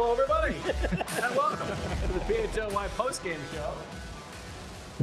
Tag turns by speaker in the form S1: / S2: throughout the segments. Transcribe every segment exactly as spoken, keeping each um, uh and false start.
S1: Hello, everybody, and welcome to the P H L Y postgame show.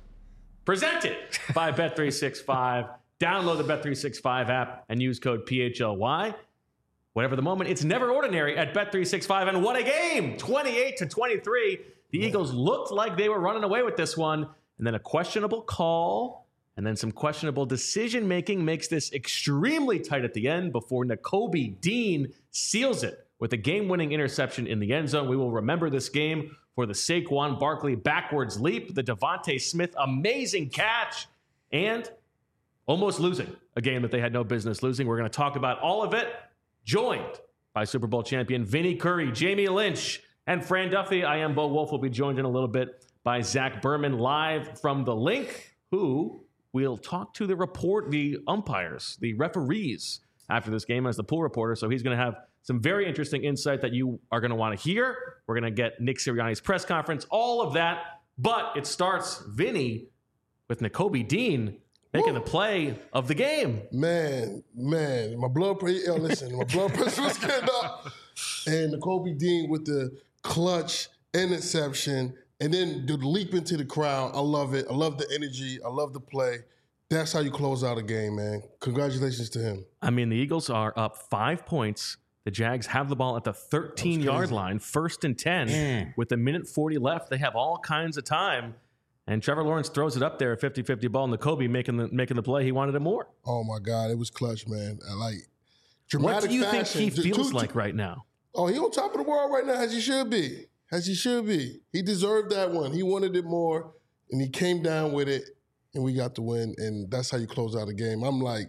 S1: Presented by Bet three sixty-five. Download the Bet three sixty-five app and use code P H L Y. Whatever the moment, it's never ordinary at Bet three sixty-five. And what a game! twenty-eight to twenty-three. The Eagles looked like they were running away with this one. And then a questionable call and then some questionable decision-making makes this extremely tight at the end before Nakobe Dean seals it with a game-winning interception in the end zone. We will remember this game for the Saquon Barkley backwards leap, the Devontae Smith amazing catch, and almost losing a game that they had no business losing. We're going to talk about all of it, joined by Super Bowl champion Vinny Curry, Jamie Lynch, and Fran Duffy. I am Bo Wolf. We'll be joined in a little bit by Zach Berman live from the link, who will talk to the report, the umpires, the referees after this game as the pool reporter. So he's going to have some very interesting insight that you are going to want to hear. We're going to get Nick Sirianni's press conference, all of that. But it starts, Vinny, with Nakobe Dean making Woo. the play of the game.
S2: Man, man, my blood pressure, yo, listen, my blood pressure was getting up. And Nakobe Dean with the clutch interception. And then the leap into the crowd, I love it. I love the energy. I love the play. That's how you close out a game, man. Congratulations to him.
S1: I mean, the Eagles are up five points. The Jags have the ball at the thirteen-yard line, first and ten. Mm. With a minute forty left, they have all kinds of time. And Trevor Lawrence throws it up there, a fifty-fifty ball, and Nakobe making the making the play. He wanted it more.
S2: Oh, my God. It was clutch, man. I like dramatic
S1: What do you
S2: fashion.
S1: think he feels
S2: two,
S1: like
S2: two,
S1: right now?
S2: Oh, he on top of the world right now, as he should be. As he should be. He deserved that one. He wanted it more, and he came down with it, and we got the win, and that's how you close out a game. I'm like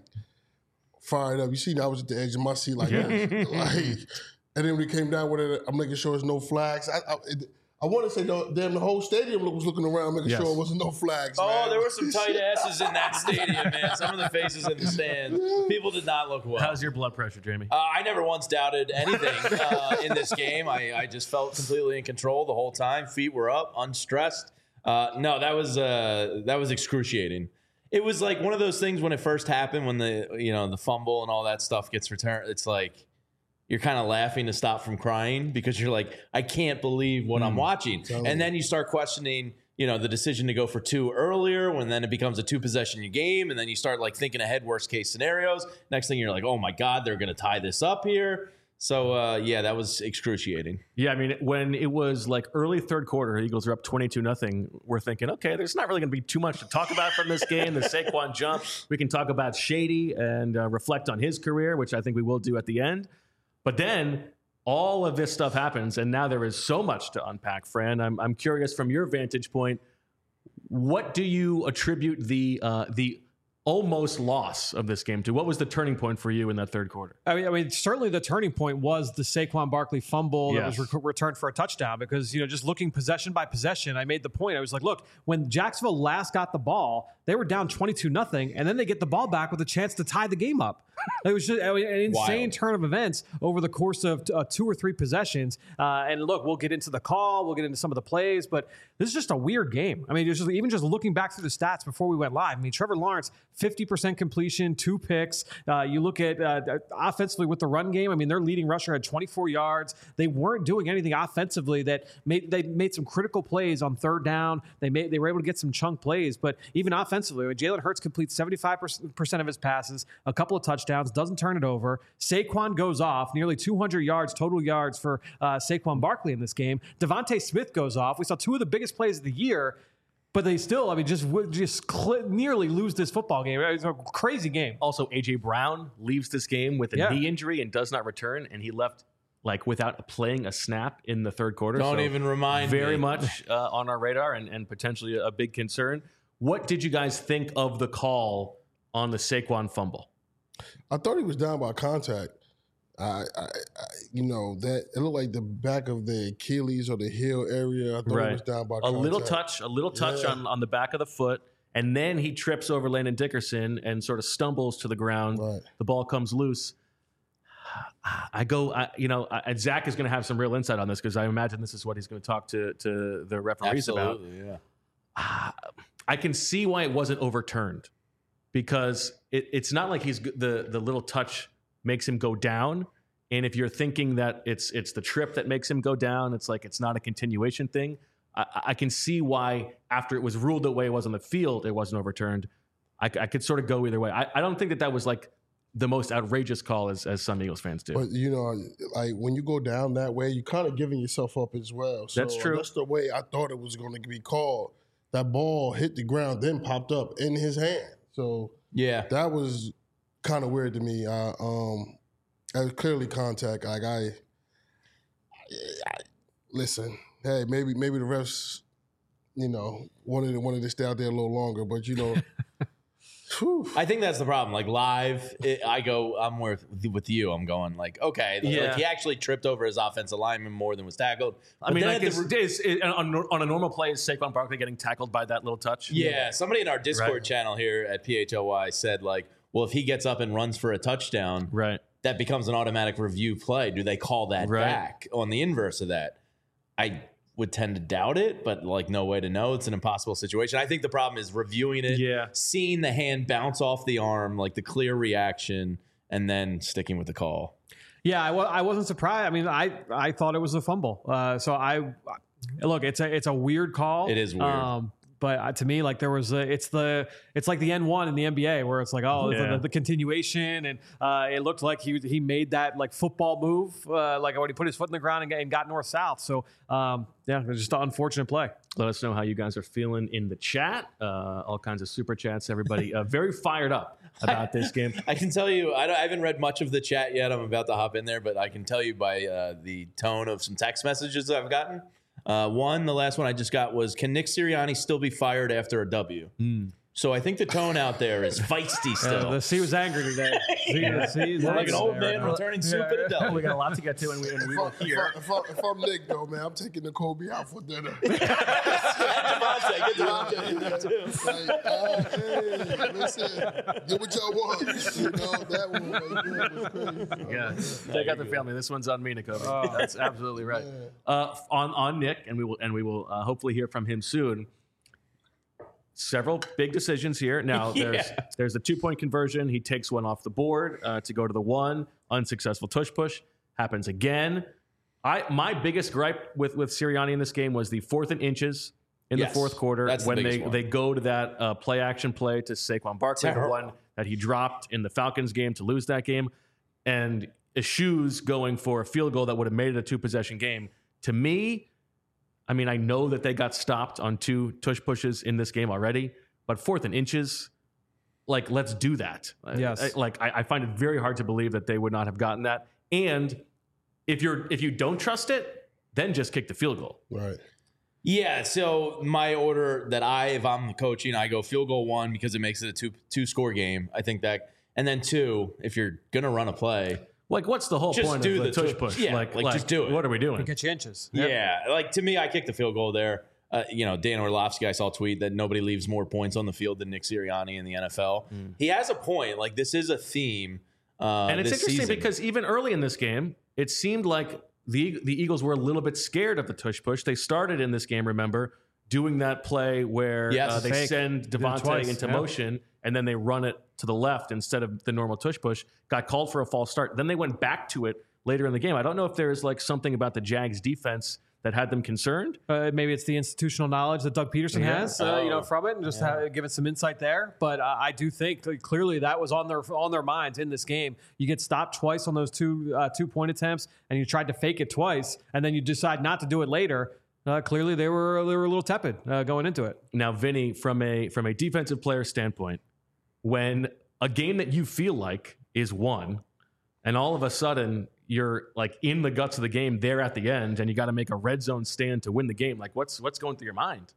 S2: fired up. You see, I was at the edge of my seat like,
S1: Yeah.
S2: like and then when he came down with it, I'm making sure there's no flags. I, I, it, I want to say, no, damn, the whole stadium was looking around, making
S1: Yes.
S2: sure there wasn't no flags.
S3: Oh,
S2: man.
S3: there were some tight asses in that stadium, man. Some of the faces in the stands. People did not look well.
S1: How's your blood pressure, Jamie?
S3: Uh, I never once doubted anything uh, in this game. I, I just felt completely in control the whole time. Feet were up, unstressed. Uh, no, that was uh, that was excruciating. It was like one of those things when it first happened, when the you know the fumble and all that stuff gets returned. It's like you're kind of laughing to stop from crying because you're like, I can't believe what mm. I'm watching.
S2: Totally.
S3: And then you start questioning, you know, the decision to go for two earlier, when then it becomes a two possession game. And then you start like thinking ahead, worst case scenarios. Next thing you're like, oh my God, they're going to tie this up here. So uh, yeah, that was excruciating.
S1: Yeah, I mean, when it was like early third quarter, Eagles are up twenty-two nothing. We're thinking, okay, there's not really going to be too much to talk about from this game. The Saquon jump. We can talk about Shady and uh, reflect on his career, which I think we will do at the end. But then all of this stuff happens, and now there is so much to unpack, Fran. I'm I'm curious from your vantage point, what do you attribute the uh, the almost loss of this game to? What was the turning point for you in that third quarter?
S4: I mean, I mean, certainly the turning point was the Saquon Barkley fumble
S1: Yes.
S4: that was re- returned for a touchdown because, you know, just looking possession by possession, I made the point. I was like, look, when Jacksonville last got the ball, they were down twenty-two nothing, and then they get the ball back with a chance to tie the game up. It was just I mean, an insane
S3: Wild.
S4: turn of events over the course of uh, two or three possessions. Uh, and look, we'll get into the call, we'll get into some of the plays, but this is just a weird game. I mean, just, even just looking back through the stats before we went live, I mean, Trevor Lawrence, fifty percent completion, two picks. Uh, you look at uh, offensively with the run game, I mean, their leading rusher had twenty-four yards. They weren't doing anything offensively that made they made some critical plays on third down. They made they were able to get some chunk plays, but even offensively, when Jalen Hurts completes seventy-five percent of his passes, a couple of touchdowns, doesn't turn it over. Saquon goes off, nearly two hundred yards, total yards for uh, Saquon Barkley in this game. Devontae Smith goes off. We saw two of the biggest plays of the year, but they still, I mean, just just cl- nearly lose this football game. It was a crazy game.
S1: Also, A J Brown leaves this game with a
S4: Yeah.
S1: knee injury and does not return, and he left like without playing a snap in the third quarter.
S3: Don't
S1: So
S3: even remind
S1: very
S3: me.
S1: much uh, on our radar and, and potentially a big concern. What did you guys think of the call on the Saquon fumble?
S2: I thought he was down by contact. I, I, I, you know, that it looked like the back of the Achilles or the heel area. I thought
S1: Right.
S2: he was down by
S1: A
S2: contact.
S1: little touch, a little touch
S2: Yeah.
S1: on, on the back of the foot, and then he trips over Landon Dickerson and sort of stumbles to the ground.
S2: Right.
S1: The ball comes loose. I go, I, you know, I, Zach is going to have some real insight on this because I imagine this is what he's going to talk to to the referees about.
S3: Absolutely, yeah.
S1: Uh, I can see why it wasn't overturned because it, it's not like he's the the little touch makes him go down. And if you're thinking that it's it's the trip that makes him go down, it's like it's not a continuation thing. I, I can see why after it was ruled the way it was on the field, it wasn't overturned. I, I could sort of go either way. I, I don't think that that was like the most outrageous call as, as some Eagles fans do.
S2: But, you know, like when you go down that way, you're kind of giving yourself up as well. So
S1: That's true.
S2: That's the way I thought it was going to be called. That ball hit the ground, then popped up in his hand. So
S3: Yeah.
S2: that was kind of weird to me. I, um, that was clearly contact. Like I, I, listen, hey, maybe maybe the refs, you know, wanted wanted to stay out there a little longer, but you know. Whew.
S3: I think that's the problem. Like live, it, I go, I'm with with you. I'm going like, okay, like,
S1: Yeah.
S3: like he actually tripped over his offensive lineman more than was tackled.
S1: I
S3: But
S1: mean,
S3: then
S1: like
S3: at
S1: is,
S3: the-
S1: is, is, on, on a normal play, is Saquon Barkley getting tackled by that little touch?
S3: yeah, somebody in our Discord
S1: Right.
S3: channel here at P H L Y said like, well, if he gets up and runs for a touchdown,
S1: Right.
S3: that becomes an automatic review play. Do they call that
S1: Right.
S3: back on the inverse of that? I would tend to doubt it, but like no way to know. It's an impossible situation. I think the problem is reviewing it,
S1: Yeah.
S3: seeing the hand bounce off the arm, like the clear reaction, and then sticking with the call.
S4: Yeah, I, wa- I wasn't surprised. I mean, I, I thought it was a fumble. Uh, so I look, it's a it's a weird call.
S3: It is weird.
S4: Um, but uh, to me, like there was a, it's the it's like the N one in the N B A where it's like oh it's
S1: Yeah.
S4: the, the continuation and uh, it looked like he he made that like football move uh, like when he put his foot in the ground and, and got north south. So um, yeah, it was just an unfortunate play.
S1: Let us know how you guys are feeling in the chat. Uh, all kinds of super chats. Everybody uh, very fired up about this game.
S3: I can tell you, I, don't, I haven't read much of the chat yet. I'm about to hop in there, but I can tell you by uh, the tone of some text messages that I've gotten. Uh, one, the last one I just got was, can Nick Sirianni still be fired after a W? So I think the tone out there is feisty still.
S4: Uh, the C was angry today. C, the C is
S3: like an
S4: angry
S3: old
S4: right
S3: man
S4: now.
S3: returning soup at a
S1: We
S3: W.
S1: got a lot to get to, and we, and we
S2: If, I,
S1: will
S2: if, I,
S1: hear.
S2: if, I, if I'm Nick, though, man, I'm taking the Kobe out for dinner.
S3: Devontae, get Devontae in there too.
S2: Like, uh, hey, listen, get what y'all want. You know, that one right there was crazy.
S1: Yeah, take out the family. This one's on me, Nakobe. That's absolutely right. Uh, on on Nick, and we will and we will uh, hopefully hear from him soon. Several big decisions here. Now there's
S3: Yeah.
S1: there's the two point conversion. He takes one off the board uh, to go to the one. Unsuccessful tush push happens again. I my biggest gripe with with Sirianni in this game was the fourth and inches in
S3: Yes,
S1: the fourth quarter
S3: that's the
S1: when they
S3: biggest one.
S1: they go to that uh, play action play to Saquon Barkley, the
S3: Terrible.
S1: one that he dropped in the Falcons game to lose that game, and Eschew's going for a field goal that would have made it a two possession game. To me, I mean, I know that they got stopped on two tush pushes in this game already, but fourth and inches, like, let's do that.
S4: Yes.
S1: I, like, I, I find it very hard to believe that they would not have gotten that. And if you're if you don't trust it, then just kick the field goal.
S2: Right.
S3: Yeah, so my order that I, if I'm coaching, I go field goal one because it makes it a two two score game. I think that, and then two, if you're gonna run a play,
S1: Like, what's the whole
S3: Just
S1: point
S3: do
S1: of the,
S3: the
S1: tush
S3: tush-
S1: push?
S3: yeah,
S1: like,
S3: like, just do it.
S1: What are we doing?
S4: Get you inches.
S3: yeah, like to me, I kicked the field goal there. Uh, you know, Dan Orlovsky, I saw a tweet that nobody leaves more points on the field than Nick Sirianni in the N F L. He has a point. Like this is a theme. Uh,
S1: And it's
S3: this
S1: interesting
S3: season.
S1: because even early in this game, it seemed like the the Eagles were a little bit scared of the tush push. They started in this game, remember, doing that play where
S3: Yes.
S1: uh, they
S4: Fake.
S1: send
S4: Did it
S1: Devontae
S4: twice,
S1: into
S4: yeah.
S1: motion and then they run it to the left instead of the normal tush push. Got called for a false start. Then they went back to it later in the game. I don't know if there's like something about the Jags defense that had them concerned.
S4: Uh, maybe it's the institutional knowledge that Doug Peterson
S1: Yeah.
S4: has, uh, you know,
S3: Oh.
S4: from it, and just have, give it some insight there. But uh, I do think that clearly that was on their on their minds in this game. You get stopped twice on those two uh, two point attempts, and you tried to fake it twice, and then you decide not to do it later. Uh, clearly, they were they were a little tepid uh, going into it.
S1: Now, Vinny, from a from a defensive player standpoint, when a game that you feel like is won, and all of a sudden you're like in the guts of the game there at the end, and you got to make a red zone stand to win the game, like what's what's going through your mind?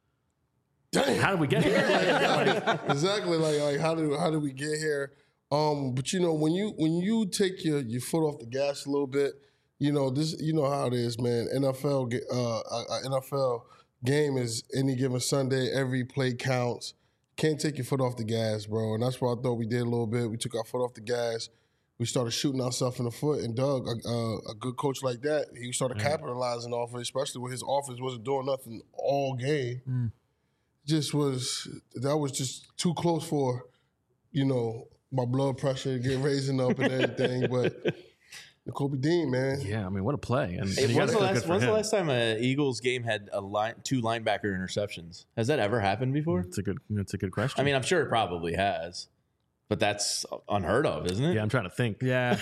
S2: Damn.
S1: How did we get here? Like,
S2: exactly. Like, like how did how did we get here? Um, but you know, when you when you take your, your foot off the gas a little bit, you know this. You know how it is, man. N F L ge- uh, a, a N F L game is any given Sunday. Every play counts. Can't take your foot off the gas, bro. And that's what I thought we did a little bit. We took our foot off the gas. We started shooting ourselves in the foot. And Doug, a, a, a good coach like that, he started capitalizing off it, especially when his offense wasn't doing nothing all game. Just was that was just too close for, you know, my blood pressure getting raising up and everything. But Kobe Dean, man.
S1: Yeah, I mean, what a play! And,
S3: Hey,
S1: and you
S3: when's
S1: gotta
S3: the
S1: feel good
S3: last,
S1: for
S3: when's the
S1: him.
S3: last time a Eagles game had a line, two linebacker interceptions? Has that ever happened before?
S1: It's a good. It's a good question.
S3: I mean, I'm sure it probably has, but that's unheard of, isn't it?
S1: yeah, I'm trying to think.
S4: Yeah.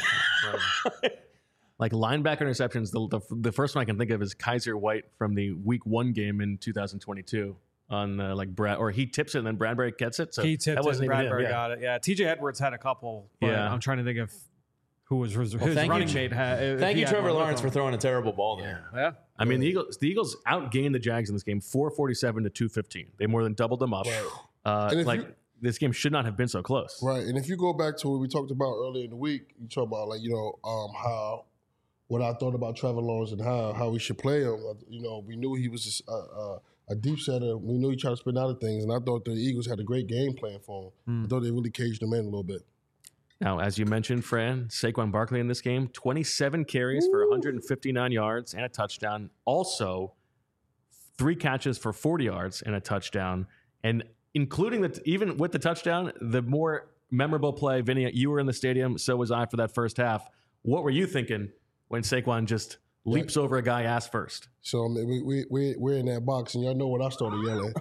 S1: Like linebacker interceptions, the, the the first one I can think of is Kaiser White from the Week One game in two thousand twenty-two on uh, like Brad, or he tips it and then Bradbury gets it. So
S4: He tipped
S1: that
S4: it and
S1: wasn't even him,
S4: Bradbury
S1: yeah.
S4: got it. Yeah. T J Edwards had a couple, but
S1: Yeah.
S4: I'm trying to think of who was his,
S3: Well,
S4: his
S3: thank
S4: running
S3: you,
S4: mate. Had, if
S3: Thank
S4: he
S3: you,
S4: had
S3: Trevor
S4: one with
S3: Lawrence,
S4: him.
S3: for throwing a terrible ball there.
S4: Yeah.
S1: I mean, the Eagles the Eagles outgained the Jags in this game, four forty-seven to two fifteen. They more than doubled them up. Uh,
S2: And if
S1: like
S2: you-
S1: this game should not have been so close.
S2: Right, and if you go back to what we talked about earlier in the week, you talk about like you know um, how what I thought about Trevor Lawrence and how how we should play him. Uh, You know, we knew he was just a, a, a deep setter. We knew he tried to spin out of things, and I thought the Eagles had a great game plan for him. I thought they really caged him in a little bit.
S1: Now, as you mentioned, Fran, Saquon Barkley in this game, twenty-seven carries for one hundred fifty-nine yards and a touchdown. Also, three catches for forty yards and a touchdown. And including the even with the touchdown, the more memorable play, Vinny, you were in the stadium, so was I for that first half. What were you thinking when Saquon just leaps over a guy ass first?
S2: So I mean, we we we we're in that box, and y'all know when I started yelling,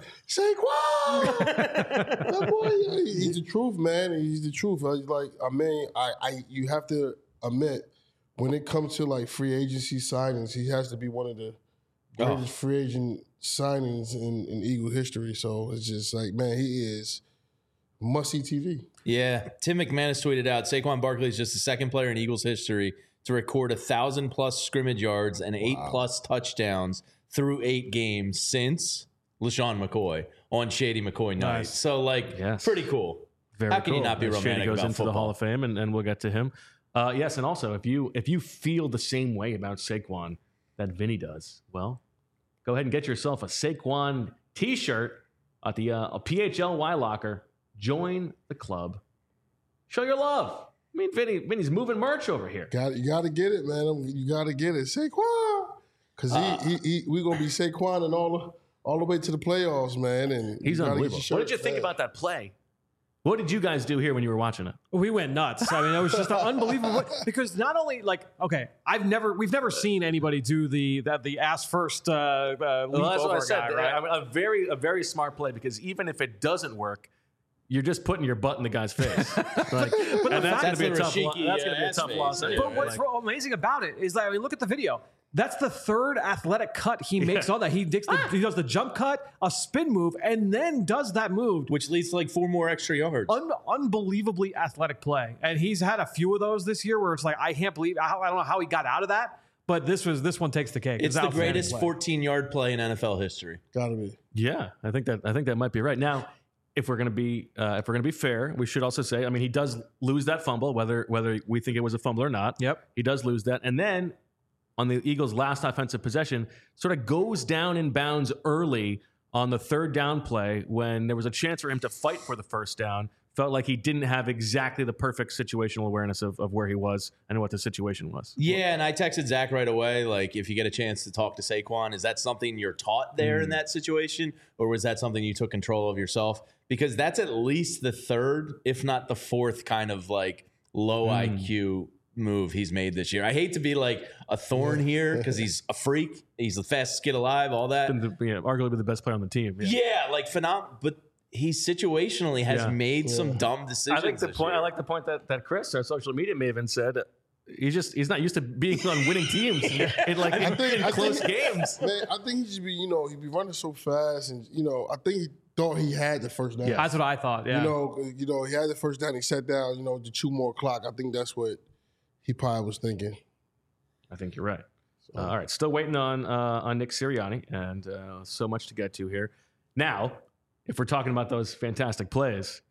S2: Saquon! That boy, yeah, he- he's the truth, man. He's the truth. I, like I mean, I, I you have to admit when it comes to like free agency signings, he has to be one of the greatest
S3: Oh.
S2: free agent signings in, in Eagle history. So it's just like, man, he is must see T V.
S3: Yeah, Tim McManus tweeted out, Saquon Barkley is just the second player in Eagles history to record a thousand plus scrimmage yards and eight plus touchdowns through eight games since LaShawn McCoy on Shady McCoy night.
S4: Nice.
S3: So, like,
S1: Yes.
S3: pretty cool.
S1: Very
S3: How can you
S1: cool.
S3: not be
S1: As Shady
S3: romantic
S1: goes
S3: about
S1: into
S3: football?
S1: the Hall of Fame, and, and we'll get to him. Uh, yes, and also if you if you feel the same way about Saquon that Vinny does, well, go ahead and get yourself a Saquon T-shirt at the uh, a P H L Y Locker. Join the club. Show your love. I mean, Vinny, Vinny's moving merch over here.
S2: Got you got to get it, man. You got to get it, Saquon, because
S3: Uh,
S2: he, he, he we gonna be Saquon and all the all the way to the playoffs, man. And
S1: He's
S2: you gotta get
S1: unbelievable.
S2: your
S1: What
S2: shirt,
S1: did you think
S2: man.
S1: about that play? What did you guys do here when you were watching it?
S4: We went nuts. I mean, it was just unbelievable because not only like okay, I've never we've never seen anybody do the that the ass first uh, uh, leap
S1: Well, that's
S4: over
S1: what I
S4: a
S1: said.
S4: guy, right?
S1: I mean, a very, a very smart play because even if it doesn't work, you're just putting your butt in the guy's face. Like,
S4: but the
S1: and that's
S4: fact-
S1: going to be a
S3: That's the
S1: tough. Lo-
S3: Rashiki,
S1: that's
S3: uh,
S1: going to be a
S3: ass
S1: tough
S3: face.
S1: loss.
S3: Yeah.
S1: anyway.
S4: But what's
S1: Like,
S4: amazing about it is that I mean, look at the video. That's the third athletic cut he makes on that. He, dicks the, he does the jump cut, a spin move, and then does that move.
S3: Which leads to like four more extra yards.
S4: Un- unbelievably athletic play, and he's had a few of those this year where it's like I can't believe I, I don't know how he got out of that, but this was this one takes the cake.
S3: It's the
S4: outstanding
S3: greatest
S4: play.
S3: fourteen-yard play in N F L history.
S2: Gotta be.
S1: yeah, I think that I think that might be right. Now, if we're going to be uh, if we're going to be fair, we should also say, I mean, he does lose that fumble, whether whether we think it was a fumble or not.
S4: Yep.
S1: He does lose that, and then on the Eagles' last offensive possession, sort of goes down in bounds early on the third down play when there was a chance for him to fight for the first down. Felt like he didn't have exactly the perfect situational awareness of, of where he was and what the situation was.
S3: Yeah, and I texted Zach right away, like, if you get a chance to talk to Saquon, is that something you're taught there in that situation, or was that something you took control of yourself? Because that's at least the third, if not the fourth, kind of like low I Q move he's made this year. I hate to be like a thorn here because he's a freak. He's the fastest kid alive, all that.
S1: Been the, yeah, arguably the best player on the team. Yeah.
S3: Yeah, like phenomenal, but he situationally has
S1: Yeah.
S3: made some dumb decisions.
S1: I think the
S3: this
S1: point.
S3: year.
S1: I like the point that, that Chris, our social media maven, said. He's just he's not used to being on winning teams in like in,
S2: think-
S1: in
S2: I
S1: close
S2: think-
S1: games.
S2: Man, I think he should be, you know, he'd be running so fast, and you know, I think he thought he had the first down.
S4: That's what I thought. Yeah.
S2: You know, you know, he had the first down. He sat down, you know, to chew more clock. I think that's what he probably was thinking.
S1: I think you're right. Uh, all right, still waiting on uh, on Nick Sirianni, and uh, so much to get to here. Now, if we're talking about those fantastic plays,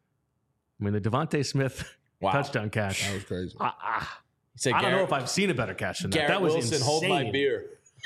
S1: I mean the Devontae Smith
S3: Wow.
S1: touchdown catch.
S2: That was crazy.
S1: Ah, ah.
S3: He said,
S1: I don't know
S3: Garrett-
S1: if I've seen a better catch than that.
S3: Garrett
S1: That was
S3: Wilson,
S1: insane.
S3: hold my beer.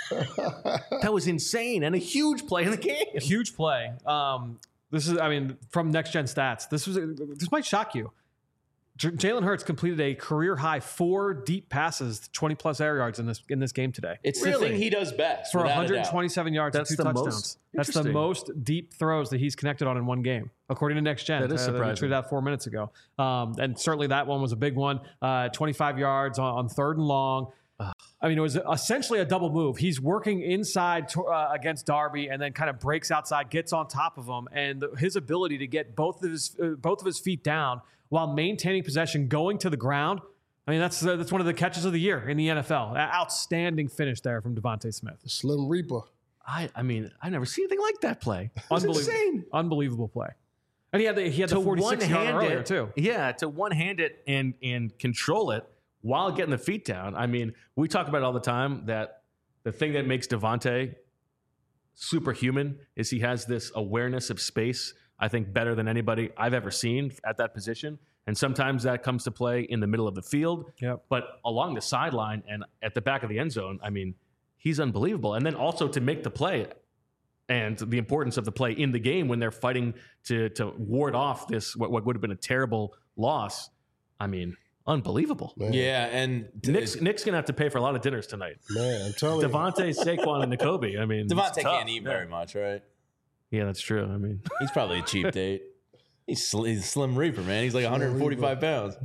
S1: That was insane and a huge play in the game.
S4: Huge play. Um, this is, I mean, from Next Gen Stats. This was, this might shock you. J- Jalen Hurts completed a career high four deep passes, twenty plus air yards in this in this game today.
S3: It's the
S1: Really?
S3: thing he does best.
S4: For
S3: without a
S4: one hundred
S3: doubt.
S4: twenty-seven yards
S1: That's
S4: and two
S1: the
S4: touchdowns.
S1: most-
S4: That's the
S1: interesting.
S4: most deep throws that he's connected on in one game, according to Next Gen.
S1: That is
S4: uh, we
S1: surprising.
S4: tweeted out four minutes ago. Um, and certainly that one was a big one. Uh, twenty-five yards on, on third and long. I mean, it was essentially a double move. He's working inside to, uh, against Darby, and then kind of breaks outside, gets on top of him, and the, his ability to get both of his uh, both of his feet down while maintaining possession, going to the ground. I mean, that's uh, that's one of the catches of the year in the N F L. A- Outstanding finish there from Devontae Smith.
S2: Slim Reaper.
S1: I, I mean, I've never seen anything like that play. It was
S4: Unbelievable,
S1: insane.
S4: unbelievable play. And he had the, he had the forty-six yard
S1: one-hand
S4: earlier
S1: it,
S4: too.
S1: Yeah, to one hand it and and control it while getting the feet down. I mean, we talk about it all the time that the thing that makes Devontae superhuman is he has this awareness of space, I think better than anybody I've ever seen at that position. And sometimes that comes to play in the middle of the field,
S4: Yep.
S1: but along the sideline and at the back of the end zone, I mean, he's unbelievable. And then also to make the play and the importance of the play in the game when they're fighting to to ward off this what, what would have been a terrible loss. I mean, unbelievable.
S2: Man,
S3: Yeah, and
S1: Nick's, Nick's gonna have to pay for a lot of dinners tonight.
S2: man, I'm telling you.
S1: Devontae, Saquon, and N'Kobe. I mean,
S3: Devontae
S1: it's tough.
S3: can't eat
S1: Yeah.
S3: very much, right?
S1: Yeah, that's true. I mean,
S3: He's probably a cheap date. He's, sl- he's a slim reaper, man. He's like one hundred forty-five pounds.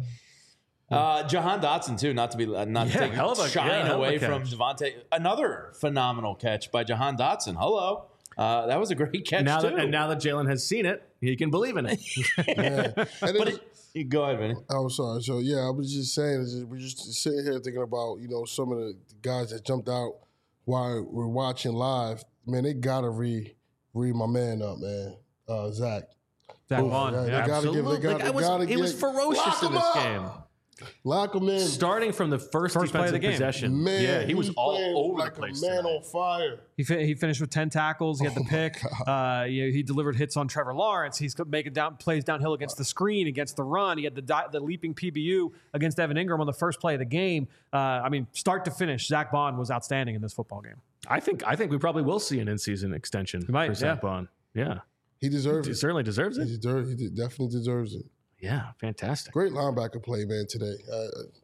S3: Uh, Jahan Dotson too, not to be uh, not to
S1: Yeah,
S3: take
S1: hell of a-
S3: shine
S1: yeah, hell of a
S3: away from
S1: catch.
S3: Devontae. Another phenomenal catch by Jahan Dotson. Hello, uh, that was a great catch
S1: now
S3: too.
S1: that and now that Jalen has seen it, he can believe in it.
S2: Man. And
S3: but
S2: it,
S3: it, go ahead, Vinny.
S2: Oh, sorry. So yeah, I was just saying, is we're just sitting here thinking about you know some of the guys that jumped out while we're watching live. Man, they gotta re re my man up, man. Uh, Zach.
S4: Zach
S2: Ooh,
S4: Vaughn.
S2: yeah,
S4: Yeah.
S2: they gotta give. They
S1: Absolutely.
S2: gotta,
S1: Like, I
S2: they
S1: was-
S2: gotta
S1: he was
S2: get-
S1: ferocious
S2: Lock
S1: in
S2: him
S1: this
S2: up!
S1: game.
S2: Lock him in.
S1: Starting from the first,
S4: First play of
S1: defensive
S4: the game.
S1: possession,
S2: Man,
S1: yeah, he was
S2: he's
S1: all
S2: playing
S1: over
S2: like
S1: the place.
S2: a man
S1: tonight.
S2: on fire.
S4: He fi- he finished with ten tackles. He had
S2: Oh
S4: the pick. Uh, you know, he delivered hits on Trevor Lawrence. He's making down plays downhill against the screen, against the run. He had the di- the leaping P B U against Evan Ingram on the first play of the game. Uh, I mean, start to finish, Zach Bond was outstanding in this football game.
S1: I think I think we probably will see an in-season extension
S4: might,
S1: for Zach
S4: yeah.
S1: Bond. Yeah,
S2: He deserves
S1: he
S2: it.
S1: certainly deserves
S2: He,
S1: it.
S2: deserves, he de- definitely deserves it.
S1: Yeah, fantastic.
S2: Great linebacker play, man. Today, uh,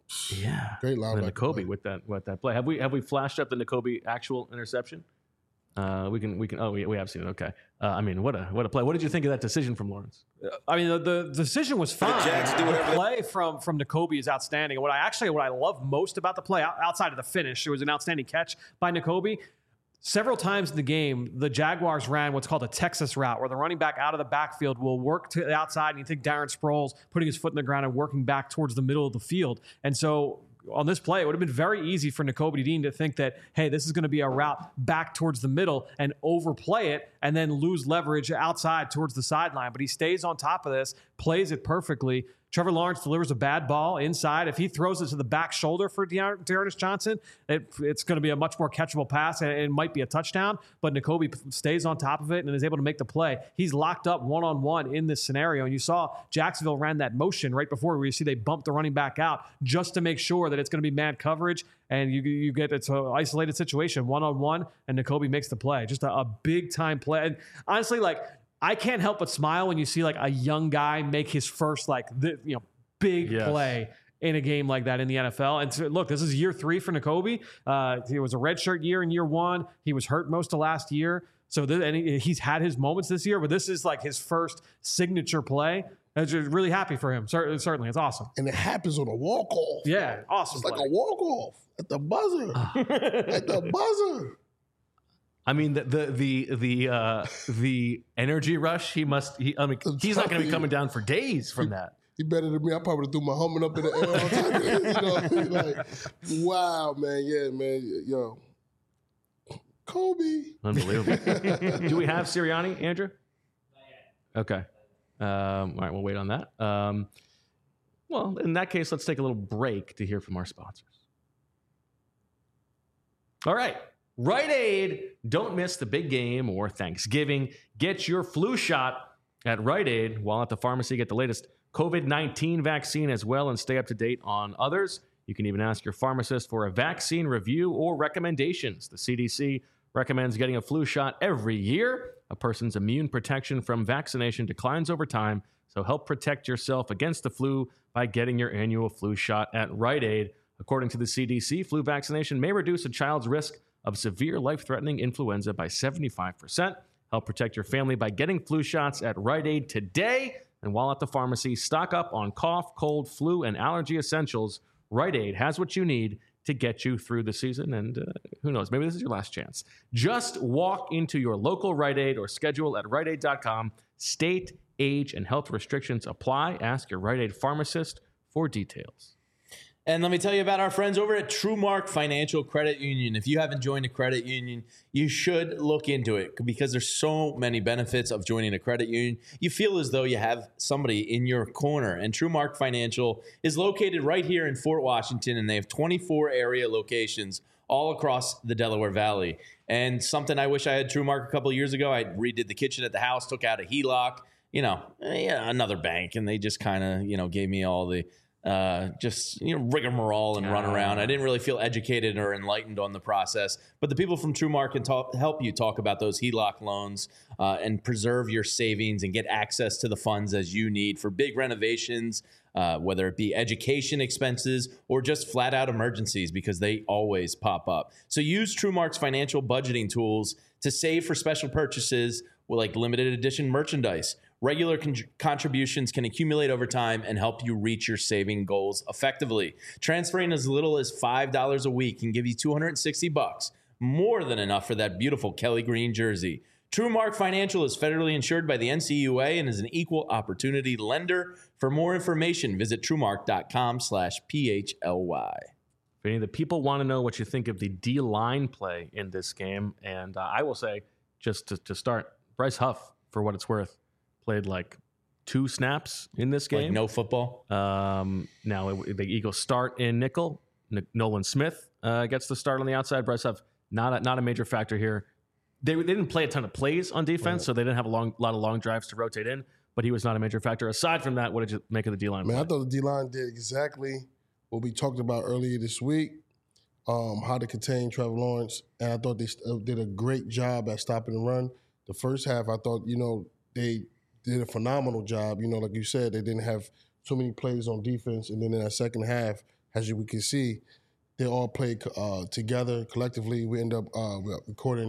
S1: Yeah,
S2: great
S1: and
S2: linebacker.
S1: then
S2: play.
S1: N'Kobe with that with that play. Have we have we flashed up the N'Kobe actual interception? Uh, we can we can. Oh, we, we have seen it. Okay. Uh, I mean, what a what a play. What did you think of that decision from Lawrence?
S4: I mean, the, the decision was fine.
S5: Jags do
S4: The
S5: whatever they-
S4: play from from N'Kobe is outstanding. And what I actually what I love most about the play, out- outside of the finish, it was an outstanding catch by N'Kobe. Several times in the game, the Jaguars ran what's called a Texas route, where the running back out of the backfield will work to the outside, and you think Darren Sproles putting his foot in the ground and working back towards the middle of the field. And so on this play, it would have been very easy for N'Kobe Dean to think that, hey, this is going to be a route back towards the middle and overplay it and then lose leverage outside towards the sideline. But he stays on top of this, plays it perfectly. Trevor Lawrence delivers a bad ball inside. If he throws it to the back shoulder for Dear- Dearness Johnson, it, it's going to be a much more catchable pass, and it might be a touchdown. But N'Kobe stays on top of it and is able to make the play. He's locked up one-on-one in this scenario. And you saw Jacksonville ran that motion right before where you see they bumped the running back out just to make sure that it's going to be man coverage. And you, you get it's an isolated situation, one-on-one, and N'Kobe makes the play. Just a, a big-time play. And honestly, like, I can't help but smile when you see like a young guy make his first like the, you know big
S1: Yes.
S4: play in a game like that in the N F L. And so, look, this is year three for N'Kobe. Uh, it was a redshirt year in year one. He was hurt most of last year. So th- and he, he's had his moments this year, but this is like his first signature play. I'm just really happy for him. Cer- certainly, it's awesome.
S2: And it happens on a walk off.
S4: Yeah, awesome.
S2: It's like
S4: play.
S2: a walk off at the buzzer. At the buzzer.
S1: I mean, the the the the, uh, the energy rush. He must. He, I mean,
S2: I'm
S1: he's not going to
S2: telling
S1: be
S2: you.
S1: coming down for days from that.
S2: He better than me. I probably threw my helmet up in the air all the time. You know, like, wow, man. Yeah, man. Yo. Kobe.
S1: Unbelievable. Do we have Sirianni, Andrew? Okay. Um, all right, we'll wait on that. Um, well, in that case, let's take a little break to hear from our sponsors. All right. Rite Aid. Don't miss the big game or Thanksgiving. Get your flu shot at Rite Aid. While at the pharmacy, get the latest COVID nineteen vaccine as well and stay up to date on others. You can even ask your pharmacist for a vaccine review or recommendations. The C D C recommends getting a flu shot every year. A person's immune protection from vaccination declines over time, So help protect yourself against the flu by getting your annual flu shot at Rite Aid. According to the C D C, flu vaccination may reduce a child's risk of severe life-threatening influenza by seventy-five percent. Help protect your family by getting flu shots at Rite Aid today. And while at the pharmacy, stock up on cough, cold, flu, and allergy essentials. Rite Aid has what you need to get you through the season. And uh, who knows, maybe this is your last chance. Just walk into your local Rite Aid or schedule at rite aid dot com. State, age, and health restrictions apply. Ask your Rite Aid pharmacist for details.
S3: And let me tell you about our friends over at TrueMark Financial Credit Union. If you haven't joined a credit union, you should look into it because there's so many benefits of joining a credit union. You feel as though you have somebody in your corner. And TrueMark Financial is located right here in Fort Washington, and they have twenty-four area locations all across the Delaware Valley. And something I wish I had TrueMark a couple of years ago, I redid the kitchen at the house, took out a H E L O C, you know, yeah, another bank, and they just kind of, you know, gave me all the Uh, just, you know, rigmarole and run around. I didn't really feel educated or enlightened on the process. But the people from TrueMark can talk, help you talk about those H E L O C loans uh, and preserve your savings and get access to the funds as you need for big renovations, uh, whether it be education expenses or just flat out emergencies, because they always pop up. So use TrueMark's financial budgeting tools to save for special purchases like limited edition merchandise. Regular con- contributions can accumulate over time and help you reach your saving goals effectively. Transferring as little as five dollars a week can give you two hundred sixty bucks, more than enough for that beautiful Kelly Green jersey. TrueMark Financial is federally insured by the N C U A and is an equal opportunity lender. For more information, visit truemark.com slash PHLY.
S1: If any of the people want to know what you think of the D-line play in this game, and uh, I will say, just to, to start, Bryce Huff, for what it's worth, played like two snaps in this game.
S3: Like no football?
S1: Um, now, it, the Eagles start in nickel. N- Nolan Smith uh, gets the start on the outside. Bryce Huff, not a, not a major factor here. They, they didn't play a ton of plays on defense, right. So they didn't have a long, lot of long drives to rotate in, but he was not a major factor. Aside from that, what did you make of the D-line
S2: Man,
S1: play?
S2: I thought the D-line did exactly what we talked about earlier this week, um, how to contain Trevor Lawrence, and I thought they st- did a great job at stopping the run. The first half, I thought, you know, they did a phenomenal job. You know, like you said, they didn't have too many plays on defense. And then in that second half, as you, we can see, they all played uh, together collectively. We end up uh, recording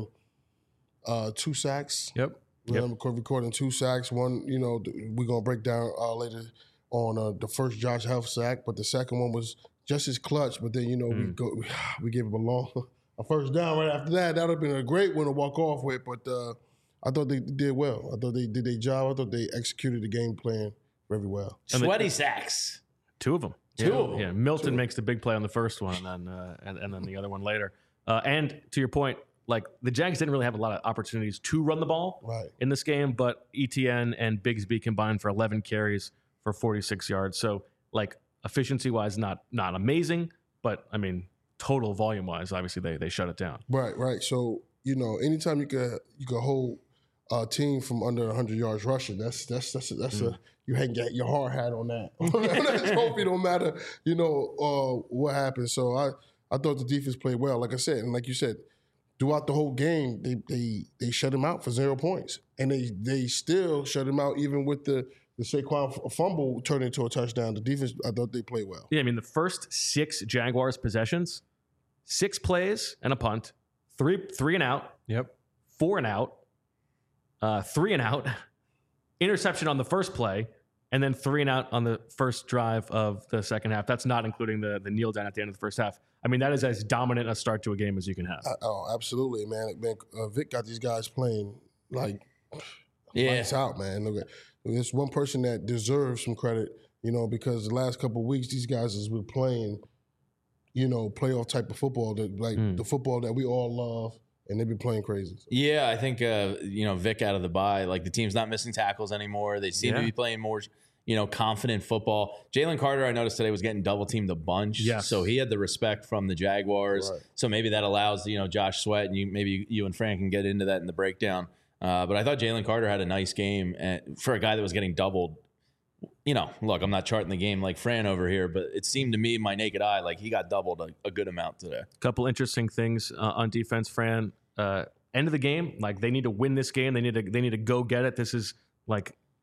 S2: uh, two sacks.
S1: Yep.
S2: We
S1: yep.
S2: end up recording two sacks. One, you know, we're going to break down uh, later on uh, the first Josh Huff sack, but the second one was just as clutch. But then, you know, mm. we go, we gave him a long a first down right after that. That would have been a great one to walk off with, but uh, I thought they did well. I thought they did their job. I thought they executed the game plan very well.
S3: Sweaty the, sacks.
S1: Two of them.
S3: Two
S1: yeah,
S3: of them.
S1: Yeah, Milton
S2: Two.
S1: makes the big play on the first one, and then uh, and, and then the other one later. Uh, and to your point, like the Jags didn't really have a lot of opportunities to run the ball
S2: right.
S1: in this game, but E T N and Bigsby combined for eleven carries for forty-six yards. So like efficiency wise, not not amazing, but I mean total volume wise, obviously they they shut it down.
S2: Right, right. So you know, anytime you could you could hold a team from under one hundred yards rushing, that's that's that's that's mm. a you hang your hard hat on that. That trophy don't matter, you know, uh, what happened. So I I thought the defense played well, like I said, and like you said. Throughout the whole game, they they they shut him out for zero points, and they they still shut him out even with the the Saquon fumble turned into a touchdown. The defense, I thought they played well.
S1: Yeah, I mean the first six Jaguars possessions, six plays and a punt, three three and out,
S4: yep,
S1: four and out, uh, three and out, interception on the first play, and then three and out on the first drive of the second half. That's not including the the kneel down at the end of the first half. I mean, that is as dominant a start to a game as you can have.
S2: Uh, oh, absolutely, man. Man, uh, Vic got these guys playing like
S3: yeah.
S2: lights out, man. Look at there's one person that deserves some credit, you know, because the last couple of weeks these guys has been playing, you know, playoff type of football, that like mm. the football that we all love, and they've been playing crazy.
S3: Yeah, I think uh, you know Vic out of the bye, like the team's not missing tackles anymore. They seem
S1: yeah.
S3: to be playing more. You know, confident football. Jalen Carter, I noticed today, was getting double teamed a bunch.
S1: Yes.
S3: So he had the respect from the Jaguars.
S2: Right.
S3: So maybe that allows, you know, Josh Sweat, and you maybe you and Fran can get into that in the breakdown. Uh, but I thought Jalen Carter had a nice game and for a guy that was getting doubled. You know, look, I'm not charting the game like Fran over here, but it seemed to me, my naked eye, like he got doubled a, a good amount today.
S1: A couple interesting things uh, on defense, Fran. Uh, end of the game, like they need to win this game. They need to they need to go get it. This is like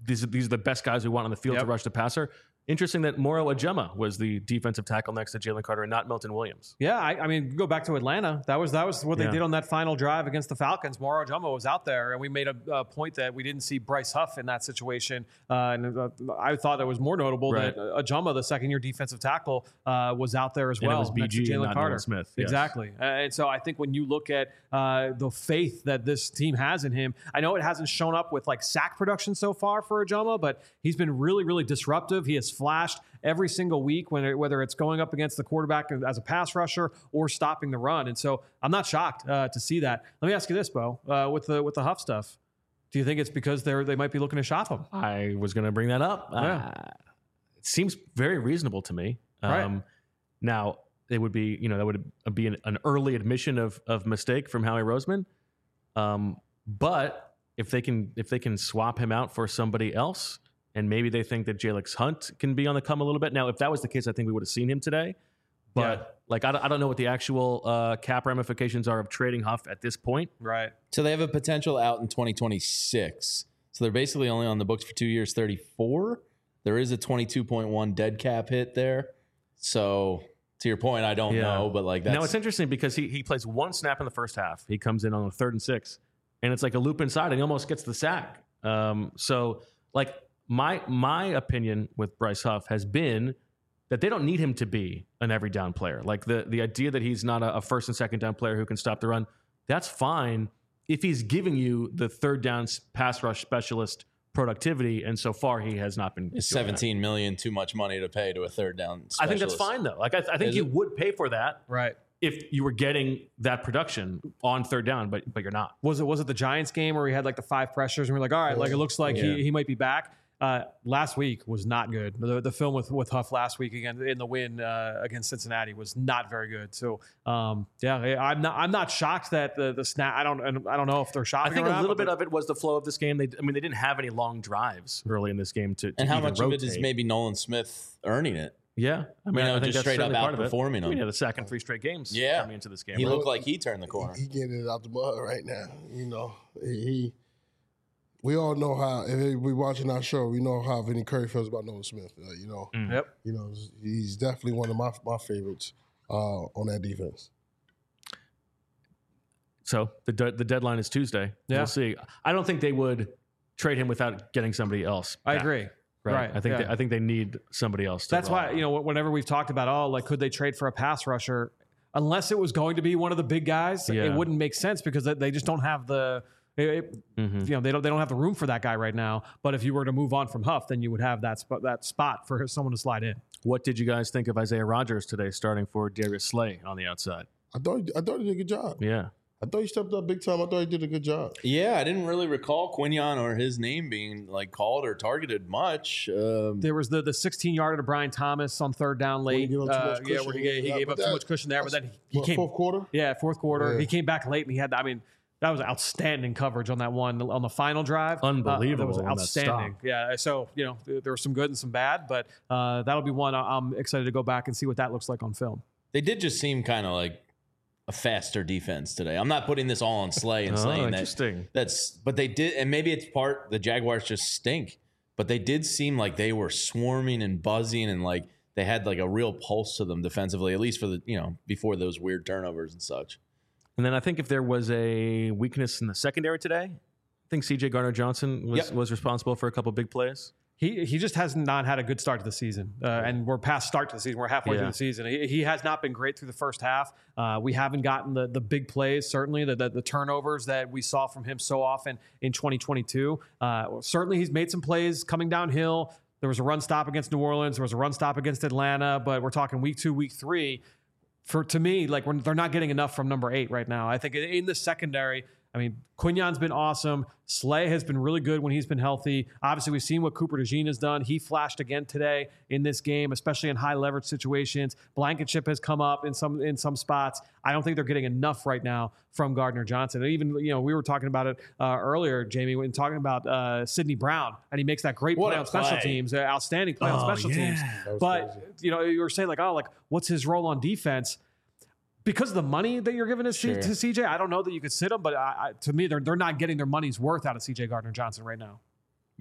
S1: these, these are the best guys we want on the field
S4: Yep.
S1: to rush the passer. Interesting that Moro Ajema was the defensive tackle next to Jalen Carter and not Milton Williams.
S4: Yeah, I, I mean, go back to Atlanta. That was that was what they
S1: Yeah.
S4: did on that final drive against the Falcons. Moro Ajuma was out there, and we made a, a point that we didn't see Bryce Huff in that situation. Uh, and uh, I thought it was more notable
S1: Right.
S4: that Ajuma, the second-year defensive tackle, uh, was out there as
S1: And it
S4: well.
S1: was B G
S4: next to
S1: and
S4: Jalen
S1: not
S4: Carter.
S1: Nolan Smith, yes.
S4: Exactly. Uh, and so I think when you look at uh, the faith that this team has in him, I know it hasn't shown up with like sack production so far for Ajuma, but he's been really, really disruptive. He has flashed every single week, when it, whether it's going up against the quarterback as a pass rusher or stopping the run. And so I'm not shocked uh, to see that. Let me ask you this, Bo, uh, with the with the Huff stuff. Do you think it's because they're they might be looking to shop him?
S1: I was going to bring that up.
S4: Yeah.
S1: Uh, it seems very reasonable to me.
S4: Right.
S1: Um, now, it would be, you know, that would be an, an early admission of of mistake from Howie Roseman. Um, but if they can if they can swap him out for somebody else, and maybe they think that Jalix Hunt can be on the come a little bit. Now, if that was the case, I think we would have seen him today. But
S4: Yeah.
S1: like, I don't, I don't know what the actual uh, cap ramifications are of trading Huff at this point.
S4: Right.
S3: So they have a potential out in twenty twenty-six. So they're basically only on the books for two years, thirty-four. There is a twenty-two point one dead cap hit there. So to your point, I don't
S1: Yeah.
S3: know, but like that's
S1: Now it's interesting because he he plays one snap in the first half. He comes in on the third and six, and it's like a loop inside, and he almost gets the sack. Um, so like my my opinion with Bryce Huff has been that they don't need him to be an every down player. Like the the idea that he's not a, a first and second down player who can stop the run, that's fine if he's giving you the third down s- pass rush specialist productivity. And so far, he has not been.
S3: Is
S1: doing that.
S3: seventeen million too much money to pay to a third down specialist?
S1: I think that's fine though. Like I, I think
S3: Is
S1: you
S3: it?
S1: would pay for that
S4: Right.
S1: if you were getting that production on third down, but but you're not.
S4: Was it was it the Giants game where we had like the five pressures and we are like, all right, like it looks like
S1: Yeah.
S4: he, he might be back. Uh, last week was not good. The, the film with, with Huff last week again in the win uh, against Cincinnati was not very good. So um, yeah, I'm not I'm not shocked that the the snap. I don't I don't know if they're
S1: I
S4: shocked.
S1: think
S4: or
S1: a
S4: not,
S1: little
S4: but
S1: bit of it was the flow of this game. They, I mean, they didn't have any long drives early in this game to. to
S3: And how
S1: even
S3: much
S1: rotate.
S3: of it is maybe Nolan Smith earning it?
S1: Yeah, I mean,
S3: know,
S1: I think
S3: just
S1: that's
S3: straight up
S1: certainly part of it.
S3: outperforming
S1: I mean,
S3: them.
S1: he had a sack in three straight games.
S3: Yeah.
S1: coming into this game.
S3: He
S1: right?
S3: looked like he turned the corner.
S2: He getting it out the mud right now. You know, he. he we all know how. If we watching our show, we know how Vinny Curry feels about Nolan Smith. Uh, you know,
S4: Yep.
S2: you know, he's definitely one of my my favorites uh, on that defense.
S1: So the de- the deadline is Tuesday.
S4: Yeah.
S1: We'll see. I don't think they would trade him without getting somebody else.
S4: I
S1: back,
S4: agree.
S1: Right.
S4: Right,
S1: I think
S4: yeah.
S1: they, I think they need somebody else. To
S4: That's
S1: rely
S4: why,
S1: on.
S4: you know, whenever we've talked about, oh, like, could they trade for a pass rusher? Unless it was going to be one of the big guys,
S1: Yeah.
S4: it wouldn't make sense because they- they just don't have the, it- it-
S1: Mhm.
S4: you know, they don't they don't have the room for that guy right now. But if you were to move on from Huff, then you would have that spot that spot for someone to slide in.
S1: What did you guys think of Isaiah Rodgers today, starting for Darius Slay on the outside?
S2: I thought he, I thought he did a good job.
S1: Yeah.
S2: I thought he stepped up big time. I thought he did a good job.
S3: Yeah, I didn't really recall Quinion or his name being like called or targeted much. Um,
S4: There was the the sixteen yarder to Brian Thomas on third down
S2: When he
S4: late.
S2: gave up too
S4: Uh,
S2: much
S4: yeah,
S2: cushion,
S4: where he gave, he
S2: yeah,
S4: gave
S2: but
S4: up too
S2: that-
S4: much cushion there, but then he
S2: What,
S4: came.
S2: fourth quarter.
S4: Yeah, fourth quarter.
S2: Yeah.
S4: He came back late and he had, I mean, that was outstanding coverage on that one on the final drive. Uh,
S1: Unbelievable
S4: that was
S1: on that
S4: outstanding.
S1: stop.
S4: Yeah. So, you know, there, there was some good and some bad, but uh, that'll be one I- I'm excited to go back and see what that looks like on film.
S3: they did just seem kind of like a faster defense today. I'm not putting this all on Slay and
S1: Oh,
S3: saying that
S1: interesting.
S3: that's, but they did, and maybe it's part the Jaguars just stink, but they did seem like they were swarming and buzzing and like they had like a real pulse to them defensively, at least for the, you know, before those weird turnovers and such.
S1: And then I think if there was a weakness in the secondary today, I think C J Garner Johnson was,
S3: Yep.
S1: was responsible for a couple big plays.
S4: He he just has not had a good start to the season, uh, and we're past start to the season. We're halfway
S1: Yeah.
S4: through the season. He, he has not been great through the first half. Uh, we haven't gotten the the big plays, certainly the, the the turnovers that we saw from him so often in twenty twenty-two. Uh, certainly, he's made some plays coming downhill. There was a run stop against New Orleans. There was a run stop against Atlanta. But we're talking week two, week three. For to me, like we're, they're not getting enough from number eight right now. I think in, in the secondary. I mean, Quignon's been awesome. Slay has been really good when he's been healthy. Obviously, we've seen what Cooper DeJean has done. He flashed again today in this game, especially in high leverage situations. Blankenship has come up in some in some spots. I don't think they're getting enough right now from Gardner Johnson. And even, you know, we were talking about it uh, earlier, Jamie, when talking about uh, Sidney Brown, and he makes that great
S3: What
S4: play
S3: a
S4: on special
S3: play.
S4: teams, uh, outstanding play on
S1: Oh,
S4: special
S1: yeah.
S4: teams.
S2: That was
S4: But
S2: crazy.
S4: you know, you were saying like, oh, like what's his role on defense? Because of the money that you're giving to, C-
S3: Sure.
S4: to C J, I don't know that you could sit him, but I, I, to me, they're they're not getting their money's worth out of C J Gardner Johnson right now.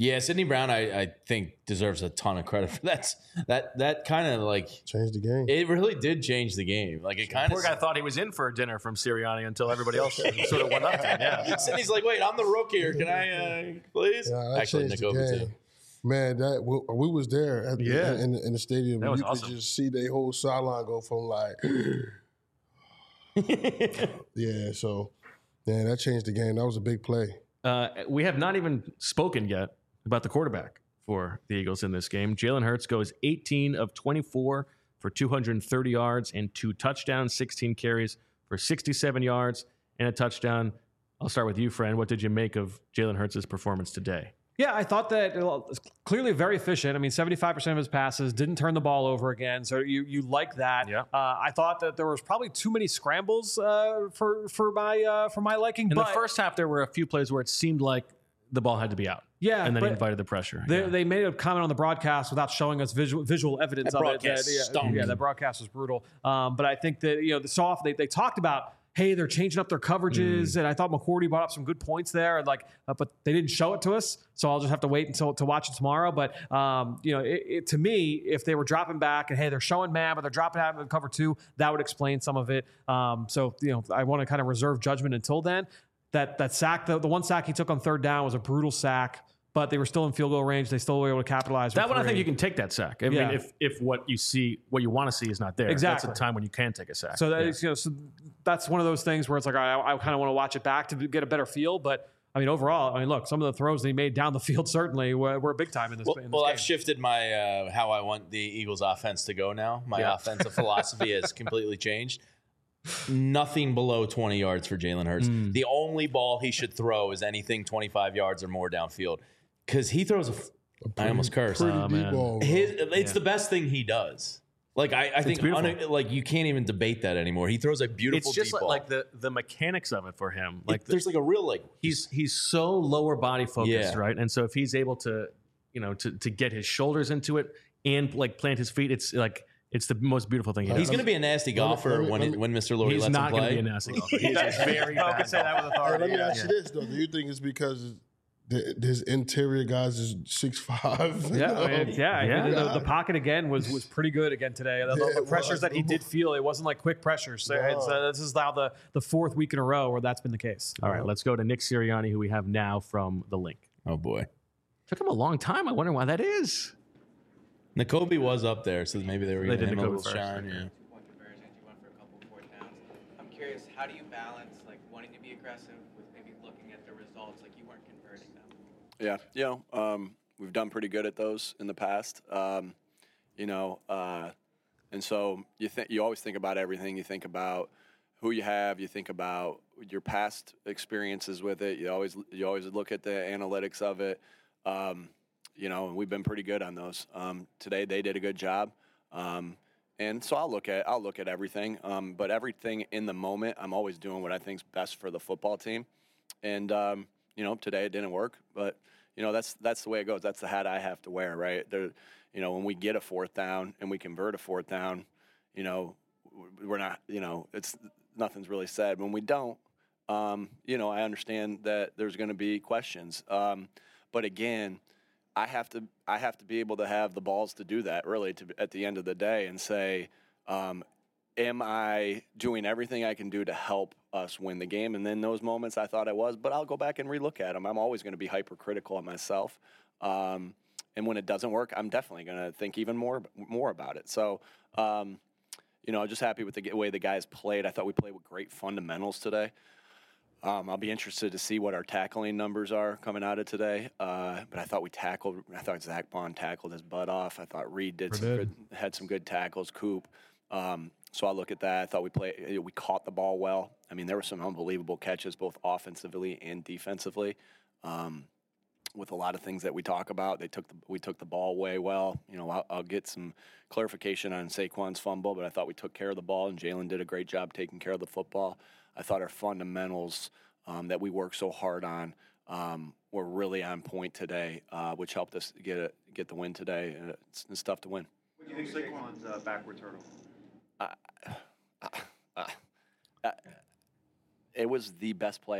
S3: Yeah, Sidney Brown, I, I think deserves a ton of credit for that. That that kind of like
S2: Changed the game.
S3: it really did change the game. Like it kind
S1: Poor
S3: of.
S1: guy thought he was in for a dinner from Sirianni until everybody else sort of went up to him. Yeah.
S3: Sidney's like, wait, I'm the rookie here. Can I, uh, please?
S2: Yeah, that
S3: Actually,
S2: changed
S3: Nick
S2: the
S3: Obi
S2: game.
S3: too.
S2: Man, that we, we was there at the,
S1: Yeah.
S2: in, in the stadium.
S1: That was
S2: you
S1: awesome.
S2: could just see the whole sideline go from like, yeah. So, yeah, that changed the game. That was a big play.
S1: Uh, we have not even spoken yet about the quarterback for the Eagles in this game. Jalen Hurts goes eighteen of twenty-four for two hundred thirty yards and two touchdowns, sixteen carries for sixty-seven yards and a touchdown. I'll start with you, friend. What did you make of Jalen Hurts' performance today?
S4: Yeah, I thought that well, it's clearly very efficient. I mean, seventy-five percent of his passes didn't turn the ball over again. So you you like that.
S1: Yeah.
S4: Uh, I thought that there was probably too many scrambles uh, for for my uh, for my liking.
S1: In
S4: but
S1: the first half, there were a few plays where it seemed like the ball had to be out.
S4: Yeah,
S1: And then he
S4: but
S1: invited the pressure.
S4: They,
S1: Yeah.
S4: they made a comment on the broadcast without showing us visual visual evidence
S3: That
S4: of it.
S3: broadcast
S4: That- yeah,
S3: stunk.
S4: yeah, that broadcast was brutal. Um, but I think that you know the soft they, they talked about. Hey, they're changing up their coverages, and I thought McCourty brought up some good points there. And like, uh, but they didn't show it to us, so I'll just have to wait until to watch it tomorrow. But um, you know, it, it, to me, if they were dropping back and hey, they're showing man, but they're dropping out in cover two, that would explain some of it. Um, so you know, I want to kind of reserve judgment until then. That that sack, the, the one sack he took on third down was a brutal sack. But they were still in field goal range. They still were able to capitalize.
S1: That
S4: with
S1: one, I think
S4: three.
S1: you can take that sack. I
S4: Yeah.
S1: mean, if if what you see, what you want to see is not there,
S4: Exactly.
S1: that's a time when you can take a sack.
S4: So that
S1: Yeah.
S4: is, you know, so that's one of those things where it's like I, I kind of want to watch it back to get a better feel. But I mean, overall, I mean, look, some of the throws they made down the field certainly were, were big time in this.
S3: Well,
S4: in this
S3: well
S4: game.
S3: I've shifted my uh, how I want the Eagles' offense to go now. My
S1: Yeah.
S3: offensive philosophy has completely changed. Nothing below twenty yards for Jalen Hurts.
S1: Mm.
S3: The only ball he should throw is anything twenty-five yards or more downfield because he throws a. F- I almost cursed.
S2: Pretty
S1: Oh,
S2: deep
S1: man.
S2: ball. bro.
S3: His, it's the best thing he does. Like I, I think,
S1: beautiful.
S3: un- like you can't even debate that anymore. He throws a beautiful
S1: It's just
S3: deep
S1: like,
S3: ball.
S1: like the the mechanics of it for him.
S3: Like
S1: Like the,
S3: there's like a real like
S1: he's he's so lower body focused,
S3: Yeah.
S1: right? And so if he's able to, you know, to to get his shoulders into it and like plant his feet, it's like it's the most beautiful thing. He
S3: he's
S1: does.
S3: going to be a nasty
S2: me-
S3: golfer
S2: let me-
S3: when
S2: let me-
S3: when Mister Lurie
S1: He's
S3: lets
S1: not
S3: him
S1: going to
S3: play.
S1: be a nasty golfer. He's a very
S4: I
S1: bad
S4: can say that with
S2: Hey,
S4: authority.
S2: let me
S4: yeah.
S2: ask you this though: do you think it's because the, his interior guys is six five?
S4: Yeah, I mean, yeah. I
S1: Yeah.
S4: mean, the, the pocket again was was pretty good again today. The, the
S2: Yeah, it
S4: pressures
S2: was.
S4: that he did feel, it wasn't like quick pressures. So it's, uh, this is now the the fourth week in a row where that's been the case.
S1: All right, let's go to Nick Sirianni, who we have now from the link.
S3: Oh boy,
S1: Took him a long time. I wonder why that is.
S3: Nakobe was up there, so maybe they were
S1: They
S3: giving
S1: did
S3: him a
S1: Nakobe
S3: little
S1: first,
S3: shine.
S1: yeah.
S3: Yeah.
S5: Point conversions, you went for a couple of fourth downs. I'm curious, how do you balance like wanting to be aggressive with maybe looking at the results, like you weren't converting them?
S6: Yeah, you know, um, we've done pretty good at those in the past. Um, you know, uh, and so you think you always think about everything. You think about who you have. You think about your past experiences with it. You always you always look at the analytics of it. Um, you know, and we've been pretty good on those. Um, today they did a good job. Um, and so I'll look at I'll look at everything. Um, but everything in the moment, I'm always doing what I think's best for the football team. And um, you know, today it didn't work, but you know that's that's the way it goes. That's the hat I have to wear, right? There, you know, when we get a fourth down and we convert a fourth down, you know, we're not, you know, it's nothing's really said. When we don't, um, you know, I understand that there's going to be questions, um, but again, I have to I have to be able to have the balls to do that, really, to at the end of the day, and say, um, am I doing everything I can do to help us win the game? And in those moments, I thought I was, but I'll go back and relook at them. I'm always going to be hypercritical of myself, um, and when it doesn't work, I'm definitely going to think even more more about it. So, um, you know, I'm just happy with the way the guys played. I thought we played with great fundamentals today. Um, I'll be interested to see what our tackling numbers are coming out of today. Uh, but I thought we tackled. I thought Zach Bond tackled his butt off. I thought Reed did some good, had some good tackles. Coop. Um, so I look at that. I thought we played. We caught the ball well. I mean, there were some unbelievable catches, both offensively and defensively. Um, with a lot of things that we talk about, they took the, we took the ball way well. You know, I'll, I'll get some clarification on Saquon's fumble, but I thought we took care of the ball, and Jalen did a great job taking care of the football. I thought our fundamentals um, that we worked so hard on um, were really on point today, uh, which helped us get a, get the win today. Uh, it's, it's tough to win.
S7: What do you think Saquon's uh, backward turtle?
S6: Uh, uh, uh, it was the best play I've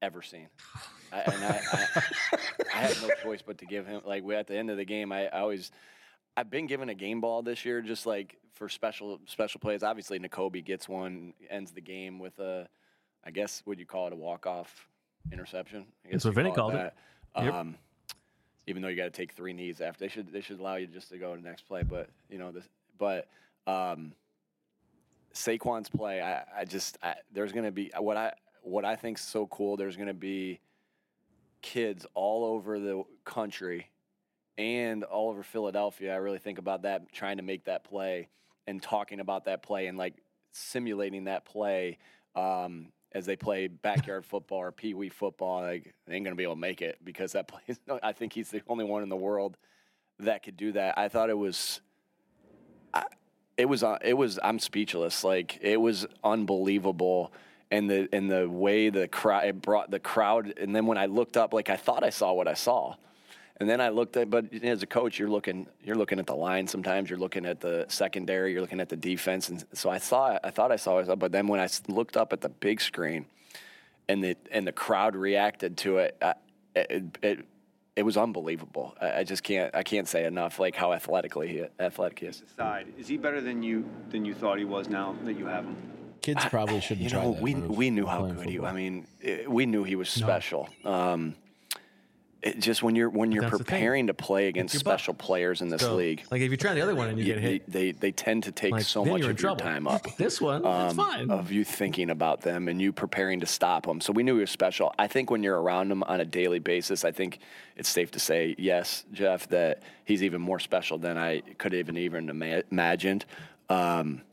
S6: ever seen. I, and I, I, I had no choice but to give him, like, we, at the end of the game, I, I always, I've been given a game ball this year, just like for special special plays. Obviously, Nakobe gets one, ends the game with a, I guess, would you call it a walk-off interception? I guess
S1: That's what
S6: you
S1: Vinny
S6: call
S1: called it.
S6: that.
S1: Yep.
S6: Um, even though you got to take three knees after, they should they should allow you just to go to the next play. But you know, this, but um, Saquon's play, I, I just I, there's going to be what I what I think's so cool. There's going to be kids all over the country and all over Philadelphia. I really think about that, trying to make that play and talking about that play and like simulating that play um, as they play backyard football or pee wee football. Like, they ain't gonna be able to make it because that play. I think he's the only one in the world that could do that. I thought it was. I, it was. Uh, it was. I'm speechless. Like, it was unbelievable. And the and the way the crowd it brought the crowd, and then when I looked up, like I thought I saw what I saw, and then I looked at. But as a coach, you're looking you're looking at the line. Sometimes you're looking at the secondary. You're looking at the defense, and so I saw I thought I saw it. But then when I looked up at the big screen, and the and the crowd reacted to it, I, it, it it was unbelievable. I, I just can't I can't say enough like how athletically he, athletic he is.
S7: Aside, is he better than you than you thought he was now that you have him?
S8: Kids probably shouldn't
S6: You
S8: try
S6: know,
S8: that
S6: we
S8: move
S6: we knew how
S8: playing
S6: good he.
S8: football.
S6: I mean, it, we knew he was special. Um, it just when you're when you're
S1: That's the thing.
S6: preparing to play against
S1: your butt.
S6: special players in this
S1: So,
S6: league,
S1: Like if you try the other one and you
S6: you-
S1: get hit,
S6: they, they they tend to take
S1: like,
S6: so
S1: then
S6: much
S1: you're
S6: of
S1: in
S6: your
S1: trouble.
S6: time up.
S1: This one, it's
S6: um,
S1: fine.
S6: Of you thinking about them and you preparing to stop them. So we knew he was special. I think when you're around him on a daily basis, I think it's safe to say, yes, Jeff, that he's even more special than I could even even ima- imagined. Um,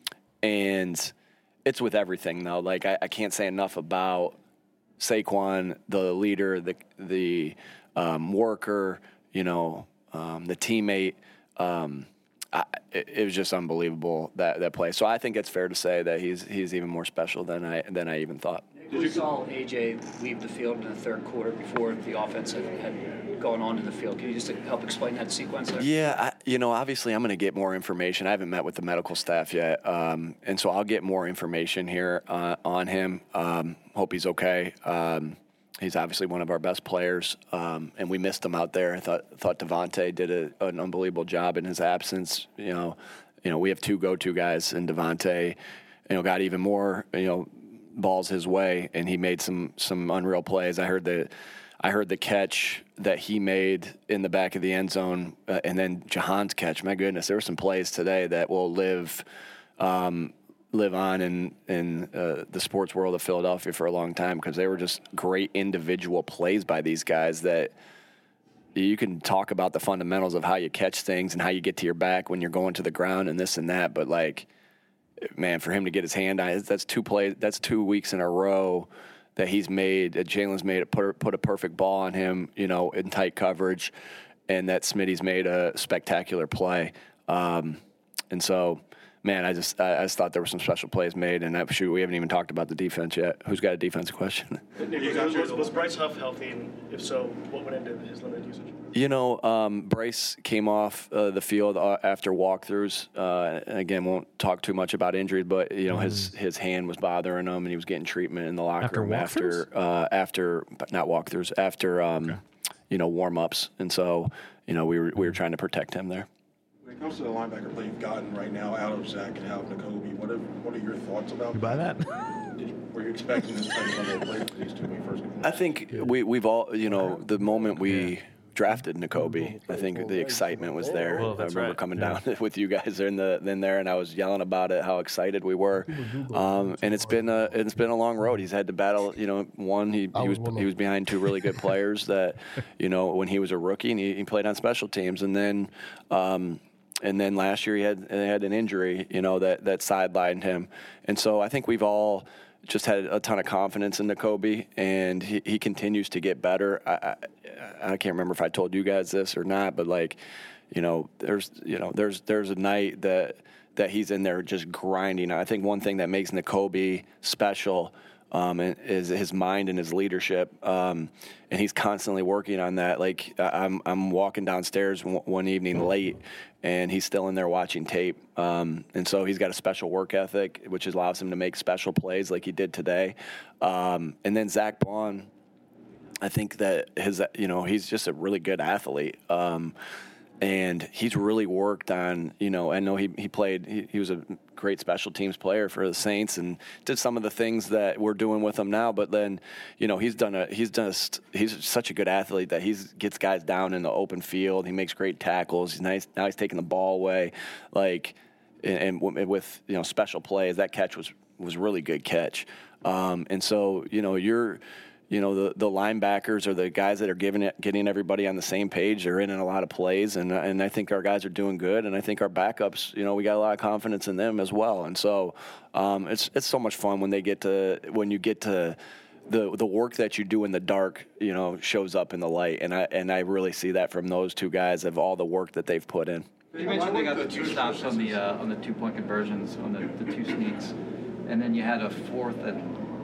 S6: and it's with everything though. Like I, I can't say enough about Saquon, the leader, the the um, worker, you know, um, the teammate. Um, I, it, it was just unbelievable that that play. So I think it's fair to say that he's he's even more special than I than I even thought.
S9: We saw A J leave the field in the third quarter before the offense had, had gone on to the field. Can you just help explain that sequence there?
S6: Yeah, I, you know, obviously I'm going to get more information. I haven't met with the medical staff yet, um, and so I'll get more information here uh, on him. Um, hope he's okay. Um, he's obviously one of our best players, um, and we missed him out there. I thought thought Devontae did a, an unbelievable job in his absence. You know, you know, we have two go-to guys, and Devontae, you know, got even more, you know, balls his way, and he made some some unreal plays. I heard the I heard the catch that he made in the back of the end zone, uh, and then Jahan's catch. My goodness, there were some plays today that will live um, live on in in uh, the sports world of Philadelphia for a long time because they were just great individual plays by these guys that. You can talk about the fundamentals of how you catch things and how you get to your back when you're going to the ground and this and that, but like, man, for him to get his hand on it, that's two plays, that's two weeks in a row that he's made, that Jalen's made, put, put a perfect ball on him, you know, in tight coverage, and that Smitty's made a spectacular play. Um, and so, man, I just I, I just thought there were some special plays made, and that, shoot, we haven't even talked about the defense yet. Who's got a defensive question?
S10: Nick, was, was, was Bryce Huff healthy, and if so, what went into his limited usage?
S6: You know, um, Bryce came off uh, the field uh, after walkthroughs. Uh, and again, won't talk too much about injuries, but you know, mm. his his hand was bothering him, and he was getting treatment in the locker
S1: after
S6: room
S1: walkthroughs?
S6: after uh, after but not walkthroughs after um, okay. you know, warm ups, and so you know we were we were trying to protect him there.
S11: When it comes to the linebacker play you've gotten right now out of Zach and out of Nakobe, what are what are your thoughts about?
S1: You buy that?
S11: Were you expecting this type of level of play for these two when you first?
S6: I think we we've all you know the moment we. drafted Nakobe, I think the excitement was there.
S1: Well,
S6: I remember
S1: right.
S6: coming
S1: yeah.
S6: down with you guys in the in there, and I was yelling about it, how excited we were. Um, and it's been a it's been a long road. He's had to battle. You know, one he, he was he was behind two really good players that, you know, when he was a rookie, and he, he played on special teams, and then. Um, And then last year he had he had an injury, you know, that, that sidelined him. And so I think we've all just had a ton of confidence in Nakobe, and he, he continues to get better. I, I I can't remember if I told you guys this or not, but like, you know, there's you know there's there's a night that that he's in there just grinding. I think one thing that makes Nakobe special um, and his, his mind and his leadership. Um, and he's constantly working on that. Like I'm, I'm walking downstairs one, one evening late, and he's still in there watching tape. Um, and so he's got a special work ethic, which allows him to make special plays like he did today. Um, and then Zach Baun, I think that his, you know, he's just a really good athlete. Um, and he's really worked on, you know, I know he, he played, he, he was a great special teams player for the Saints and did some of the things that we're doing with him now. But then, you know, he's done a, he's done a, he's such a good athlete that he's gets guys down in the open field. He makes great tackles. He's nice. Now he's taking the ball away. Like, and, and with, you know, special plays, that catch was, was really good catch. Um, and so, you know, you're, You know, the, the linebackers are the guys that are giving it, getting everybody on the same page. They're in a lot of plays, and and I think our guys are doing good. And I think our backups, you know, we got a lot of confidence in them as well. And so um, it's it's so much fun when they get to when you get to the the work that you do in the dark, you know, shows up in the light. And I and I really see that from those two guys of all the work that they've put in.
S8: You mentioned they got the two stops on the uh, on the two point conversions on the, the two sneaks, and then you had a fourth that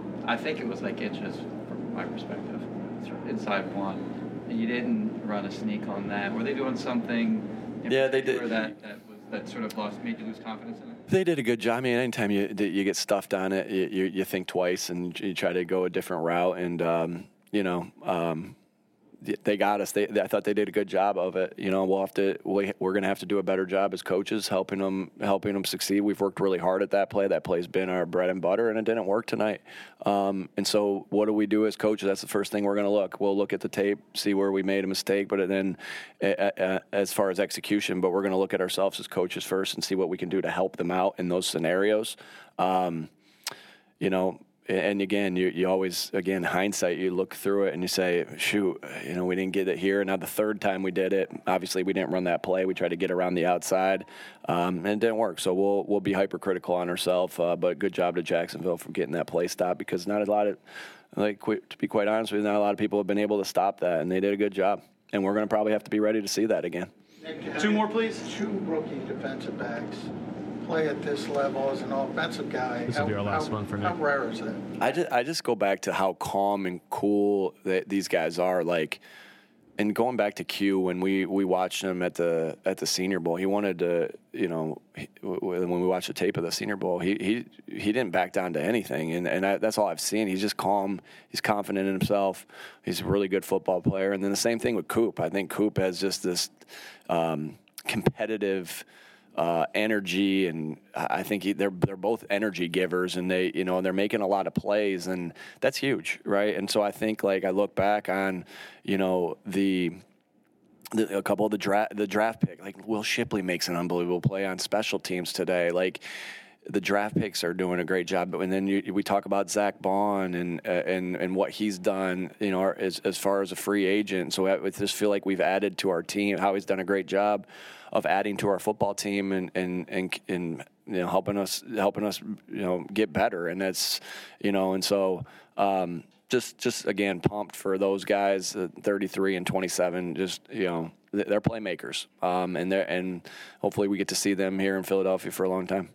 S8: I think it was like inches. My perspective, inside one, and you didn't run a sneak on that. Were they doing something? In
S6: yeah, they did.
S8: That that was that sort of lost made you lose confidence in it.
S6: They did a good job. I mean, anytime you you get stuffed on it, you you, you think twice and you try to go a different route. And um, you know, um, they got us. They, they I thought they did a good job of it. You know, we'll have to we, we're going to have to do a better job as coaches helping them helping them succeed. We've worked really hard at that play. That play's been our bread and butter, and it didn't work tonight. Um, and so, what do we do as coaches? That's the first thing we're going to look. We'll look at the tape, see where we made a mistake, but then uh, uh, as far as execution, but we're going to look at ourselves as coaches first and see what we can do to help them out in those scenarios. Um, you know. And again, you, you always, again, hindsight, you look through it and you say, shoot, you know, we didn't get it here. Now the third time we did it, obviously we didn't run that play. We tried to get around the outside, um, and it didn't work. So we'll we'll be hypercritical on ourselves. Uh, but good job to Jacksonville for getting that play stopped, because not a lot of, like, to be quite honest with you, not a lot of people have been able to stop that, and they did a good job. And we're going to probably have to be ready to see that again.
S12: Two more, please. Two rookie defensive backs play at this level as an offensive guy.
S1: This will be our last
S12: how,
S1: one for
S12: How
S1: Nick.
S12: rare is that?
S6: I just, I just go back to how calm and cool that these guys are. Like, and going back to Q, when we, we watched him at the at the Senior Bowl, he wanted to, you know, he, when we watched the tape of the Senior Bowl, he he, he didn't back down to anything, and and I, that's all I've seen. He's just calm. He's confident in himself. He's a really good football player. And then the same thing with Coop. I think Coop has just this um, competitive Uh, energy, and I think he, they're they're both energy givers, and they you know they're making a lot of plays, and that's huge, right? And so I think, like, I look back on, you know, the, the a couple of the draft the draft pick, like Will Shipley makes an unbelievable play on special teams today, like. The draft picks are doing a great job, and then you, we talk about Zach Baun and uh, and and what he's done, you know, as as far as a free agent. So I just feel like we've added to our team. How he's done a great job of adding to our football team and and and, and you know helping us helping us you know get better. And that's you know, and so um, just just again pumped for those guys, uh, thirty-three and twenty-seven. Just you know, they're playmakers, um, and they and hopefully we get to see them here in Philadelphia for a long time.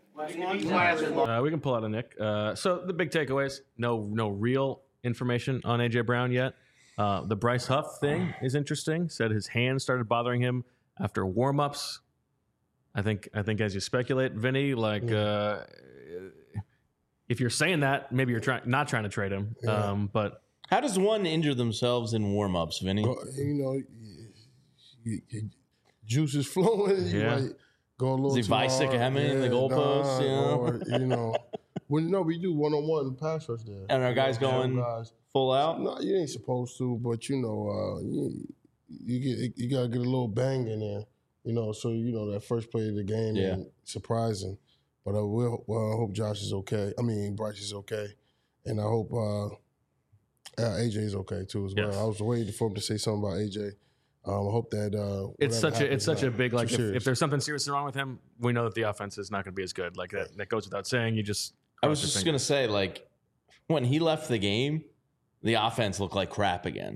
S1: Uh, we can pull out a Nick. Uh, so the big takeaways: no, no real information on A J Brown yet. Uh, the Bryce Huff thing is interesting. Said his hand started bothering him after warm-ups. I think, I think as you speculate, Vinny, like uh, if you're saying that, maybe you're trying not trying to trade him.
S2: Yeah.
S1: Um, but
S3: how does one injure themselves in warm-ups, Vinny?
S2: Well, you know, you, you, juice is flowing. You
S1: Yeah.
S2: might go a little
S3: Is he
S2: too hard.
S3: bicycling in the goalposts,
S2: nah,
S3: you know?
S2: Or, you know, well, no, we do one-on-one pass rush there.
S3: And our
S2: You
S3: guys
S2: know,
S3: going
S2: guys.
S3: full out?
S2: No, you ain't supposed to, but you know, uh, you, you get you gotta get a little bang in there, you know. So you know that first play of the game,
S3: Yeah.
S2: and surprising. But I will. Well, I hope Josh is okay. I mean, Bryce is okay, and I hope uh, uh, A J is okay too as well.
S1: Yes.
S2: I was waiting for him to say something about A J. Um, I hope that uh,
S1: it's such a it's such a big like if, if there's something seriously wrong with him, we know that the offense is not going to be as good. Like that, that goes without saying. You just
S3: I was just going to say, like, when he left the game, the offense looked like crap again.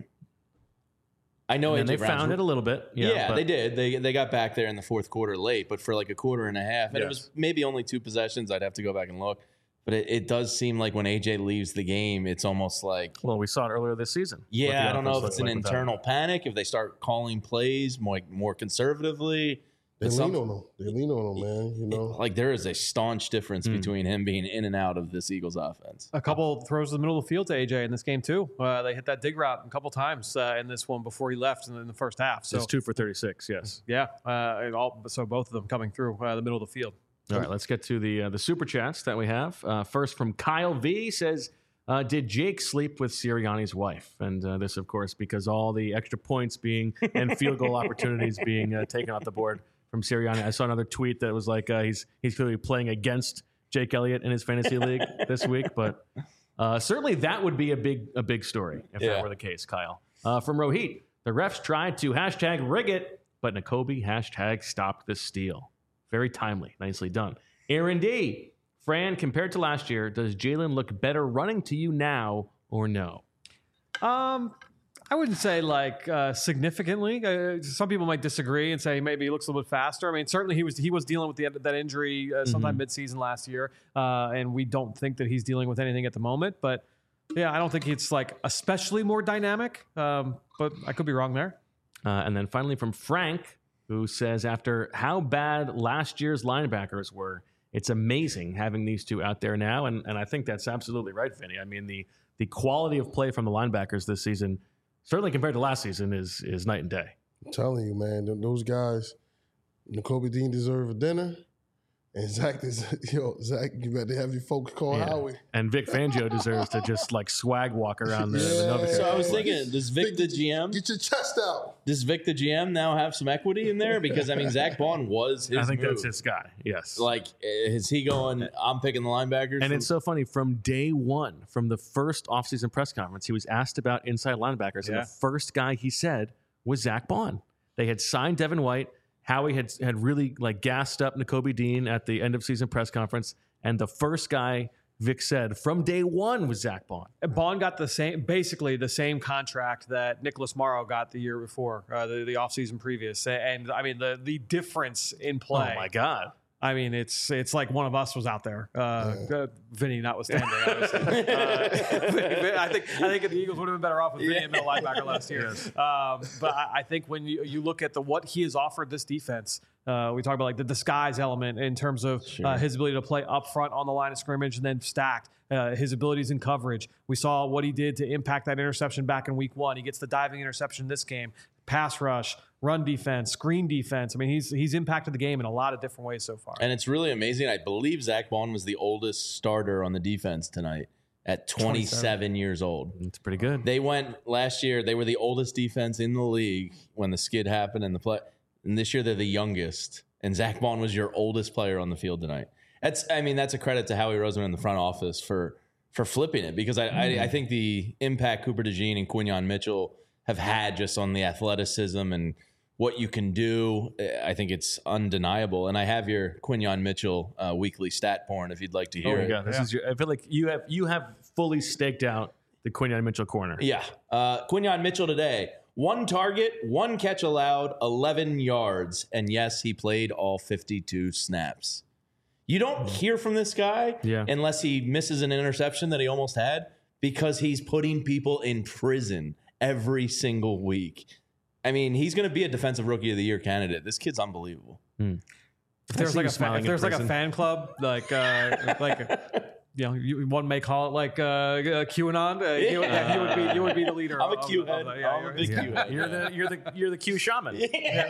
S3: I know
S1: and
S3: A J
S1: they
S3: Brown's
S1: found it a little bit. Yeah,
S3: Yeah,
S1: but
S3: they did. They they got back there in the fourth quarter late, but for like a quarter and a half, and it
S1: Yes.
S3: was maybe only two possessions. I'd have to go back and look. But it, it does seem like when A J leaves the game, it's almost like...
S1: Well, we saw it earlier this season.
S3: Yeah, I don't know if it's an
S1: like
S3: internal panic, if they start calling plays more, more conservatively.
S2: They
S3: It's
S2: lean
S3: some-
S2: on him. They lean on him, man. You know,
S3: Like, there is a staunch difference
S1: Hmm.
S3: between him being in and out of this Eagles offense.
S4: A couple throws to the middle of the field to A J in this game too. Uh, they hit that dig route a couple times uh, in this one before he left in the first half. So
S1: It's two for thirty-six, yes.
S4: yeah, uh, and all, so both of them coming through uh, the middle of the field.
S1: All right, let's get to the uh, the super chats that we have. Uh, first from Kyle V says, uh, "Did Jake sleep with Sirianni's wife?" And uh, this, of course, because all the extra points being and field goal opportunities being uh, taken off the board from Sirianni. I saw another tweet that was like uh, he's he's clearly playing against Jake Elliott in his fantasy league this week, but uh, certainly that would be a big a big story if
S3: Yeah.
S1: that were the case. Kyle uh, from Rohit, the refs tried to hashtag rig it, but Nakobe hashtag stopped the steal. Very timely. Nicely done. Aaron D. Fran, compared to last year, does Jalen look better running to you now or no?
S4: Um, I wouldn't say like uh, significantly. Uh, some people might disagree and say maybe he looks a little bit faster. I mean, certainly he was he was dealing with the, that injury uh, sometime
S1: Mhm.
S4: midseason last year, uh, and we don't think that he's dealing with anything at the moment. But yeah, I don't think it's like especially more dynamic. Um, but I could be wrong there.
S1: Uh, and then finally from Frank, who says, after how bad last year's linebackers were, it's amazing having these two out there now. And, and I think that's absolutely right, Vinny. I mean, the the quality of play from the linebackers this season, certainly compared to last season, is is night and day.
S2: I'm telling you, man, th- those guys, Nakobe Dean deserve a dinner. And Zach is, yo, Zach, you better have your folks call
S1: Yeah.
S2: Howie.
S1: And Vic Fangio deserves to just like swag walk around the, the Novichok.
S3: So I was thinking, does Vic the G M
S2: Get your chest out.
S3: does Vic the G M now have some equity in there? Because I mean, Zach Bond was his.
S1: I think
S3: move.
S1: that's his guy. Yes.
S3: Like, is he going? I'm picking the linebackers.
S1: And
S3: from-
S1: it's so funny, from day one, from the first offseason press conference, he was asked about inside linebackers, and
S4: Yeah.
S1: the first guy he said was Zach Bond. They had signed Devin White. Howie had had really like gassed up Nakobe Dean at the end of season press conference, and the first guy Vic said from day one was Zach Bond.
S4: Bond got the same, basically the same contract that Nicholas Morrow got the year before, uh, the, the offseason previous. And I mean, the the difference in play.
S1: Oh my God.
S4: I mean, it's it's like one of us was out there, uh, uh, Vinny notwithstanding. Obviously. uh, Vinny- I think I think the Eagles would have been better off with Vinny and middle linebacker last year. Um, but I, I think when you, you look at the what he has offered this defense, uh, we talk about like the disguise element in terms of uh, his ability to play up front on the line of scrimmage and then stacked. Uh, his abilities in coverage. We saw what he did to impact that interception back in week one. He gets the diving interception this game. Pass rush, run defense, screen defense. I mean, he's he's impacted the game in a lot of different ways so far.
S3: and it's really amazing. I believe Zach Bond was the oldest starter on the defense tonight at twenty-seven years old.
S1: It's pretty good.
S3: They went last year. They were the oldest defense in the league when the skid happened and the play. And this year they're the youngest. And Zach Bond was your oldest player on the field tonight. That's, I mean, that's a credit to Howie Roseman in the front office for for flipping it, because I, I, I think the impact Cooper DeJean and Quinyon Mitchell have had just on the athleticism and what you can do, I think it's undeniable. And I have your Quinyon Mitchell uh, weekly stat porn if you'd like to hear
S1: Oh,
S3: it.
S1: yeah. This is your, I feel like you have you have fully staked out the Quinyon Mitchell corner.
S3: Yeah. Uh, Quinyon Mitchell today, one target, one catch allowed, eleven yards. And yes, he played all fifty-two snaps. You don't hear from this guy
S1: Yeah.
S3: unless he misses an interception that he almost had, because he's putting people in prison every single week. I mean, he's going to be a defensive rookie of the year candidate. This kid's unbelievable.
S4: If there's like a fan, if there's like a fan club, like uh, like you know, you, one may call it like uh, uh, QAnon. Uh, you, yeah, you would be you would be the leader.
S3: I'm a
S4: of-
S3: Q
S4: of-
S3: head.
S4: of the- yeah,
S3: I'm a
S4: you're-
S3: big
S4: yeah.
S3: Q head.
S1: You're the you're the you're the Q shaman.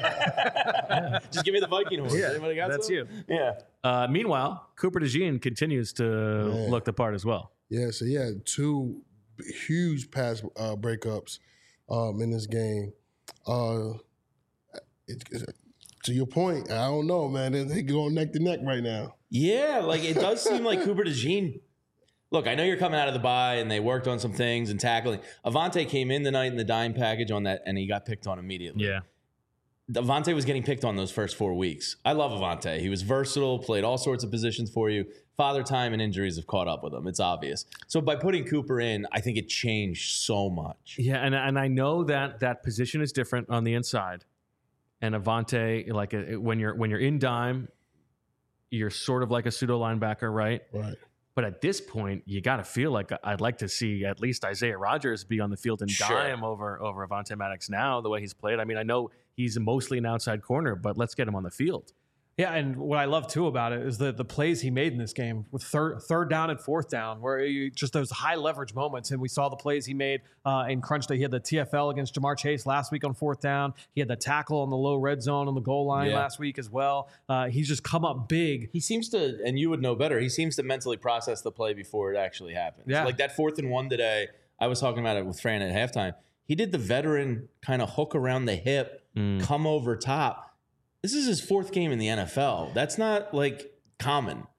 S3: Just give me the Viking horse.
S1: Yeah,
S3: Anybody got
S1: that's
S3: some?
S1: you.
S3: Yeah.
S1: Uh, meanwhile, Cooper DeJean continues to
S2: Man.
S1: look the part as well.
S2: Yeah, so he had two huge pass uh, breakups um, in this game. Uh, it, it- to your point, I don't know, man. They, they going neck to neck right now.
S3: Yeah, like it does seem like Cooper DeJean. Look, I know you're coming out of the bye and they worked on some things and tackling. Avante came in tonight in the dime package on that, and he got picked on immediately.
S1: Yeah.
S3: Avante was getting picked on those first four weeks. I love Avante. He was versatile, played all sorts of positions for you. Father time and injuries have caught up with him. It's obvious. So by putting Cooper in, I think it changed so much.
S1: Yeah, and and I know that that position is different on the inside. And Avante, like a, when you're when you're in dime, you're sort of like a pseudo linebacker, right?
S2: Right.
S1: But at this point, you got to feel like I'd like to see at least Isaiah Rodgers be on the field and
S3: Sure.
S1: dime over over Avonte Maddox now, the way he's played. I mean, I know he's mostly an outside corner, but let's get him on the field.
S4: Yeah, and what I love too about it is the the plays he made in this game with third third down and fourth down, where you, just those high leverage moments. And we saw the plays he made uh, in crunch day. He had the T F L against Jamar Chase last week on fourth down. He had the tackle on the low red zone on the goal line
S3: Yeah.
S4: last week as well. Uh, he's just come up big.
S3: He seems to, and you would know better, he seems to mentally process the play before it actually happens.
S4: Yeah.
S3: Like that fourth and one today, I was talking about it with Fran at halftime. He did the veteran kind of hook around the hip,
S1: Mm.
S3: come over top. This is his fourth game in the N F L. That's not like common.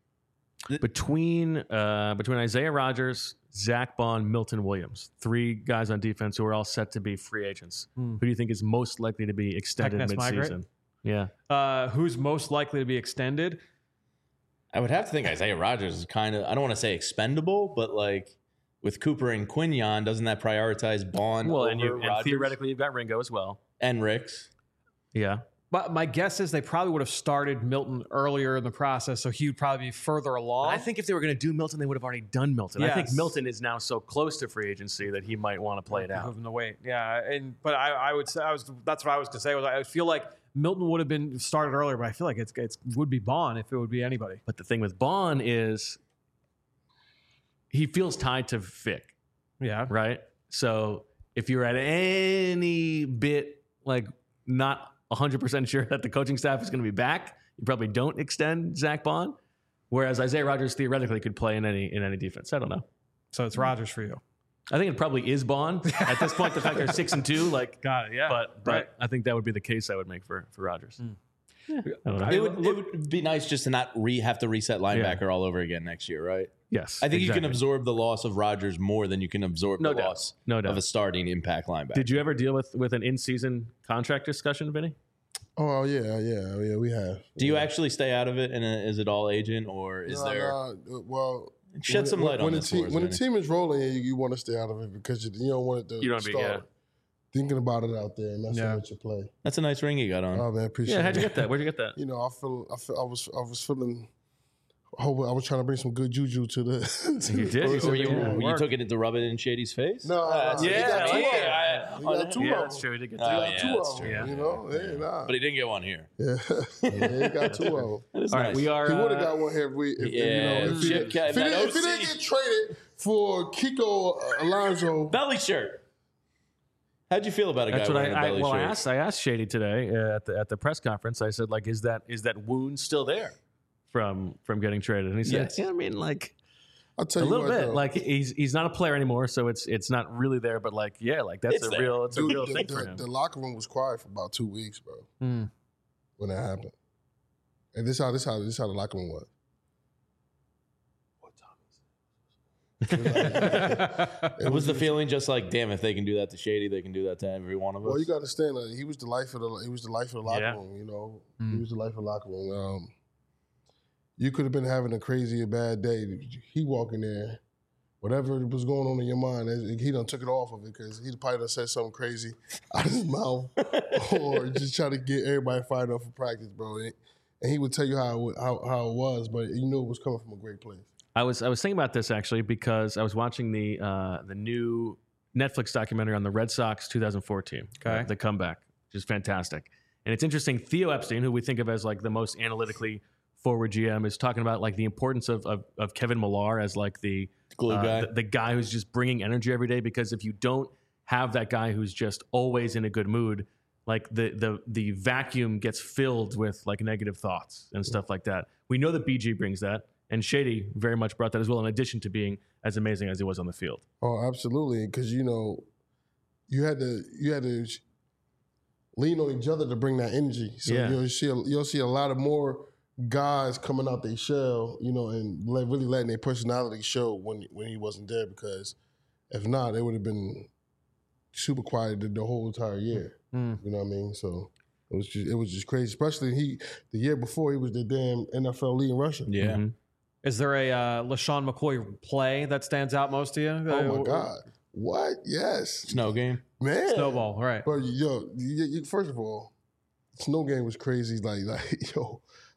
S1: Between uh, between Isaiah Rodgers, Zach Bond, Milton Williams, three guys on defense who are all set to be free agents.
S4: Hmm.
S1: Who do you think is most likely to be extended
S4: Heckness migrate?
S1: midseason? Yeah.
S4: Uh, who's most likely to be extended?
S3: I would have to think Isaiah Rodgers is kind of, I don't want to say expendable, but like with Cooper and Quinion, doesn't that prioritize Bond
S1: Well,
S3: over
S1: and, you, and
S3: Rodgers?
S1: theoretically, you've got Ringo as well.
S3: And Ricks.
S1: Yeah.
S4: But my guess is they probably would have started Milton earlier in the process, so he would probably be further along.
S1: I think if they were going to do Milton, they would have already done Milton. I think
S4: Yes.
S1: Milton is now so close to free agency that he might want to play it out.
S4: Moving the weight, yeah. And but I, I would say I was that's what I was going to say. Was I feel like Milton would have been started earlier, but I feel like it's it's would be Bond if it would be anybody.
S1: But the thing with Bond is he feels tied to Vic.
S4: Yeah.
S1: Right. So if you're at any bit like not one hundred percent sure that the coaching staff is going to be back, you probably don't extend Zach Bond. Whereas Isaiah Rodgers theoretically could play in any in any defense. I don't know.
S4: So it's Rodgers for you.
S1: I think it probably is Bond at this point. The fact they're six and two, like,
S4: got it. Yeah,
S1: but but
S4: right.
S1: I think that would be the case I would make for for Rodgers.
S4: Mm.
S1: Yeah, I don't know.
S3: It would, it would be nice just to not re have to reset linebacker all over again next year, right?
S1: Yes,
S3: I think you can
S1: exactly.
S3: absorb the loss of Rodgers more than you can absorb
S1: No
S3: the
S1: doubt.
S3: loss
S1: No doubt.
S3: of a starting impact linebacker.
S1: Did you ever deal with with an in season contract discussion, Vinny?
S2: Oh yeah, yeah, yeah. We have.
S3: Do you actually stay out of it, and uh, is it all agent, or is
S2: No,
S3: there?
S2: no, well,
S3: Shed
S2: when-
S3: some
S2: when-
S3: light
S2: when
S3: on
S2: the
S3: this
S2: team,
S3: for us,
S2: when the
S3: Vinny.
S2: team is rolling, you, you want to stay out of it because you, you don't want it to
S1: You don't be-
S2: start
S1: yeah.
S2: thinking about it out there and messing
S3: Yeah.
S2: with your play.
S3: That's a nice ring you got on.
S2: Oh man, appreciate
S1: Yeah,
S2: it.
S1: how'd you get that? Where'd you get that?
S2: You know, I feel, I feel, I was, I was feeling. I hope I was trying to bring some good juju to the. to
S1: You
S2: the-
S1: did. You
S3: Or
S1: said
S3: you,
S1: yeah, it
S3: you
S1: worked.
S3: took it to rub it in Shady's face?
S2: No,
S3: Uh,
S2: no,
S3: he
S2: he
S3: got
S2: got two
S3: yeah,
S2: of them.
S3: yeah,
S2: He
S3: I-
S2: got two
S1: Yeah,
S2: of
S1: that's
S2: them.
S1: true. He did get
S3: Oh,
S1: two.
S2: He got
S3: yeah,
S2: two
S3: that's
S2: of them.
S1: true.
S2: You know, yeah, nah.
S3: But he didn't get one here.
S2: Yeah, yeah, he got two of them.
S3: That is
S1: All right,
S3: nice.
S1: we are.
S2: He would have
S1: uh,
S2: got one here if we, if,
S3: Yeah,
S2: you know, if he,
S3: shit,
S2: if,
S3: Kev,
S2: he
S3: that
S2: didn't, if he
S3: O C.
S2: didn't get traded for Kiko Alonso.
S3: Belly shirt. How'd you feel about a guy
S1: That's what I,
S3: wearing a
S1: I
S3: belly
S1: well. I
S3: shirt?
S1: asked. I asked Shady today uh, at the at the press conference. I said, like, is that is that wound still there from from getting traded? And he said,
S3: Yes.
S1: yeah, I mean, like.
S2: I'll tell
S1: A
S2: you
S1: little
S2: what,
S1: bit,
S2: though.
S1: like he's he's not a player anymore, so it's it's not really there. But like, yeah, like that's
S3: It's
S1: a
S3: there.
S1: real, it's a
S2: Dude,
S1: real
S2: the,
S1: thing
S2: the,
S1: for him.
S2: the locker room was quiet for about two weeks, bro,
S4: Mm.
S2: when that happened. And this how this how this how the locker room was.
S3: It was the feeling just like, damn, if they can do that to Shady, they can do that to every one of us.
S2: Well, you got to understand that he was the life of the he was the life of the locker
S1: Yeah.
S2: room. You know,
S4: Mm.
S2: he was the life of the locker room. Um, you could have been having a crazy or bad day. He walk in there, whatever was going on in your mind, he done took it off of it because he probably done said something crazy out of his mouth, or just try to get everybody fired up for practice, bro. And, and he would tell you how it, how how it was, but you knew it was coming from a great place.
S1: I was I was thinking about this actually because I was watching the uh, the new Netflix documentary on the Red Sox twenty fourteen,
S4: Okay.
S1: uh, the comeback, which is fantastic. And it's interesting. Theo Epstein, who we think of as like the most analytically forward G M, is talking about like the importance of of, of Kevin Millar as like the
S3: Glue
S1: uh,
S3: guy.
S1: the, the guy who's just bringing energy every day. Because if you don't have that guy who's just always in a good mood, like the the the vacuum gets filled with like negative thoughts and stuff like that. We know that B G brings that. And Shady very much brought that as well, in addition to being as amazing as he was on the field.
S2: Oh, absolutely, because you know, you had to you had to lean on each other to bring that energy. So
S1: Yeah.
S2: you'll see a, you'll see a lot of more guys coming out their shell, you know, and let, really letting their personality show when when he wasn't there. Because if not, they would have been super quiet the, the whole entire year.
S4: Mm.
S2: You know what I mean? So it was just it was just crazy. Especially he the year before he was the damn N F L lead in rushing.
S3: Yeah.
S1: Mhm.
S4: Is there a uh, LaShawn McCoy play that stands out most to you?
S2: Oh my God! What? Yes,
S3: Snow game.
S2: man.
S4: Snowball, right?
S2: But yo, you, you, first of all, snow game was crazy. Like, like yo,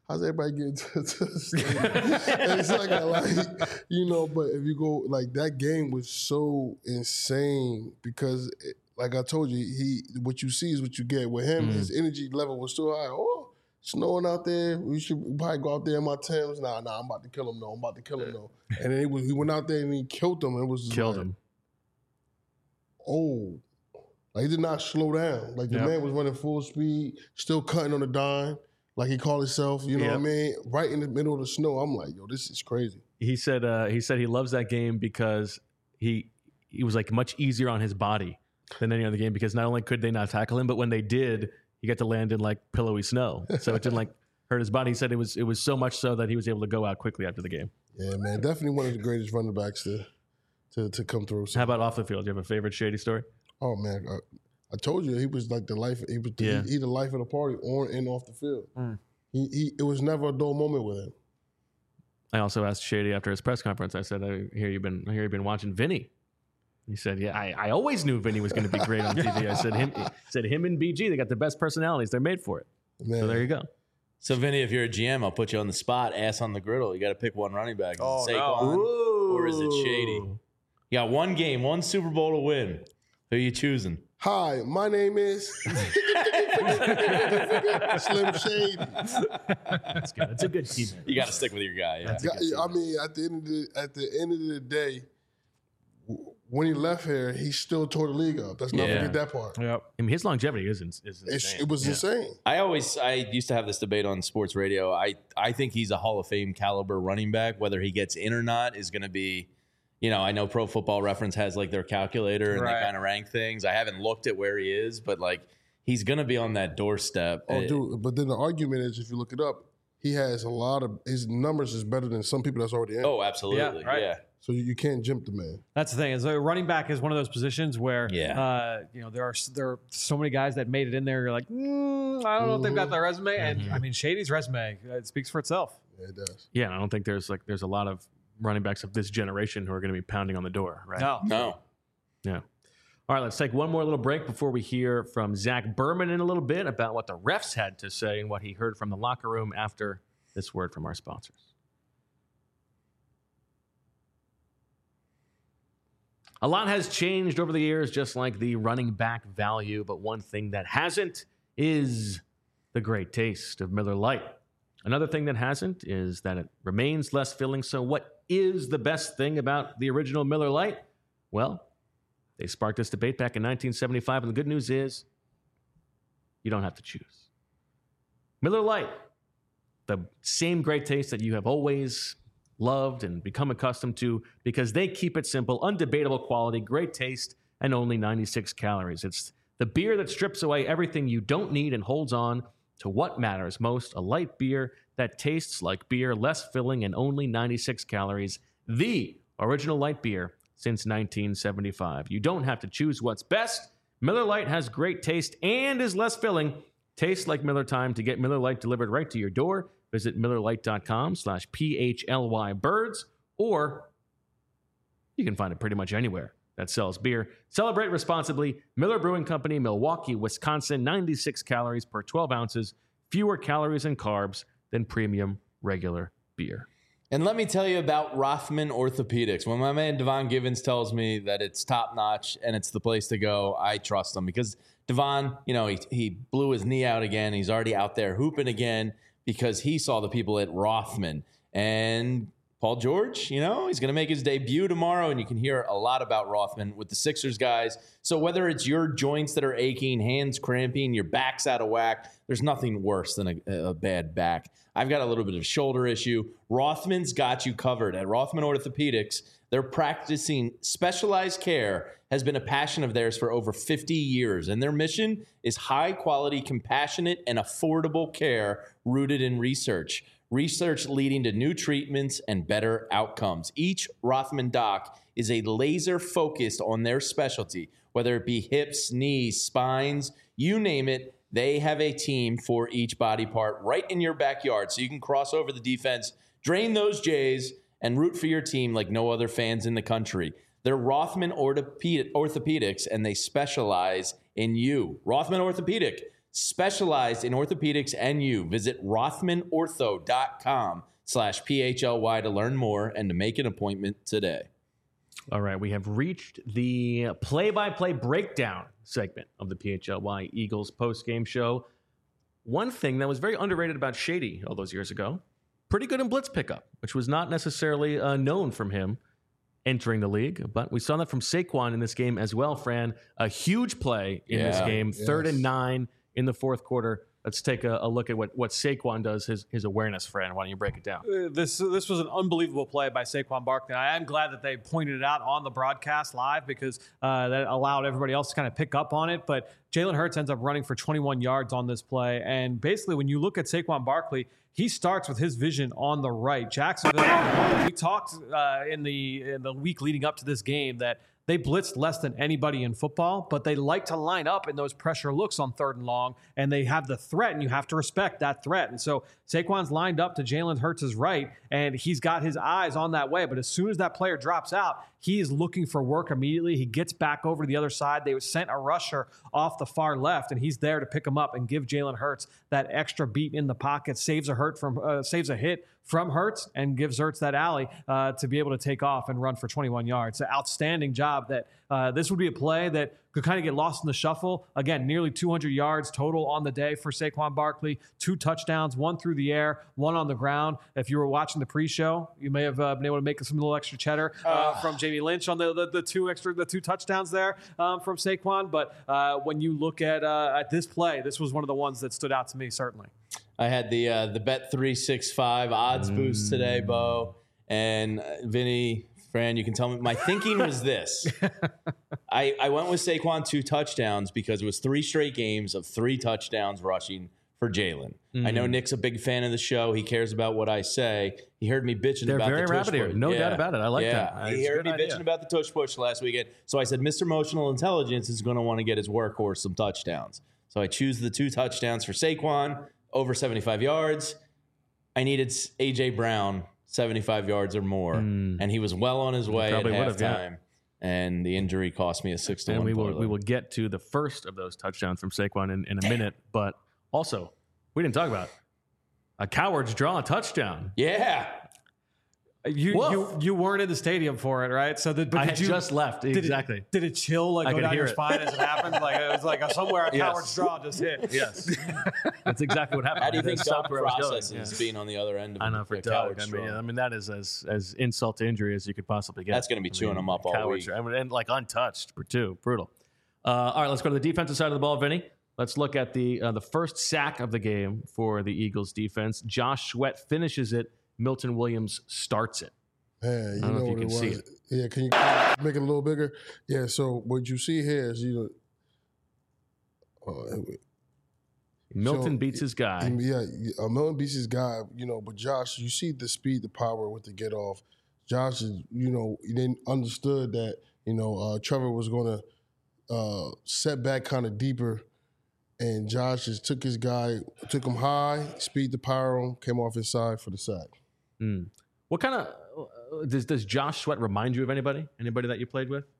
S2: how's everybody getting to, to the stadium? And it's like, like, you know, but if you go, like, that game was so insane because, it, like I told you, he what you see is what you get. With him, mm. his energy level was so high. Oh, snowing out there. We should probably go out there in my Timbs. Nah, nah, I'm about to kill him, though. I'm about to kill him, though. And then he, was, he went out there and he killed him. It was just
S1: Killed
S2: like,
S1: him.
S2: Oh. Like, he did not slow down. Like, the
S1: yep.
S2: man was running full speed, still cutting on the dime, like he called himself, you know
S1: yep.
S2: what I mean? Right in the middle of the snow. I'm like, yo, this is crazy.
S1: He said uh, he said he loves that game because he he was, like, much easier on his body than any other game because not only could they not tackle him, but when they did, he got to land in, like, pillowy snow. So it didn't, like, hurt his body. He said it was it was so much so that he was able to go out quickly after the game.
S2: Yeah, man. Definitely one of the greatest running backs to to, to come through. So.
S1: How about off the field? Do you have a favorite Shady story?
S2: Oh, man. I, I told you he was like the life. He was the,
S1: yeah.
S2: he, he the life of the party, on and off the field. Mm. He, he it was never a dull moment with him.
S1: I also asked Shady after his press conference. I said, "I hear you've been. I hear you've been watching Vinny." He said, "Yeah, I, I always knew Vinny was going to be great on T V." I said, "Him, said him and B G. They got the best personalities. They're made for it." Man. So there you go.
S3: So Vinny, if you're a G M, I'll put you on the spot. Ass on the griddle. You got to pick one running back. Is
S1: oh,
S3: it Saquon
S1: no.
S3: or is it Shady? You got one game, one Super Bowl to win. Who are you choosing?
S2: Hi, my name is Slim Shady.
S1: That's good. That's a good team.
S3: You got to stick with your guy. Yeah.
S2: I mean, at the end of the at the end of the day, when he left here, he still tore the league up. Let's not
S3: yeah.
S2: forget that part.
S1: Yep. I mean, his longevity is, is insane.
S2: It's, it was
S1: yeah.
S2: insane.
S3: I always, I used to have this debate on sports radio. I, I think he's a Hall of Fame caliber running back. Whether he gets in or not is going to be, you know, I know Pro Football Reference has like their calculator and
S4: right.
S3: they kind of rank things. I haven't looked at where he is, but like he's going to be on that doorstep.
S2: Oh, dude. But then the argument is, if you look it up, he has a lot of, his numbers is better than some people that's already in.
S3: Oh, absolutely.
S4: Yeah, right.
S3: yeah.
S2: So you, you can't jump the man.
S4: That's the thing. Is a running back is one of those positions where,
S3: yeah.
S4: uh, you know, there are there are so many guys that made it in there. You're like, mm, I don't know mm-hmm. if they've got their resume. And mm-hmm. I mean, Shady's resume, it speaks for itself.
S2: Yeah, it does.
S1: Yeah, I don't think there's like there's a lot of running backs of this generation who are going to be pounding on the door, right?
S4: No,
S3: no.
S1: Yeah. All right, let's take one more little break before we hear from Zach Berman in a little bit about what the refs had to say and what he heard from the locker room after this word from our sponsors. A lot has changed over the years, just like the running back value, but one thing that hasn't is the great taste of Miller Lite. Another thing that hasn't is that it remains less filling. So what is the best thing about the original Miller Lite? Well, they sparked this debate back in nineteen seventy-five, and the good news is you don't have to choose. Miller Lite, the same great taste that you have always loved and become accustomed to, because they keep it simple, undebatable quality, great taste, and only ninety-six calories. It's the beer that strips away everything you don't need and holds on to what matters most, a light beer that tastes like beer, less filling, and only ninety-six calories. The original light beer since nineteen seventy-five. You don't have to choose what's best. Miller Lite has great taste and is less filling. Tastes like Miller time. To get Miller Lite delivered right to your door, visit MillerLite.com slash P-H-L-Y birds, or you can find it pretty much anywhere that sells beer. Celebrate responsibly. Miller Brewing Company, Milwaukee, Wisconsin, ninety-six calories per twelve ounces, fewer calories and carbs than premium regular beer.
S3: And let me tell you about Rothman Orthopedics. When my man Devon Givens tells me that it's top-notch and it's the place to go, I trust him because Devon, you know, he, he blew his knee out again. He's already out there hooping again because he saw the people at Rothman. And Paul George, you know, he's going to make his debut tomorrow, and you can hear a lot about Rothman with the Sixers guys. So whether it's your joints that are aching, hands cramping, your back's out of whack, there's nothing worse than a, a bad back. I've got a little bit of shoulder issue. Rothman's got you covered. At Rothman Orthopedics, they're practicing specialized care has been a passion of theirs for over fifty years, and their mission is high-quality, compassionate, and affordable care rooted in research. Research leading to new treatments and better outcomes. Each Rothman doc is a laser focused on their specialty, whether it be hips, knees, spines, you name it. They have a team for each body part right in your backyard, so you can cross over the defense, drain those J's, and root for your team like no other fans in the country. They're Rothman Orthopedic, Orthopedics, and they specialize in you. Rothman Orthopedic. specialized in orthopedics and you. Visit rothmanortho.com slash PHLY to learn more and to make an appointment today.
S1: All right, we have reached the play-by-play breakdown segment of the P H L Y Eagles post-game show. One thing that was very underrated about Shady all those years ago, pretty good in blitz pickup, which was not necessarily uh, known from him entering the league, but we saw that from Saquon in this game as well, Fran. A huge play in
S3: Yeah,
S1: this game,
S2: yes.
S1: third and nine in the fourth quarter. Let's take a, a look at what, what Saquon does, his, his awareness, Fran. Why don't you break it down?
S4: Uh, This this was an unbelievable play by Saquon Barkley. I am glad that they pointed it out on the broadcast live because uh, that allowed everybody else to kind of pick up on it. But Jalen Hurts ends up running for twenty-one yards on this play. And basically, when you look at Saquon Barkley, he starts with his vision on the right. Jacksonville, we talked uh, in the in the week leading up to this game that they blitzed less than anybody in football, but they like to line up in those pressure looks on third and long, and they have the threat, and you have to respect that threat. And so Saquon's lined up to Jalen Hurts' right, and he's got his eyes on that way. But as soon as that player drops out, he is looking for work immediately. He gets back over to the other side. They sent a rusher off the far left, and he's there to pick him up and give Jalen Hurts that extra beat in the pocket, saves a hurt from uh, saves a hit from Hurts, and gives Hurts that alley uh, to be able to take off and run for twenty-one yards. An outstanding job. That uh, this would be a play that could kind of get lost in the shuffle. Again, nearly two hundred yards total on the day for Saquon Barkley. Two touchdowns, one through the air, one on the ground. If you were watching the pre-show, you may have uh, been able to make some little extra cheddar uh, uh. from Jamie Lynch on the, the the two extra the two touchdowns there um, from Saquon. But uh, when you look at uh, at this play, this was one of the ones that stood out to me certainly.
S3: I had the uh, the Bet three sixty-five odds mm. boost today, Bo, and uh, Vinny, Fran, you can tell me. My thinking was this. I, I went with Saquon two touchdowns because it was three straight games of three touchdowns rushing for Jalen. Mm. I know Nick's a big fan of the show. He cares about what I say. He heard me bitching
S1: They're
S3: about
S1: very
S3: the tush
S1: rapid here.
S3: push.
S1: No
S3: yeah.
S1: doubt about it. I like
S3: yeah.
S1: that.
S3: He
S1: It's
S3: heard me
S1: idea.
S3: bitching about the tush push last weekend. So I said, Mister Emotional Intelligence is going to want to get his workhorse some touchdowns. So I choose the two touchdowns for Saquon, over seventy-five yards. I needed A J Brown, seventy-five yards or more, mm. and he was well on his way at halftime. Yeah. And the injury cost me a six to
S1: and
S3: one.
S1: We will
S3: parlay.
S1: we will get to the first of those touchdowns from Saquon in, in a minute, but also we didn't talk about a coward's draw touchdown.
S3: Yeah.
S4: You, you you weren't in the stadium for it, right? So did, but
S1: I
S4: did
S1: had
S4: you,
S1: just left.
S4: Did
S1: Exactly.
S4: It, did it chill like
S1: I
S4: go down your
S1: it.
S4: spine as it happened? Like it was like a, somewhere a
S1: Yes.
S4: coward's draw just hit.
S1: Yes, that's exactly what happened.
S3: How do you think
S1: That's
S3: Doug
S1: where I was going.
S3: processes
S1: Yeah.
S3: being on the other end of
S1: I know for
S3: a
S1: Doug.
S3: coward's
S1: I mean,
S3: draw?
S1: I mean that is as as insult to injury as you could possibly get.
S3: That's going to be
S1: I
S3: chewing
S1: mean,
S3: him up all
S1: coward's
S3: week.
S1: draw. I mean, and like untouched, too. Brutal. Uh, all right, let's go to the defensive side of the ball, Vinny. Let's look at the uh, the first sack of the game for the Eagles defense. Josh Sweat finishes it. Milton Williams starts it.
S2: Man, you
S1: I don't know
S2: know
S1: if you
S2: what
S1: can
S2: it
S1: see
S2: was.
S1: it.
S2: Yeah, can you make it a little bigger? Yeah, so what you see here is, you know, uh,
S1: Milton
S2: so,
S1: beats his guy.
S2: Yeah, uh, Milton beats his guy, you know, but Josh, you see the speed, the power with the get off. Josh is, you know, he didn't understood that, you know, uh, Trevor was going to uh, set back kind of deeper, and Josh just took his guy, took him high, speed the power on, came off his side for the sack.
S1: Mm. What kind of uh, does does Josh Sweat remind you of anybody? Anybody that you played with?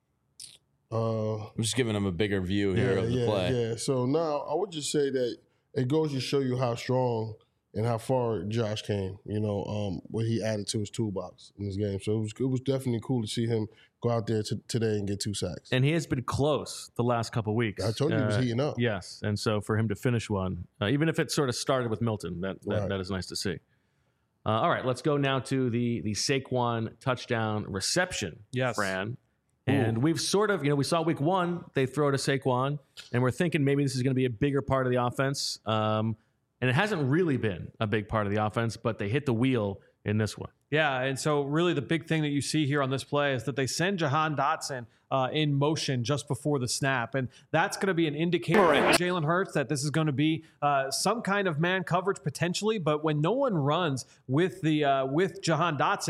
S2: Uh,
S3: I'm just giving him a bigger view here
S2: yeah,
S3: of the
S2: yeah,
S3: play.
S2: Yeah. So now I would just say that it goes to show you how strong and how far Josh came. You know, um, what he added to his toolbox in this game. So it was it was definitely cool to see him go out there t- today and get two sacks.
S1: And he has been close the last couple of weeks.
S2: I told you he was
S1: Uh,
S2: heating up.
S1: Yes, and so for him to finish one, uh, even if it sort of started with Milton, that that,
S2: Right.
S1: that is nice to see. Uh, all right, let's go now to the the Saquon touchdown reception,
S4: Yes.
S1: Fran. And we've sort of, you know, we saw week one, they throw to Saquon, and we're thinking maybe this is going to be a bigger part of the offense. Um, and it hasn't really been a big part of the offense, but they hit the wheel in this one.
S4: Yeah, and so really the big thing that you see here on this play is that they send Jahan Dotson uh, in motion just before the snap, and that's going to be an indicator for Jalen Hurts that this is going to be uh, some kind of man coverage potentially. But when no one runs with the uh, with Jahan Dotson,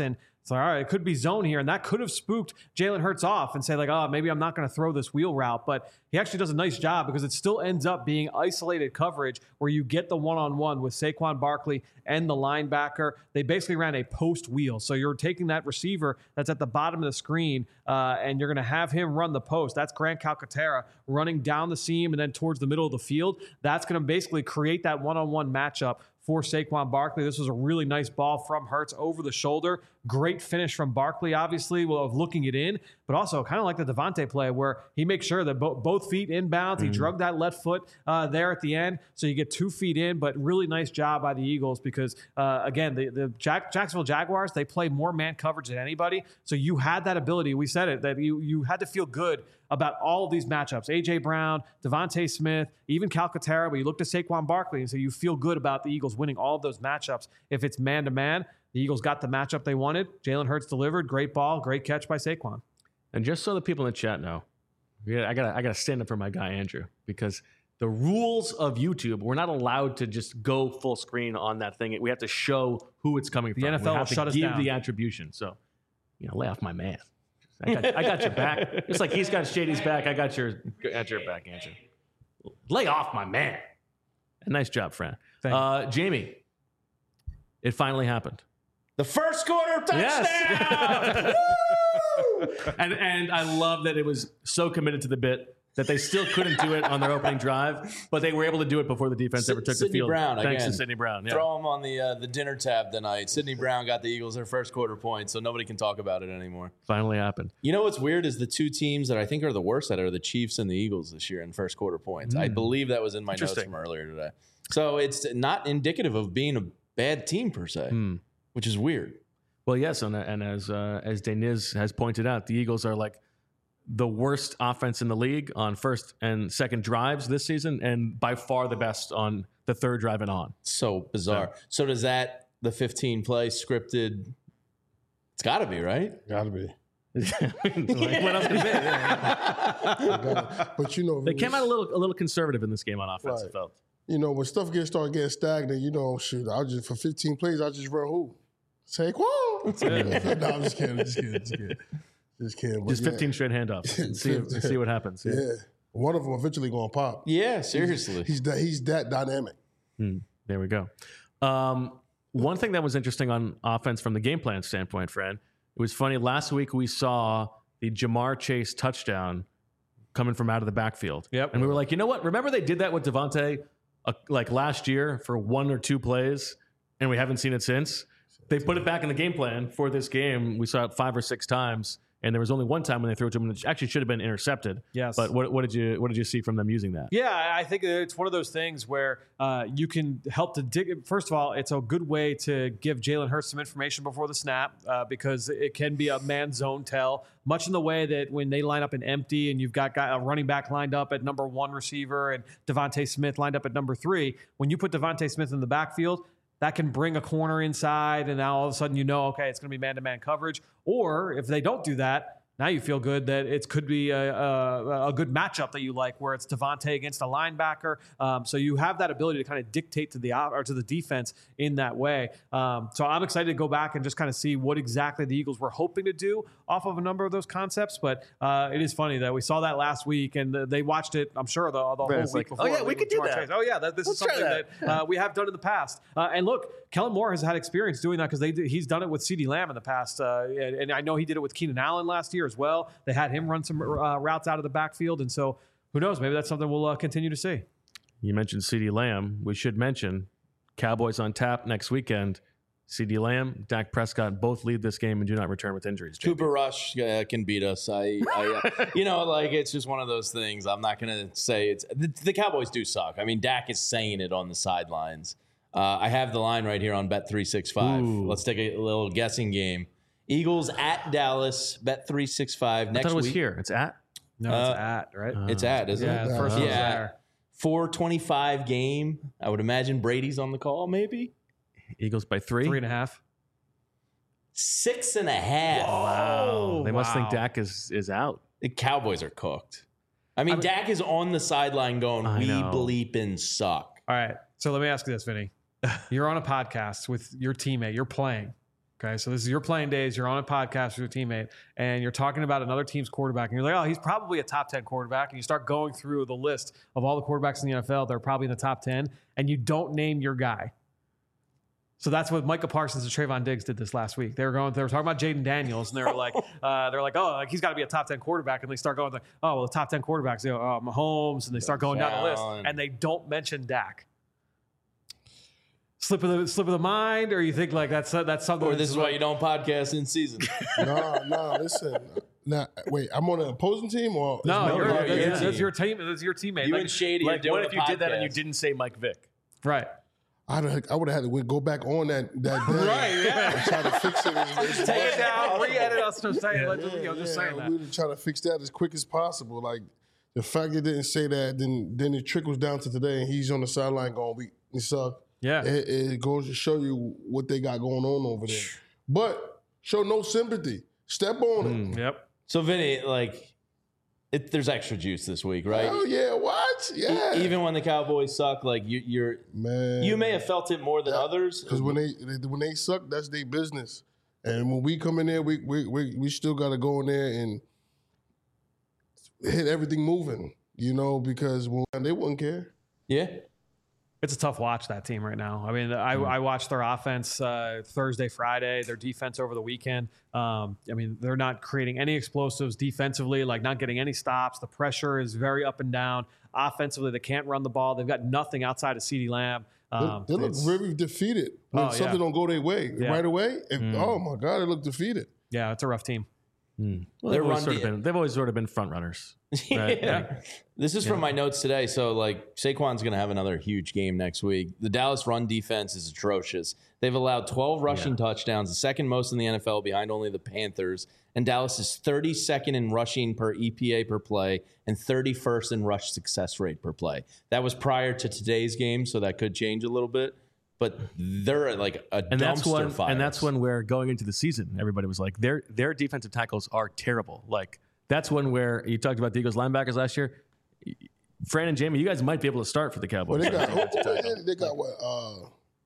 S4: It's like, all right, it could be zone here, and that could have spooked Jalen Hurts off and say, like, oh, maybe I'm not going to throw this wheel route. But he actually does a nice job because it still ends up being isolated coverage where you get the one-on-one with Saquon Barkley and the linebacker. They basically ran a post wheel. So you're taking that receiver that's at the bottom of the screen, uh, and you're going to have him run the post. That's Grant Calcaterra running down the seam and then towards the middle of the field. That's going to basically create that one-on-one matchup for Saquon Barkley. This was a really nice ball from Hurts over the shoulder. Great finish from Barkley, obviously, of looking it in, but also kind of like the Devontae play where he makes sure that bo- both feet inbounds. Mm-hmm. He drug that left foot uh, there at the end, so you get two feet in, but really nice job by the Eagles because, uh, again, the, the Jack- Jacksonville Jaguars, they play more man coverage than anybody, so you had that ability. We said it, that you, you had to feel good about all of these matchups. A J. Brown, Devontae Smith, even Calcaterra, but you looked at Saquon Barkley and so you feel good about the Eagles winning all of those matchups. If it's man-to-man, the Eagles got the matchup they wanted. Jalen Hurts delivered. Great ball. Great catch by Saquon.
S1: And just so the people in the chat know, yeah, I gotta I gotta stand up for my guy Andrew because the rules of YouTube, we're not allowed to just go full screen on that thing. We have to show who it's coming from.
S4: The N F L
S1: we
S4: will
S1: have to
S4: shut us
S1: give
S4: down.
S1: the attribution. So, you know, lay off my man. I got, I got your back. Just like he's got Shady's back, I got your at your back, Andrew. Lay off my man. Nice job, friend. Uh, Jamie, it finally happened.
S3: The first quarter touchdown.
S1: Yes. and and I love that it was so committed to the bit that they still couldn't do it on their opening drive, but they were able to do it before the defense
S3: S-
S1: ever took
S3: Sidney
S1: the field.
S3: Brown,
S1: Thanks
S3: again.
S1: to Sidney Brown. Yeah.
S3: Throw him on the uh, the dinner tab tonight. Sidney Brown got the Eagles their first quarter point, so nobody can talk about it anymore.
S1: Finally happened.
S3: You know what's weird is the two teams that I think are the worst at it are the Chiefs and the Eagles this year in first quarter points. I
S1: Mm.
S3: believe that was in my notes
S1: Interesting.
S3: from earlier today. So it's not indicative of being a bad team per se,
S1: Mm.
S3: which is weird.
S1: Well, yes, and, and as uh, as Deniz has pointed out, the Eagles are like the worst offense in the league on first and second drives this season, and by far the best on the third drive and on.
S3: So bizarre. So, so does that the fifteen play scripted? It's got to be right.
S2: Got to be.
S1: Like, what else could it be? Yeah.
S2: But you know,
S1: They came out a little a little conservative in this game on offense.
S2: Right.
S1: It felt.
S2: You know, when stuff gets start getting stagnant, you know, shoot, I just for fifteen plays, I just run who? Saquon. no, I'm just kidding. Just kidding. Just kidding. Just kidding. But
S1: Just
S2: yeah.
S1: fifteen straight handoffs. And see, and see what happens.
S2: Yeah. One of them eventually going to pop.
S3: Yeah, seriously.
S2: He's, he's that he's that dynamic.
S1: Hmm, there we go. Um, one thing that was interesting on offense from the game plan standpoint, Fred, it was funny. Last week we saw the Jamar Chase touchdown coming from out of the backfield.
S4: Yep.
S1: And we were like, you know what? Remember they did that with Devontae uh, like last year for one or two plays, and we haven't seen it since. They put it back in the game plan for this game. We saw it five or six times, and there was only one time when they threw it to him, which actually should have been intercepted.
S4: Yes.
S1: But what, what did you what did you see from them using that?
S4: Yeah, I think it's one of those things where uh, you can help to dig. First of all, it's a good way to give Jalen Hurts some information before the snap uh, because it can be a man zone tell, much in the way that when they line up in empty and you've got guy, a running back lined up at number one receiver and Devontae Smith lined up at number three. When you put Devontae Smith in the backfield, that can bring a corner inside, and now all of a sudden you know, okay, it's going to be man-to-man coverage. Or if they don't do that, now you feel good that it could be a, a, a good matchup that you like, where it's Devontae against a linebacker. Um, so you have that ability to kind of dictate to the or to the defense in that way. Um, so I'm excited to go back and just kind of see what exactly the Eagles were hoping to do off of a number of those concepts. But uh, it is funny that we saw that last week, and the, they watched it, I'm sure, the, the whole
S1: it's
S4: week
S1: like,
S4: before.
S1: oh, yeah, we could do
S4: Jamar
S1: that.
S4: Chase. Oh, yeah, that, this
S1: Let's
S4: is
S1: try
S4: something
S1: that.
S4: that, uh, we have done in the past. Uh, and look, Kellen Moore has had experience doing that because they he's done it with CeeDee Lamb in the past. Uh, and, and I know he did it with Keenan Allen last year as well. They had him run some uh, routes out of the backfield. And so who knows? Maybe that's something we'll uh, continue to see.
S1: You mentioned CeeDee Lamb. We should mention Cowboys on tap next weekend. CeeDee Lamb, Dak Prescott both lead this game and do not return with injuries. J B.
S3: Cooper Rush uh, can beat us. I, I uh, you know, like it's just one of those things. I'm not gonna say it's the, the Cowboys do suck. I mean, Dak is saying it on the sidelines. Uh, I have the line right here on Bet three sixty-five.
S1: Ooh.
S3: Let's take a little guessing game. Eagles at Dallas. Bet three sixty-five
S1: I
S3: next
S1: thought it was
S3: week.
S1: here. It's at.
S4: No,
S3: Uh,
S4: it's at, right?
S3: It's at, isn't
S4: yeah,
S3: it?
S4: the first one's
S3: yeah.
S4: there.
S3: four twenty-five game. I would imagine Brady's on the call, maybe
S1: Eagles by three.
S4: Three and a half.
S3: six and a half.
S1: Wow. They must think
S4: wow.
S1: Dak is, is out.
S3: The Cowboys are cooked. I mean,
S4: I mean-
S3: Dak is on the sideline going,
S1: I
S3: "We
S1: know.
S3: bleeping suck."
S4: All right. So let me ask you this, Vinny. You're on a podcast with your teammate. You're playing. Okay, so this is your playing days. You're on a podcast with your teammate, and you're talking about another team's quarterback, and you're like, oh, he's probably a top ten quarterback. And you start going through the list of all the quarterbacks in the N F L. They're probably in the top ten, and you don't name your guy. So that's what Micah Parsons and Trayvon Diggs did this last week. They were going, they were talking about Jaden Daniels, and they were like, uh, they're like, oh, like he's got to be a top ten quarterback, and they start going like, oh, well, the top ten quarterbacks, you know, uh, Mahomes, and they start going down the list, and they don't mention Dak. Slip of the slip of the mind, or you think like that's that's something.
S3: Or this is why you don't podcast in season.
S2: no, no, listen. Now, wait, I'm on an opposing team, or
S4: no? You're,
S2: no,
S4: that's,
S2: yeah.
S4: that's, that's your team. That's your teammate.
S3: You
S4: like,
S3: and Shady.
S1: Like,
S3: are
S1: what
S3: doing
S1: if
S3: a
S1: you did that and you
S3: podcast.
S1: didn't say Mike Vick?
S4: Right.
S2: I'd have, I would have had to go back on that that day
S4: Right, yeah.
S2: and try to fix it. As, as
S4: Take it down, re-edit us to say,
S2: yeah,
S4: let you know, just
S2: yeah,
S4: saying that.
S2: we would try to fix that as quick as possible. Like the fact they didn't say that, then then it trickles down to today, and he's on the sideline going, "We we suck."
S4: Yeah,
S2: it, it goes to show you what they got going on over there. But show no sympathy. Step on it.
S4: Mm, yep.
S3: So Vinny, like, it, there's extra juice this week, right?
S2: Oh yeah, what? Yeah.
S3: E- even when the Cowboys suck, like you, you're
S2: man,
S3: you may have felt it more than
S2: yeah.
S3: others.
S2: Because when they, they when they suck, that's their business. And when we come in there, we we we, we still got to go in there and hit everything moving. You know, because when they wouldn't care.
S3: Yeah.
S4: It's a tough watch, that team right now. I mean, I, I watched their offense uh, Thursday, Friday, their defense over the weekend. Um, I mean, they're not creating any explosives defensively, like not getting any stops. The pressure is very up and down. Offensively, they can't run the ball. They've got nothing outside of CeeDee Lamb. Um,
S2: they, they look very defeated when
S4: Oh,
S2: something
S4: yeah.
S2: don't go their way
S4: Yeah.
S2: right away. If,
S1: Mm.
S2: Oh my God, they look defeated.
S4: Yeah, it's a rough team.
S1: Mm. Well,
S3: They're
S1: they've, always
S3: run
S1: sort of
S3: de-
S1: been, they've always sort of been front runners. Right?
S3: Yeah.
S1: Like,
S3: This is from my notes today. So, like, Saquon's going to have another huge game next week. The Dallas run defense is atrocious. They've allowed twelve rushing
S1: Yeah.
S3: touchdowns, the second most in the N F L, behind only the Panthers. And Dallas is thirty-second in rushing per E P A per play and thirty-first in rush success rate per play. That was prior to today's game, so that could change a little bit. But they're like a
S1: and that's
S3: dumpster
S1: when
S3: fire.
S1: and that's when we're going into the season. Everybody was like, their their defensive tackles are terrible. Like that's when where you talked about the Eagles linebackers last year. Fran and Jamie, you guys might be able to start for the Cowboys.
S2: Well, they got oh, oh, they, they got what? Uh,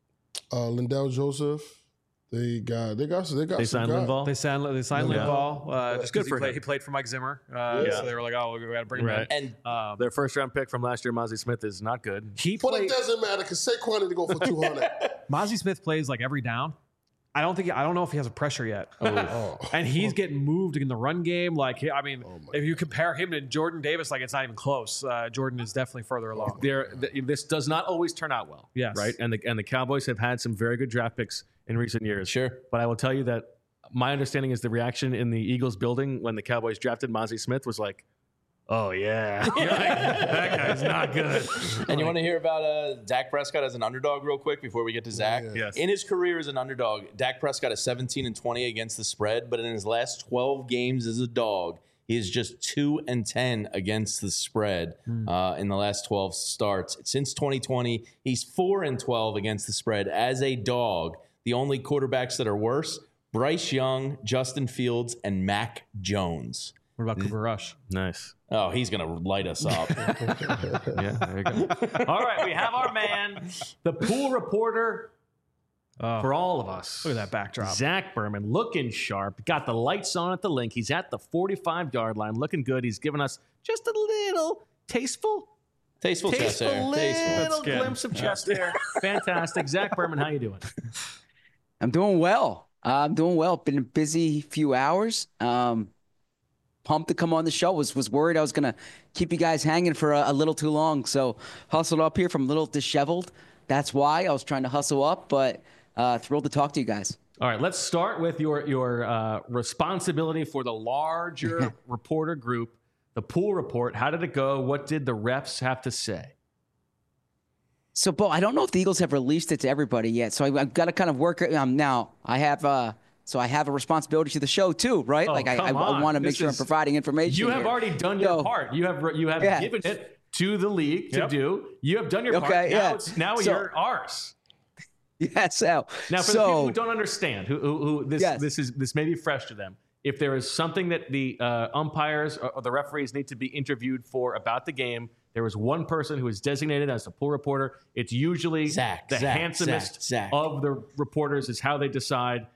S2: uh, Lindell Joseph. They got they got they got
S1: They
S2: some
S1: signed
S2: guys.
S1: Linval.
S4: They signed, they signed
S1: Yeah.
S4: Linval. Uh, just
S1: Good
S4: good
S1: for
S4: he played,
S1: him.
S4: he played for Mike Zimmer. Uh,
S2: Yeah.
S4: So they were like, oh, we got to bring him
S1: Right.
S3: And
S4: in. Um,
S1: Their first round pick from last year, Mozzie Smith, is not good.
S4: he
S2: But
S4: played.
S2: it doesn't matter because Saquon need to go for two hundred.
S4: Mozzie Smith plays like every down. I don't think I don't know if he has a pressure yet.
S2: Oh.
S4: And he's getting moved in the run game. Like I mean,
S2: Oh
S4: if you compare him to Jordan Davis, like it's not even close. Uh, Jordan is definitely further along.
S1: There, th- this does not always turn out well.
S4: Yes.
S1: right. And the and the Cowboys have had some very good draft picks in recent years.
S3: Sure.
S1: But I will tell you that my understanding is the reaction in the Eagles building when the Cowboys drafted Mozzie Smith was like, "Oh yeah, You're like, that guy's not good."
S3: And you want to hear about uh, Dak Prescott as an underdog real quick before we get to Zach?
S2: Yeah.
S1: Yes.
S3: In his career as an underdog, Dak Prescott is seventeen and twenty against the spread, but in his last twelve games as a dog, he is just two and ten against the spread uh, in the last twelve starts. Since twenty twenty, he's four and twelve against the spread as a dog. The only quarterbacks that are worse, Bryce Young, Justin Fields, and Mac Jones.
S4: What about Cooper Rush?
S1: Nice.
S3: Oh, he's going to light us up.
S1: Yeah, there you go. All right, we have our man, the pool reporter
S4: Oh,
S1: for all of us.
S4: look at that backdrop.
S1: Zach Berman, looking sharp. Got the lights on at the link. He's at the forty-five yard line, looking good. He's given us just a little tasteful,
S3: Tasteful chest
S1: tasteful
S3: hair. Tasteful.
S1: little
S4: skin.
S1: glimpse of chest hair. Fantastic. Zach Berman, how you doing?
S13: I'm doing well. Uh, I'm doing well. Been a busy few hours. Um, pumped to come on the show. Was was worried I was gonna keep you guys hanging for a, a little too long. So hustled up here from a little disheveled. That's why I was trying to hustle up, but uh, thrilled to talk to you guys.
S1: All right, let's start with your your uh, responsibility for the larger reporter group, the pool report. How did it go? What did the refs have to say?
S13: So, Bo, I don't know if the Eagles have released it to everybody yet. So I, I've got to kind of work it um, now. I have uh, so I have a responsibility to the show too, right?
S1: Oh,
S13: like I, I,
S1: come on.
S13: I want to make
S1: This
S13: sure
S1: is-
S13: I'm providing information.
S1: You have
S13: here.
S1: already done your
S13: So-
S1: part. You have you have
S13: Yeah.
S1: given it to the league to
S4: Yep.
S1: do. You have done your part.
S13: Okay,
S1: Now
S13: yeah.
S1: it's now
S13: So-
S1: you're ours.
S13: Yeah, so
S1: Now, for
S13: so,
S1: the people who don't understand, who, who, who this
S13: Yes.
S1: this is this may be fresh to them. If there is something that the uh, umpires or, or the referees need to be interviewed for about the game, there is one person who is designated as the pool reporter. It's usually
S3: Zach,
S1: the
S3: Zach,
S1: handsomest
S3: Zach, Zach.
S1: of the reporters. Is how they decide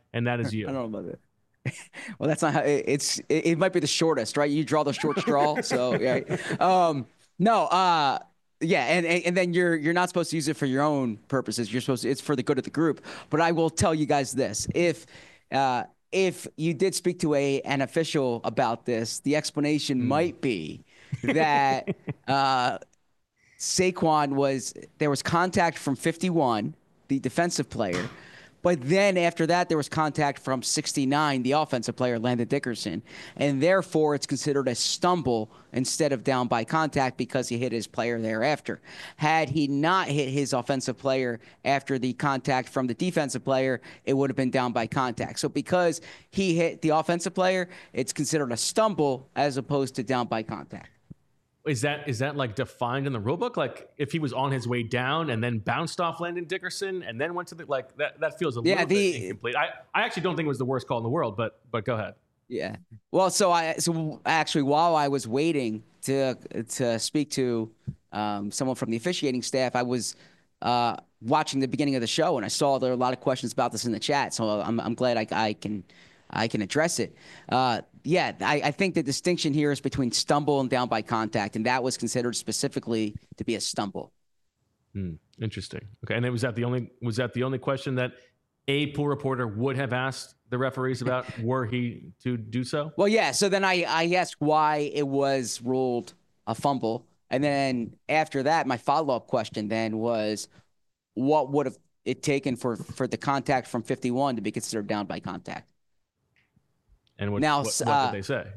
S1: and that is you.
S13: I don't know about that. Well, that's not how it, it's. It, it might be the shortest, right? You draw the short straw. So, yeah. Um, no. Uh, yeah, and, and and then you're you're not supposed to use it for your own purposes. You're supposed to. It's for the good of the group. But I will tell you guys this: if uh, if you did speak to a an official about this, the explanation mm. might be that uh, Saquon was there was contact from fifty-one, the defensive player. But then after that, there was contact from sixty-nine, the offensive player, Landon Dickerson. And therefore, it's considered a stumble instead of down by contact because he hit his player thereafter. Had he not hit his offensive player after the contact from the defensive player, it would have been down by contact. So because he hit the offensive player, it's considered a stumble as opposed to down by contact.
S1: Is that is that like defined in the rule book? Like if he was on his way down and then bounced off Landon Dickerson and then went to the like that that feels a
S13: yeah,
S1: little
S13: the,
S1: bit incomplete. I, I actually don't think it was the worst call in the world, but but go ahead.
S13: Yeah. Well, so I so actually while I was waiting to to speak to um, someone from the officiating staff, I was uh, watching the beginning of the show and I saw there were a lot of questions about this in the chat. So I'm I'm glad I, I can I can address it. Uh, yeah, I, I think the distinction here is between stumble and down by contact, and that was considered specifically to be a stumble.
S1: Hmm, interesting. Okay, and then was that the only was that the only question that a pool reporter would have asked the referees about were he to do so?
S13: Well, yeah. So then I, I asked why it was ruled a fumble, and then after that, my follow up question then was, what would have it taken for for the contact from fifty-one to be considered down by contact?
S1: And what,
S13: now,
S1: what, what
S13: uh,
S1: did they say?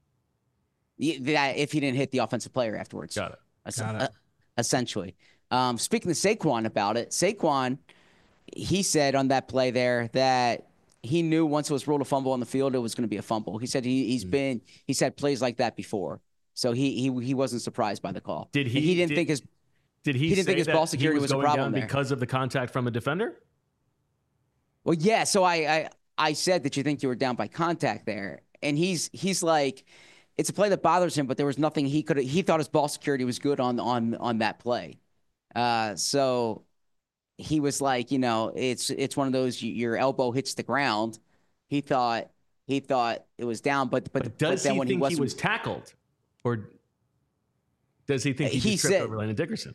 S13: That if he didn't hit the offensive player afterwards.
S1: Got it.
S13: Es-
S1: Got it.
S13: Uh, essentially. Um, speaking to Saquon about it, Saquon, he said on that play there that he knew once it was ruled a fumble on the field, it was going to be a fumble. He said he, he's mm. been he's had plays like that before, so he he he wasn't surprised by the call.
S1: Did he?
S13: And he didn't
S1: did,
S13: think his
S1: did he?
S13: He didn't
S1: say
S13: think his
S1: that
S13: ball security
S1: he was,
S13: was a
S1: going
S13: problem
S1: down
S13: there
S1: because of the contact from a defender.
S13: Well, yeah. So I, I I said that you think you were down by contact there. And he's he's like, it's a play that bothers him, but there was nothing he could. He thought his ball security was good on on on that play. Uh, so he was like, you know, it's it's one of those your elbow hits the ground. He thought he thought it was down, but but,
S1: but does
S13: but then
S1: he
S13: when
S1: think
S13: he, wasn't,
S1: he was tackled, or does he think he,
S13: he
S1: just tripped
S13: said,
S1: over Landon Dickerson?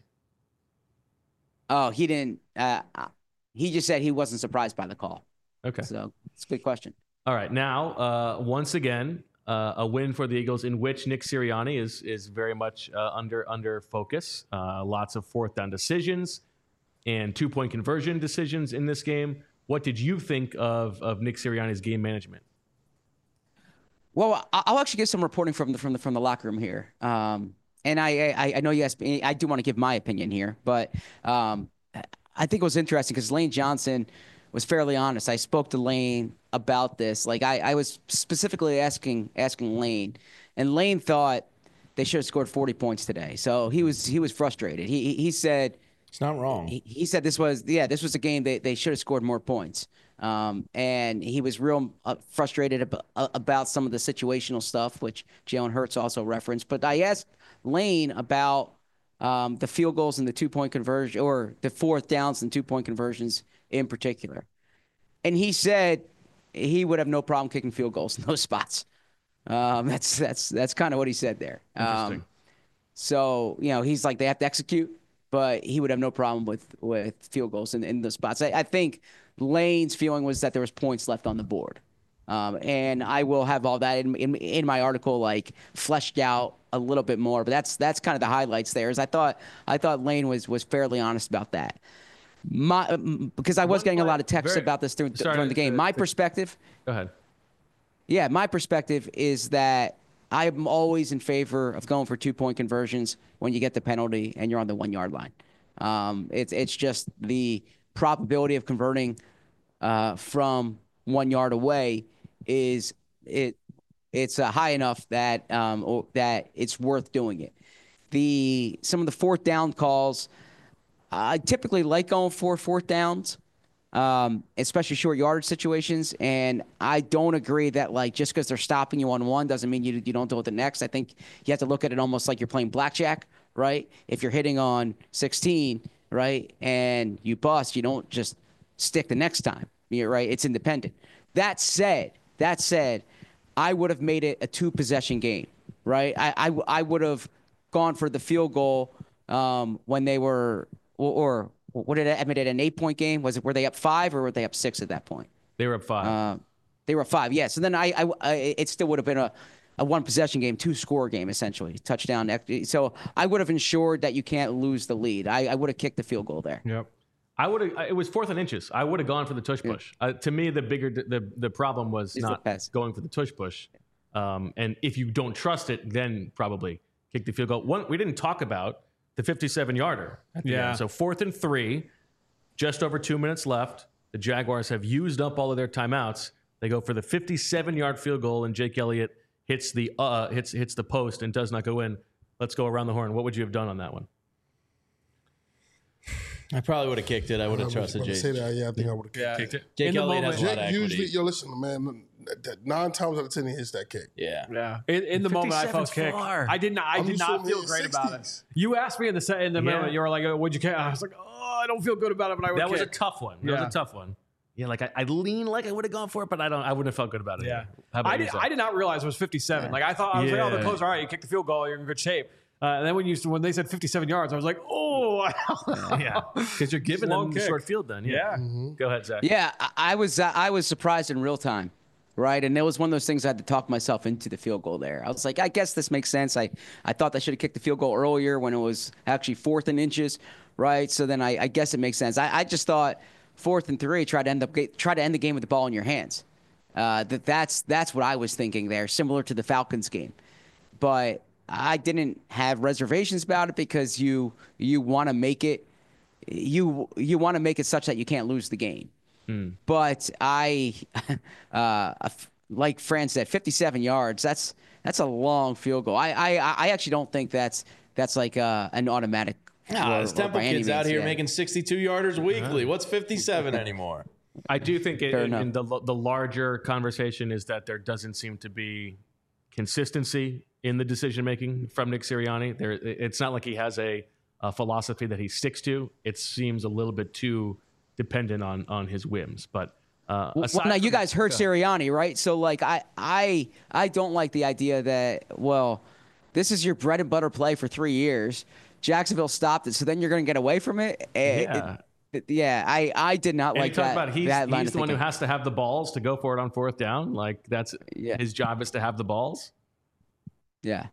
S13: Oh, he didn't. Uh, he just said he wasn't surprised by the call.
S1: Okay,
S13: so it's a good question.
S1: All right, now uh, once again, uh, a win for the Eagles in which Nick Sirianni is is very much uh, under under focus. Uh, lots of fourth down decisions and two point conversion decisions in this game. What did you think of of Nick Sirianni's game management?
S13: Well, I'll actually give some reporting from the from the from the locker room here. Um, and I, I I know you asked me. I do want to give my opinion here, but um, I think it was interesting because Lane Johnson was fairly honest. I spoke to Lane about this. Like I, I was specifically asking asking Lane, and Lane thought they should have scored forty points today. So he was he was frustrated. He he said
S3: it's not wrong.
S13: He, he said this was yeah this was a game they they should have scored more points. Um, and he was real uh, frustrated ab- about some of the situational stuff, which Jalen Hurts also referenced. But I asked Lane about um, the field goals and the two point conversion, or the fourth downs and two point conversions in particular. And he said he would have no problem kicking field goals in those spots. Um, that's that's that's kind of what he said there.
S1: Interesting.
S13: Um, so, you know, he's like, they have to execute, but he would have no problem with, with field goals in, in those spots. I, I think Lane's feeling was that there was points left on the board. Um, and I will have all that in, in in my article, like fleshed out a little bit more. But that's that's kind of the highlights there. Is I thought I thought Lane was was fairly honest about that. My, because I was
S1: One
S13: getting
S1: play,
S13: a lot of texts
S1: very,
S13: about this through,
S1: sorry,
S13: during the game.
S1: uh,
S13: My
S1: uh,
S13: perspective.
S1: Go ahead.
S13: Yeah, my perspective is that I'm always in favor of going for two-point conversions when you get the penalty and you're on the one-yard line. Um, it's it's just the probability of converting uh, from one yard away is it it's uh, high enough that um, or, that it's worth doing it. The some of the fourth down calls. I typically like going for fourth downs, um, especially short yardage situations. And I don't agree that, like, just because they're stopping you on one doesn't mean you you don't do it the next. I think you have to look at it almost like you're playing blackjack, right? If you're hitting on sixteen, right, and you bust, you don't just stick the next time, you're right? It's independent. That said, that said, I would have made it a two-possession game, right? I, I, I would have gone for the field goal um, when they were, or, or what did I admit it, an eight-point game? Was it, were they up five or were they up six at that point?
S1: They were up five.
S13: Uh, they were up five, yeah. So then I, I, I it still would have been a, a one-possession game, two-score game, essentially, touchdown. So I would have ensured that you can't lose the lead. I, I would have kicked the field goal there.
S4: Yep.
S1: I would have. It was fourth and inches. I would have gone for the tush push. Uh, to me, the bigger the the problem was
S13: Is
S1: not
S13: the pass.
S1: going for the tush push. Um, and if you don't trust it, then probably kick the field goal. One, we didn't talk about the fifty-seven yarder. At the
S4: Yeah.
S1: end. So fourth and three, just over two minutes left. The Jaguars have used up all of their timeouts. They go for the fifty-seven yard field goal, and Jake Elliott hits the uh hits hits the post and does not go in. Let's go around the horn. What would you have done on that one?
S3: I probably would have kicked it. I would have
S2: was
S3: trusted
S2: about to
S3: Jake.
S2: say that. Yeah, I think I would have
S4: Yeah.
S1: Kicked it.
S3: Jake
S4: In the
S3: Elliott has a lot
S2: Jake
S3: of equity.
S2: usually, yo, listen, man, nine times out of ten he hits that kick.
S3: Yeah.
S4: Yeah. In, in the moment, I felt
S1: fifty-seven's
S4: kick.
S1: far.
S4: I did not. I
S2: I'm
S4: did
S2: used to
S4: not
S2: him
S4: feel
S2: in
S4: great
S2: his
S4: about it.
S2: sixties.
S4: You asked me in the se- in the
S1: Yeah.
S4: moment. You were like, "Would you kick?" I was like, "Oh, I don't feel good about it, but I would."
S1: That was a
S4: kick.
S1: tough one. That
S4: Yeah.
S1: was a tough one. Yeah, like I, I lean like I would have gone for it, but I don't. I wouldn't have felt good about it.
S4: Yeah.
S1: either. How about
S4: I did.
S1: you, Zach?
S4: I did not realize it was fifty-seven. Like I thought, I was like, "Oh,
S1: Yeah.
S4: they're close. All right, you kick the field goal, you're in good shape." Uh, and then when you when they said fifty-seven yards, I was like, "Oh,
S1: Yeah, because you're giving
S4: Long
S1: them the
S4: kick.
S1: short field. Then
S4: yeah."
S1: Go ahead, Zach.
S13: Yeah, I, I was uh, I was surprised in real time, right? And it was one of those things I had to talk myself into the field goal there. I was like, I guess this makes sense. I, I thought I should have kicked the field goal earlier when it was actually fourth and inches, right? So then I, I guess it makes sense. I, I just thought fourth and three, try to end up try to end the game with the ball in your hands. Uh, that that's that's what I was thinking there, similar to the Falcons game, but I didn't have reservations about it because you you want to make it you you want to make it such that you can't lose the game.
S1: Mm.
S13: But I, uh, like Fran said, fifty-seven yards. That's that's a long field goal. I I, I actually don't think that's that's like uh, an automatic.
S3: Nah,
S13: or-
S3: there's
S13: or
S3: Temple
S13: by any
S3: kids out
S13: means,
S3: here
S13: yeah.
S3: making sixty-two yarders weekly. What's fifty-seven anymore?
S1: I do think it,
S13: Fair
S1: in,
S13: enough.
S1: in the the larger conversation is that there doesn't seem to be consistency in the decision making from Nick Sirianni. There, it's not like he has a, a philosophy that he sticks to. It seems a little bit too dependent on on his whims. But uh,
S13: Well,
S1: aside
S13: now you
S1: from-
S13: guys heard
S1: Go ahead.
S13: Sirianni, right? So like I I I don't like the idea that well, this is your bread and butter play for three years. Jacksonville stopped it, so then you're going to get away from it. Eh,
S1: Yeah.
S13: it- it- yeah. I I did not
S1: And
S13: like
S1: you talk
S13: that.
S1: about he's,
S13: that line
S1: he's
S13: of
S1: the one who
S13: thinking.
S1: has to have the balls to go for it on fourth down. Like that's
S13: Yeah.
S1: his job is to have the balls.
S13: Yeah.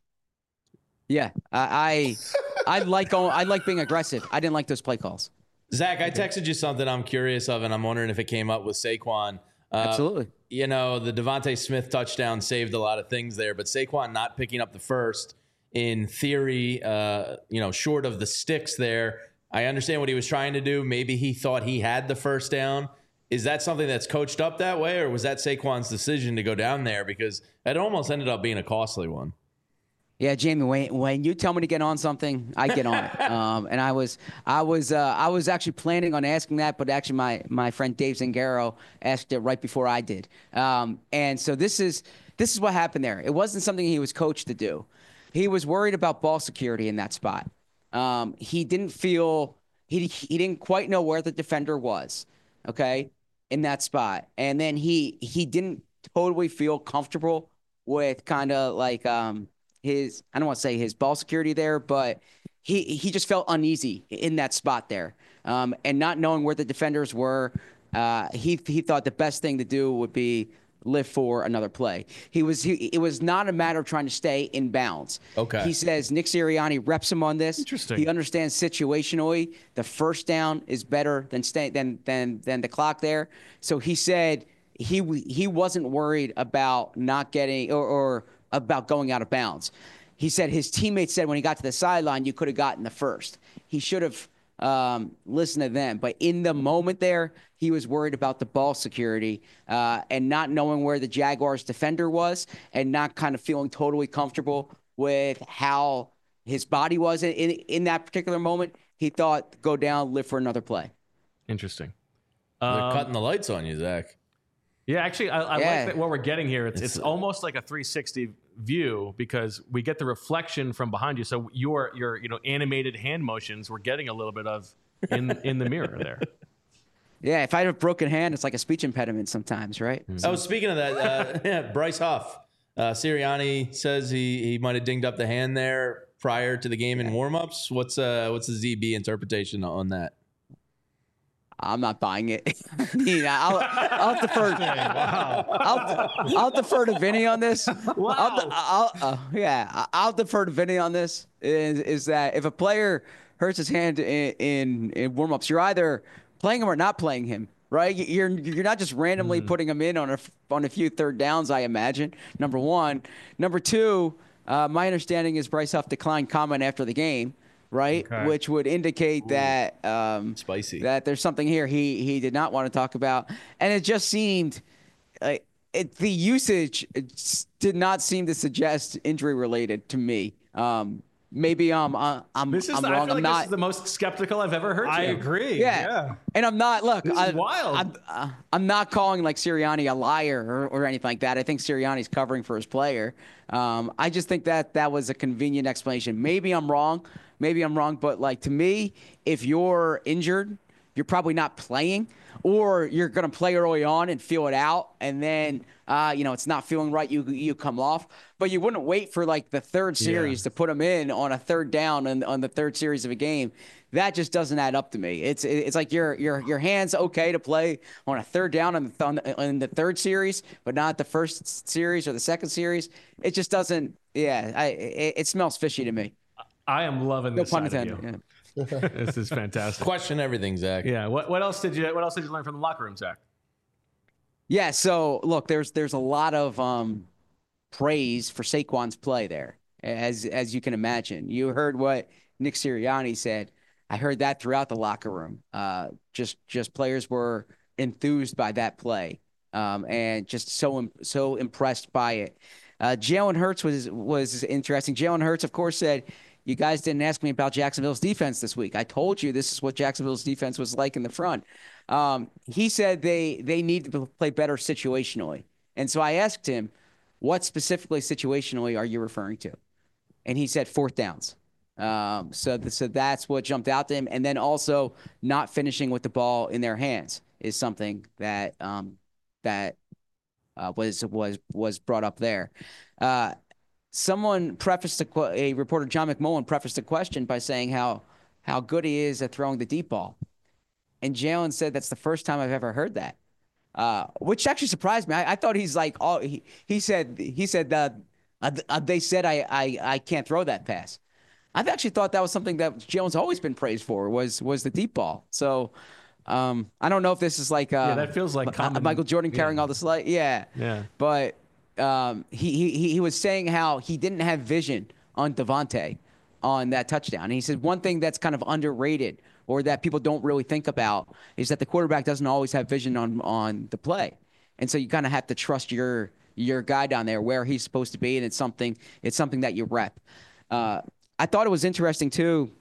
S13: Yeah. I I, I like going, I like being aggressive. I didn't like those play calls.
S3: Zach, I texted you something I'm curious of, and I'm wondering if it came up with Saquon. Uh,
S13: Absolutely.
S3: You know, the Devontae Smith touchdown saved a lot of things there, but Saquon not picking up the first, in theory, uh, you know, short of the sticks there. I understand what he was trying to do. Maybe he thought he had the first down. Is that something that's coached up that way, or was that Saquon's decision to go down there? Because it almost ended up being a costly one.
S13: Yeah, Jamie. When when you tell me to get on something, I get on it. Um, and I was I was uh, I was actually planning on asking that, but actually my my friend Dave Zangaro asked it right before I did. Um, and so this is this is what happened there. It wasn't something he was coached to do. He was worried about ball security in that spot. Um, he didn't feel he he didn't quite know where the defender was. Okay, in that spot, and then he he didn't totally feel comfortable with kind of like um. his, I don't want to say his ball security there, but he he just felt uneasy in that spot there. Um, and not knowing where the defenders were, uh, he he thought the best thing to do would be live for another play. He was he, it was not a matter of trying to stay in bounds.
S3: Okay.
S13: He says Nick Sirianni reps him on this.
S1: Interesting.
S13: He understands situationally the first down is better than stay than than than the clock there. So he said he he wasn't worried about not getting or, or about going out of bounds. He said his teammates said when he got to the sideline, you could have gotten the first. He should have um, listened to them. But in the moment there, he was worried about the ball security uh, and not knowing where the Jaguars defender was and not kind of feeling totally comfortable with how his body was in, in, in that particular moment. He thought, go down, live for another play.
S1: Interesting.
S3: They're
S1: Um,
S3: cutting the lights on you, Zach.
S1: Yeah, actually, I, I
S13: Yeah.
S1: like that what we're getting here. It's,
S3: It's,
S1: it's
S3: uh,
S1: almost like a three sixty view because we get the reflection from behind you. So your your you know animated hand motions we're getting a little bit of in in the mirror there.
S13: Yeah, if I had a broken hand, it's like a speech impediment sometimes, right?
S3: Oh, speaking of that, uh, yeah, Bryce Huff. Uh, Sirianni says he, he might have dinged up the hand there prior to the game in warmups. What's uh what's the Z B interpretation on that?
S13: I'm not buying it. I mean, I'll, I'll defer.
S4: Wow.
S13: I'll, I'll defer to Vinny on this.
S4: Wow.
S13: I'll, I'll, uh, yeah, I'll defer to Vinny on this. Is is that if a player hurts his hand in in, in warmups, you're either playing him or not playing him, right? You're you're not just randomly mm. putting him in on a on a few third downs. I imagine. Number one, number two. Uh, my understanding is Bryce Huff declined comment after the game. Right, okay. Which would indicate Ooh. that um,
S3: spicy
S13: that there's something here he he did not want to talk about, and it just seemed uh, it, the usage did not seem to suggest injury related to me. Um, maybe um uh, I'm
S1: this is
S13: I'm
S1: the,
S13: wrong.
S1: I feel
S13: I'm
S1: like
S13: not.
S1: This is the most skeptical I've ever heard.
S4: I
S1: you.
S4: agree.
S13: Yeah.
S4: yeah,
S13: and I'm not. Look,
S1: this
S13: I,
S1: is wild.
S13: I'm, uh, I'm not calling like Sirianni a liar or, or anything like that. I think Sirianni's covering for his player. Um, I just think that that was a convenient explanation. Maybe I'm wrong. Maybe I'm wrong, but like to me, if you're injured, you're probably not playing, or you're going to play early on and feel it out, and then uh, you know it's not feeling right. You you come off, but you wouldn't wait for like the third series yeah. to put them in on a third down and on the third series of a game. That just doesn't add up to me. It's it's like your your your hand's okay to play on a third down in the, on the, in the third series, but not the first series or the second series. It just doesn't. Yeah, I it, it smells fishy to me.
S1: I am loving
S13: no
S1: this
S13: pun
S1: side of
S13: intended,
S1: you. Yeah. This is fantastic.
S3: Question everything, Zach.
S1: Yeah. What what else did you What else did you learn from the locker room, Zach?
S13: Yeah. So look, there's there's a lot of um, praise for Saquon's play there, as as you can imagine. You heard what Nick Sirianni said. I heard that throughout the locker room. Uh, just just players were enthused by that play, um, and just so so impressed by it. Uh, Jalen Hurts was was interesting. Jalen Hurts, of course, said, "You guys didn't ask me about Jacksonville's defense this week. I told you this is what Jacksonville's defense was like in the front." Um, he said they they need to play better situationally, and so I asked him, "What specifically situationally are you referring to?" And he said fourth downs. Um, so th- so that's what jumped out to him, and then also not finishing with the ball in their hands is something that um, that. Uh, was was was brought up there. Uh, someone prefaced a, a reporter, John McMullen, prefaced a question by saying how how good he is at throwing the deep ball, and Jalen said that's the first time I've ever heard that, uh, which actually surprised me. I, I thought he's like all he, he said he said uh, uh, they said I, I I can't throw that pass. I've actually thought that was something that Jalen's always been praised for was was the deep ball. So. Um, I don't know if this is like uh,
S1: yeah, that feels like common,
S13: Michael Jordan carrying
S1: yeah.
S13: all the light. Yeah,
S1: yeah.
S13: But um, he he he was saying how he didn't have vision on Devontae on that touchdown. And he said one thing that's kind of underrated or that people don't really think about is that the quarterback doesn't always have vision on on the play, and so you kind of have to trust your your guy down there where he's supposed to be, and it's something it's something that you rep. Uh, I thought it was interesting too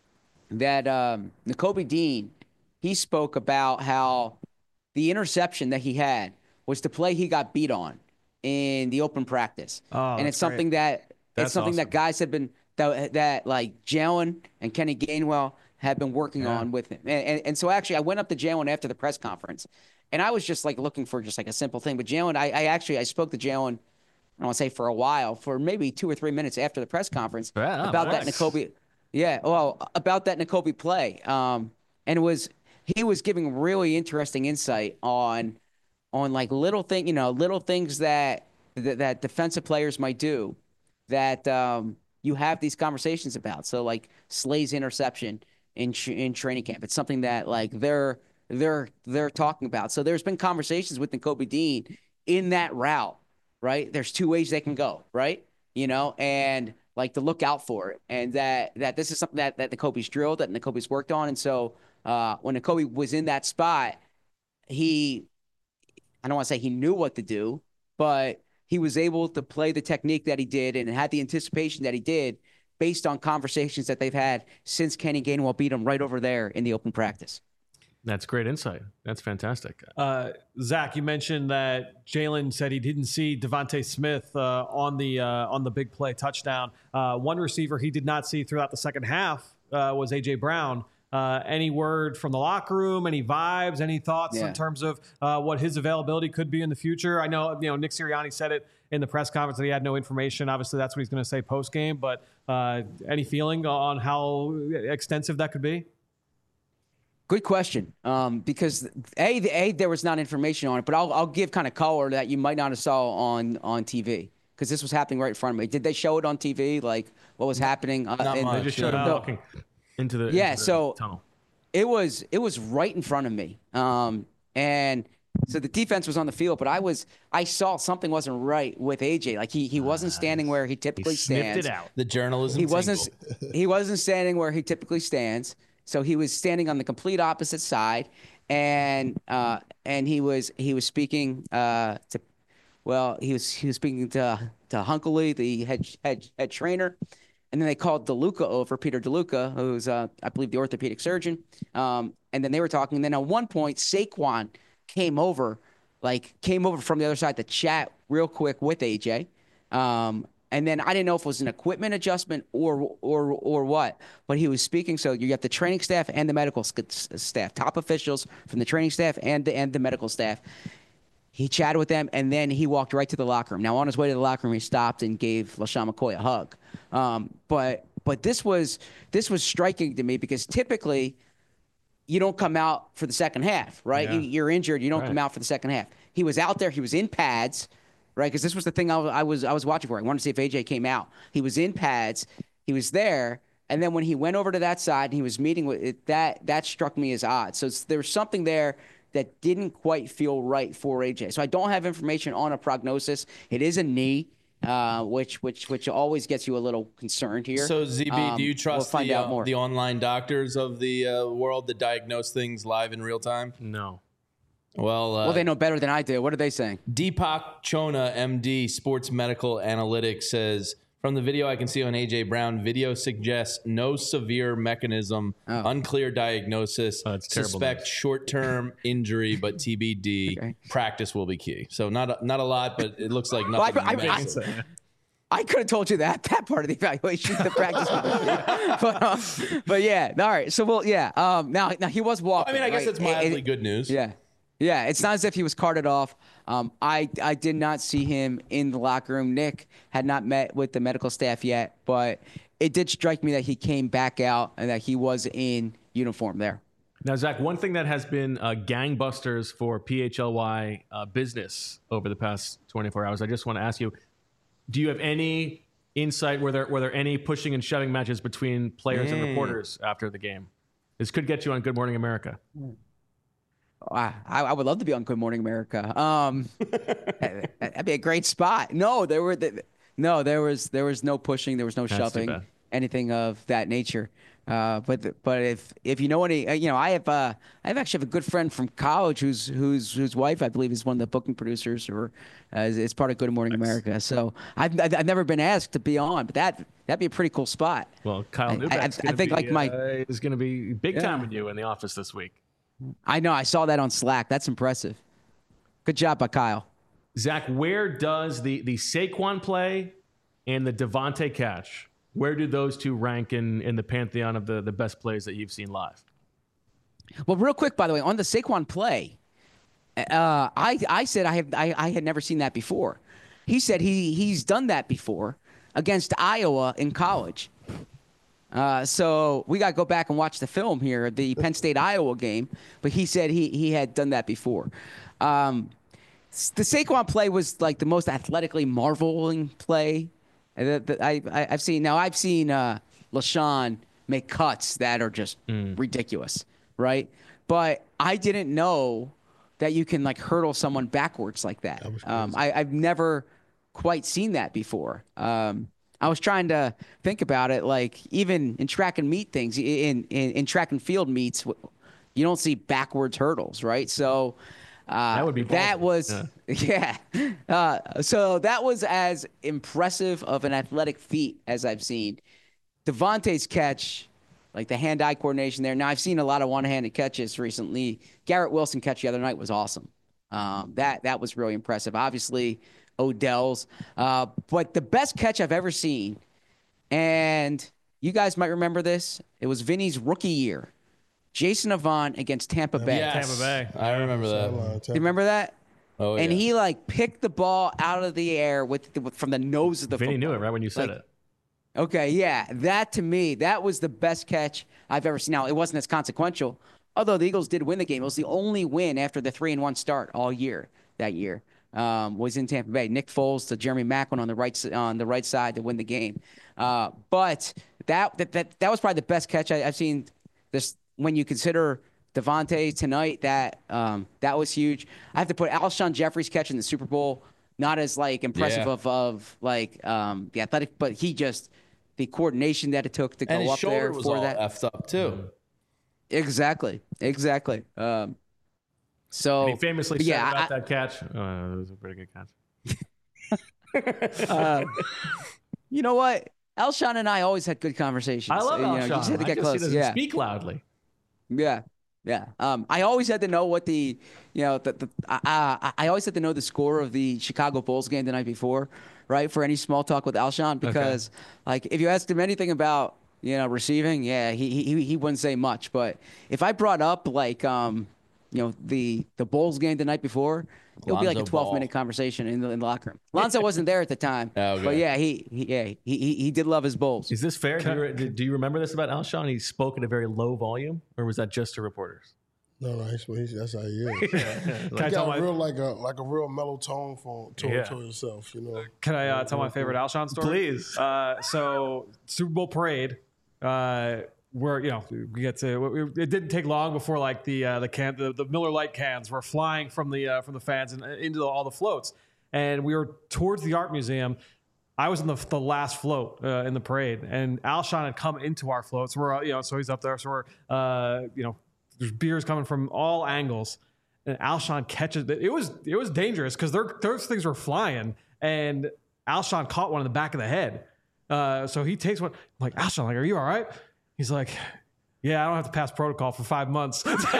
S13: that um, Nakobe Dean. He spoke about how the interception that he had was the play he got beat on in the open practice,
S1: oh,
S13: and it's something
S1: great.
S13: that
S1: that's
S13: it's something
S1: awesome.
S13: that guys have been that, that like Jalen and Kenny Gainwell have been working
S1: yeah.
S13: on with him. And, and and so actually, I went up to Jalen after the press conference, and I was just like looking for just like a simple thing. But Jalen, I, I actually I spoke to Jalen. I don't want to say for a while, for maybe two or three minutes after the press conference
S1: yeah,
S13: about
S1: nice.
S13: that Nakobe. Yeah, well, about that Nakobe play, um, and it was. He was giving really interesting insight on, on like little thing, you know, little things that that, that defensive players might do, that um, you have these conversations about. So like Slay's interception in in training camp, it's something that like they're they're they're talking about. So there's been conversations with Nakobe Dean in that route, right? There's two ways they can go, right? You know, and like to look out for it, and that that this is something that that Nakobe's drilled, that Nakobe's worked on, and so. Uh, when Nakobe was in that spot, he, I don't want to say he knew what to do, but he was able to play the technique that he did and had the anticipation that he did based on conversations that they've had since Kenny Gainwell beat him right over there in the open practice.
S1: That's great insight. That's fantastic.
S4: Uh, Zach, you mentioned that Jalen said he didn't see Devontae Smith uh, on the uh, on the big play touchdown. Uh, one receiver he did not see throughout the second half uh, was A J Brown. Uh, any word from the locker room? Any vibes? Any thoughts
S13: Yeah.
S4: in terms of uh, what his availability could be in the future? I know, you know, Nick Sirianni said it in the press conference that he had no information. Obviously, that's what he's going to say post game. But uh, any feeling on how extensive that could be?
S13: Good question. Um, because a, the, a there was not information on it, but I'll I'll give kind of color that you might not have saw on on T V because this was happening right in front of me. Did they show it on T V? Like what was happening? Uh,
S3: Not
S13: in,
S3: much.
S1: They just showed him
S13: No.
S1: walking into the,
S13: Yeah,
S1: into the
S13: so-
S1: tunnel.
S13: It was it was right in front of me. Um, and so the defense was on the field, but I was I saw something wasn't right with A J. Like he he wasn't standing where he typically
S1: He sniffed
S13: stands.
S1: it out.
S3: The journalism.
S13: He wasn't
S3: tingle.
S13: he wasn't standing where he typically stands. So he was standing on the complete opposite side, and uh, and he was he was speaking uh, to, well, he was he was speaking to to Hunkley, the head head head trainer, and then they called DeLuca over, Peter DeLuca, who's uh, I believe the orthopedic surgeon, um, and then they were talking. And then at one point, Saquon came over, like came over from the other side to chat real quick with A J. Um, And then I didn't know if it was an equipment adjustment or or or what, but he was speaking. So you got the training staff and the medical staff, top officials from the training staff and the, and the medical staff. He chatted with them, and then he walked right to the locker room. Now, on his way to the locker room, he stopped and gave LaShawn McCoy a hug. Um, but but this was this was striking to me because typically you don't come out for the second half, right?
S1: Yeah.
S13: You, you're injured, you don't
S1: Right.
S13: come out for the second half. He was out there, he was in pads. Right, because this was the thing I was, I was I was watching for. I wanted to see if A J came out. He was in pads. He was there, and then when he went over to that side and he was meeting with it, that that struck me as odd. So it's, there was something there that didn't quite feel right for A J. So I don't have information on a prognosis. It is a knee, uh, which which which always gets you a little concerned here.
S3: So Z B,
S13: Um,
S3: do you
S13: we'll
S3: trust
S13: find
S3: the
S13: out
S3: uh,
S13: more.
S3: the online doctors of the uh, world that diagnose things live in real time?
S1: No.
S3: Well, uh,
S13: well, they know better than I do. What are they saying?
S3: Deepak Chona, M D, Sports Medical Analytics, says, from the video I can see on A J Brown, video suggests no severe mechanism,
S13: Oh.
S3: unclear diagnosis,
S1: Oh, that's terrible
S3: suspect
S1: news.
S3: short-term injury, but T B D.
S13: Okay.
S3: Practice will be key. So not a, not a lot, but it looks like
S13: Well, I-
S3: nothing.
S13: I- I-
S3: massive.
S13: I could have told you that that part of the evaluation, the practice, but uh, but yeah, all right. So well, yeah. Um, now now he was walking.
S3: I mean, I guess
S13: right?
S3: that's
S13: It-
S3: mildly
S13: it-
S3: good news.
S13: Yeah, yeah. It's not as if he was carted off. Um, I I did not see him in the locker room. Nick had not met with the medical staff yet, but it did strike me that he came back out and that he was in uniform there.
S1: Now, Zach, one thing that has been uh, gangbusters for P H L Y uh, business over the past twenty-four hours, I just want to ask you, do you have any insight? Were there, were there any pushing and shoving matches between players and
S3: Mm.
S1: reporters after the game? This could get you on Good Morning America.
S13: I, I would love to be on Good Morning America. Um, that'd be a great spot. No, there were the, no, there was there was no pushing, there was no
S1: That's too
S13: shoving,
S1: bad.
S13: anything of that nature. Uh, but but if if you know any, uh, you know, I have uh, I have actually have a good friend from college whose whose whose wife I believe is one of the booking producers or uh, is, is part of Good Morning America. So I've I've I've never been asked to be on, but that that'd be a pretty cool spot.
S1: Well, Kyle
S13: I- I-
S1: Newbeck's
S13: I
S1: gonna
S13: think,
S1: be,
S13: like, my-
S1: uh, is going to be big
S13: Yeah.
S1: time with you in the office this week.
S13: I know I saw that on Slack. That's impressive. Good job by Kyle.
S1: Zach, where does the the Saquon play and the Devontae catch? Where do those two rank in, in the pantheon of the, the best plays that you've seen live?
S13: Well, real quick, by the way, on the Saquon play, uh, I I said I have I, I had never seen that before. He said he he's done that before against Iowa in college. Uh, so we got to go back and watch the film here, the Penn State Iowa game. But he said he he had done that before. Um, the Saquon play was like the most athletically marveling play that, that I, I I've seen. Now I've seen uh, LaShawn make cuts that are just ridiculous, right? But I didn't know that you can like hurdle someone backwards like that. um, I, I've never quite seen that before. Um, I was trying to think about it, like even in track and meet things, in in, in track and field meets, you don't see backwards hurdles, right? So uh,
S1: That would be
S13: that
S1: ballsy.
S13: was yeah. Uh, so that was as impressive of an athletic feat as I've seen. Devontae's catch, like the hand-eye coordination there. Now I've seen a lot of one-handed catches recently. Garrett Wilson catch the other night was awesome. Um, that that was really impressive. Obviously, Odell's, uh, but the best catch I've ever seen, and you guys might remember this. It was Vinny's rookie year. Jason Avant against Tampa Bay.
S3: Yes.
S4: Tampa Bay.
S3: I remember that.
S13: Do you remember that?
S3: Oh,
S13: and
S3: yeah.
S13: he like picked the ball out of the air with, the, from the nose of the
S1: Vinny
S13: football.
S1: knew it right when you said
S13: Like,
S1: it.
S13: Okay, yeah. That to me, that was the best catch I've ever seen. Now, it wasn't as consequential, although the Eagles did win the game. It was the only win after the three and one start all year that year. Um, was in Tampa Bay. Nick Foles to Jeremy Maclin on the right on the right side to win the game. Uh, but that, that that that was probably the best catch I, I've seen. This when you consider Devontae tonight, that um, that was huge. I have to put Alshon Jeffrey's catch in the Super Bowl. Not as like impressive
S3: Yeah.
S13: of of like um, the athletic, but he just the coordination that it took to
S3: And
S13: go
S3: his
S13: up
S3: shoulder
S13: there
S3: was
S13: for
S3: all
S13: that.
S3: effed up too.
S13: Exactly, exactly. Um, so
S1: And he famously
S13: but
S1: said
S13: yeah,
S1: about
S13: I-
S1: that catch. Oh, it was a pretty good catch.
S13: uh, you know what? Alshon and I always had good conversations.
S1: I love
S13: you know,
S1: Alshon.
S13: You just had to
S1: I
S13: get
S1: guess
S13: close.
S1: he doesn't
S13: yeah.
S1: speak loudly.
S13: Yeah, yeah. Um, I always had to know what the, you know, the, the I, I, I always had to know the score of the Chicago Bulls game the night before, right? For any small talk with Alshon, because like if you asked him anything about, you know, receiving, yeah, he he he wouldn't say much. But if I brought up like, um, you know, the the Bulls game the night before, it'll be like a
S3: Lonzo
S13: twelve
S3: Ball.
S13: minute conversation in the, in the locker room. Lonzo wasn't there at the time,
S3: Oh, okay.
S13: but yeah, he, he yeah he, he he did love his Bulls.
S1: Is this fair? Do you, re- do you remember this about Alshon? He spoke at a very low volume, or was that just to reporters?
S2: No, no, he's, he's, that's how he is.
S4: Can
S2: He
S4: I tell
S2: got
S4: my
S2: real like a like a real mellow tone for to,
S1: Yeah.
S2: to himself, you know.
S4: Can I uh, tell my favorite Alshon story?
S1: Please.
S4: Uh, so Super Bowl parade, uh, where you know we get to. It didn't take long before like the uh, the can the, the Miller Lite cans were flying from the uh, from the fans and into the, all the floats, and we were towards the art museum. I was in the, the last float uh, in the parade, and Alshon had come into our float. So we're, you know, so he's up there. So we're, uh, you know, there's beers coming from all angles, and Alshon catches it. It was it was dangerous because those things were flying, and Alshon caught one in the back of the head. Uh, so he takes one. I'm like, Alshon, like, are you all right? He's like, yeah, I don't have to pass protocol for five months.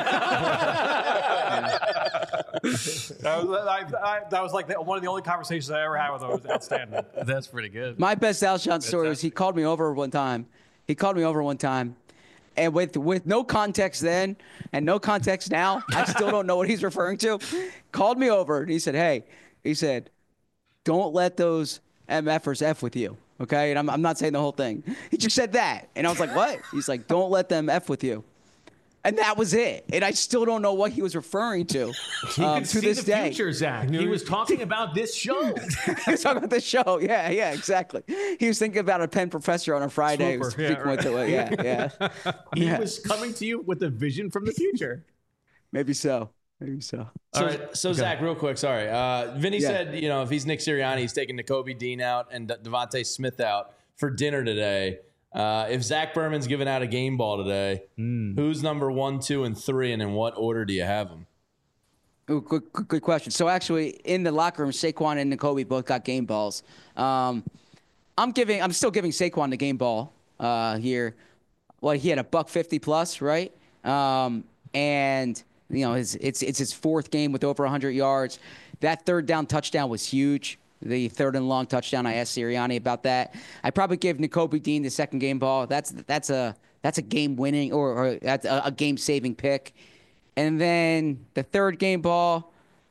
S4: that, was, I, I, that was like the, one of the only conversations I ever had with him. It was outstanding.
S1: That's pretty good.
S13: My best Alshon story was he called me over one time. He called me over one time, and with with no context then and no context now, I still don't know what he's referring to. Called me over and he said, "Hey," he said, "don't let those M Fers F with you." Okay, and I'm I'm not saying the whole thing. He just said that, and I was like, "What?" He's like, "Don't let them F with you." And that was it. And I still don't know what he was referring to
S1: He
S13: um,
S1: could
S13: to
S1: see
S13: this
S1: the
S13: day.
S1: future, Zach. He was talking about this show.
S13: He was talking about the show. Yeah, yeah, exactly. He was thinking about a Penn professor on a Friday. He was
S1: Swooper, yeah,
S13: speaking with
S1: right.
S13: the- yeah, yeah.
S1: He
S13: Yeah.
S1: was coming to you with a vision from the future.
S13: Maybe so. Maybe so.
S3: So, so Zach, real quick, sorry. Uh, Vinny
S13: Yeah.
S3: said, you know, if he's Nick Sirianni, he's taking Nakobe Dean out and De- Devontae Smith out for dinner today. Uh, if Zach Berman's giving out a game ball today, who's number one, two, and three, and in what order do you have them?
S13: Ooh, good, good, good question. So actually, in the locker room, Saquon and Nakobe both got game balls. Um, I'm giving. I'm still giving Saquon the game ball uh, here. Well, he had a buck fifty plus, right? Um, and you know, his it's it's his fourth game with over one hundred yards. That third down touchdown was huge. The third and long touchdown. I asked Sirianni about that. I probably give Nakobe Dean the second game ball. That's that's a that's a game winning or, or that's a, a game saving pick. And then the third game ball,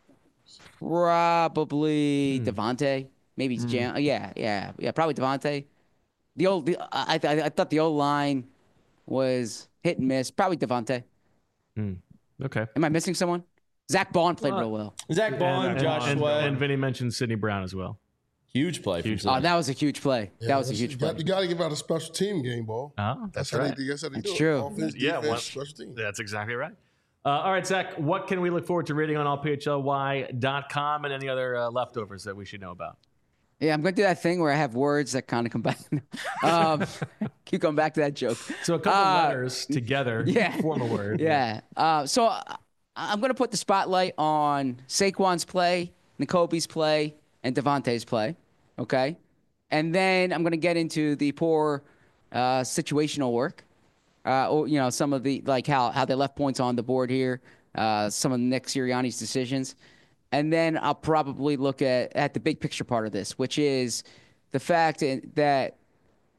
S13: probably
S1: Hmm.
S13: Devontae. Maybe it's Jam. Yeah, yeah, yeah. Probably Devontae. The old, the, I, I, I thought the old line was hit and miss. Probably Devontae.
S1: Okay.
S13: Am I missing someone? Zach Bond played real well.
S3: Zach Bond,
S1: and,
S3: Josh
S1: and,
S3: Sweat.
S1: and Vinny mentioned Sidney Brown as well.
S3: Huge play. From
S1: Huge
S3: Zach.
S13: Oh, that was a huge play.
S2: Yeah,
S13: that was a
S2: that's-
S13: huge
S2: you
S13: play.
S2: got, you got to give out a special team game ball.
S1: Oh, that's,
S2: how
S1: right.
S2: they, that's how they
S13: That's
S2: do
S13: true.
S2: it. Offense,
S1: Yeah,
S2: defense,
S1: one-
S2: special team.
S1: That's exactly right. Uh, all right, Zach, what can we look forward to reading on all P H L Y dot com and any other uh, leftovers that we should know about?
S13: Yeah, I'm going to do that thing where I have words that kind of come back. um, keep going back to that joke.
S1: So a couple
S13: Uh,
S1: letters together
S13: yeah.
S1: form a word.
S13: Yeah. Uh, so uh, I'm going to put the spotlight on Saquon's play, Nakobe's play, and Devontae's play. Okay. And then I'm going to get into the poor uh, situational work. Uh, or, you know, some of the, like how, how they left points on the board here, uh, some of Nick Sirianni's decisions. And then I'll probably look at, at the big picture part of this, which is the fact that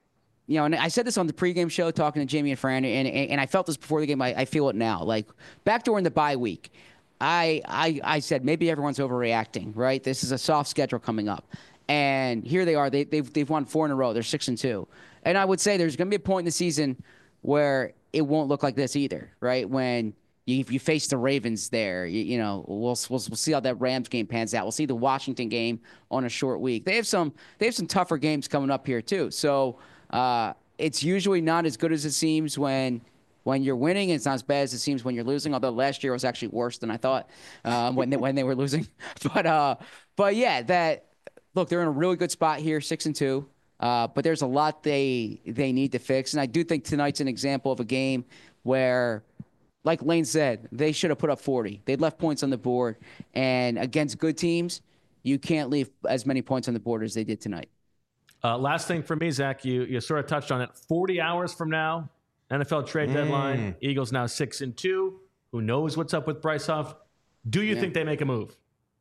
S13: you know, and I said this on the pregame show talking to Jamie and Fran, and, and, and I felt this before the game. I, I feel it now. Like, back during the bye week, I, I I said maybe everyone's overreacting, right? This is a soft schedule coming up. And here they are. They, they've, they've won four in a row. They're six and two. And I would say there's going to be a point in the season where it won't look like this either, right? When you, if you face the Ravens there, you, you know, we'll, we'll we'll see how that Rams game pans out. We'll see the Washington game on a short week. They have some they have some tougher games coming up here too. So uh, it's usually not as good as it seems when when you're winning. It's not as bad as it seems when you're losing. Although last year was actually worse than I thought um, when they, when they were losing. But uh, but yeah, that look, they're in a really good spot here, six and two. Uh, but there's a lot they they need to fix, and I do think tonight's an example of a game where, like Lane said, they should have put up forty. They left points on the board, and against good teams, you can't leave as many points on the board as they did tonight.
S1: Uh, last thing for me, Zach, you you sort of touched on it. forty hours from now, N F L trade deadline.
S3: Mm.
S1: Eagles now six and two. Who knows what's up with Bryce Huff? Do you
S13: Yeah.
S1: think they make a move?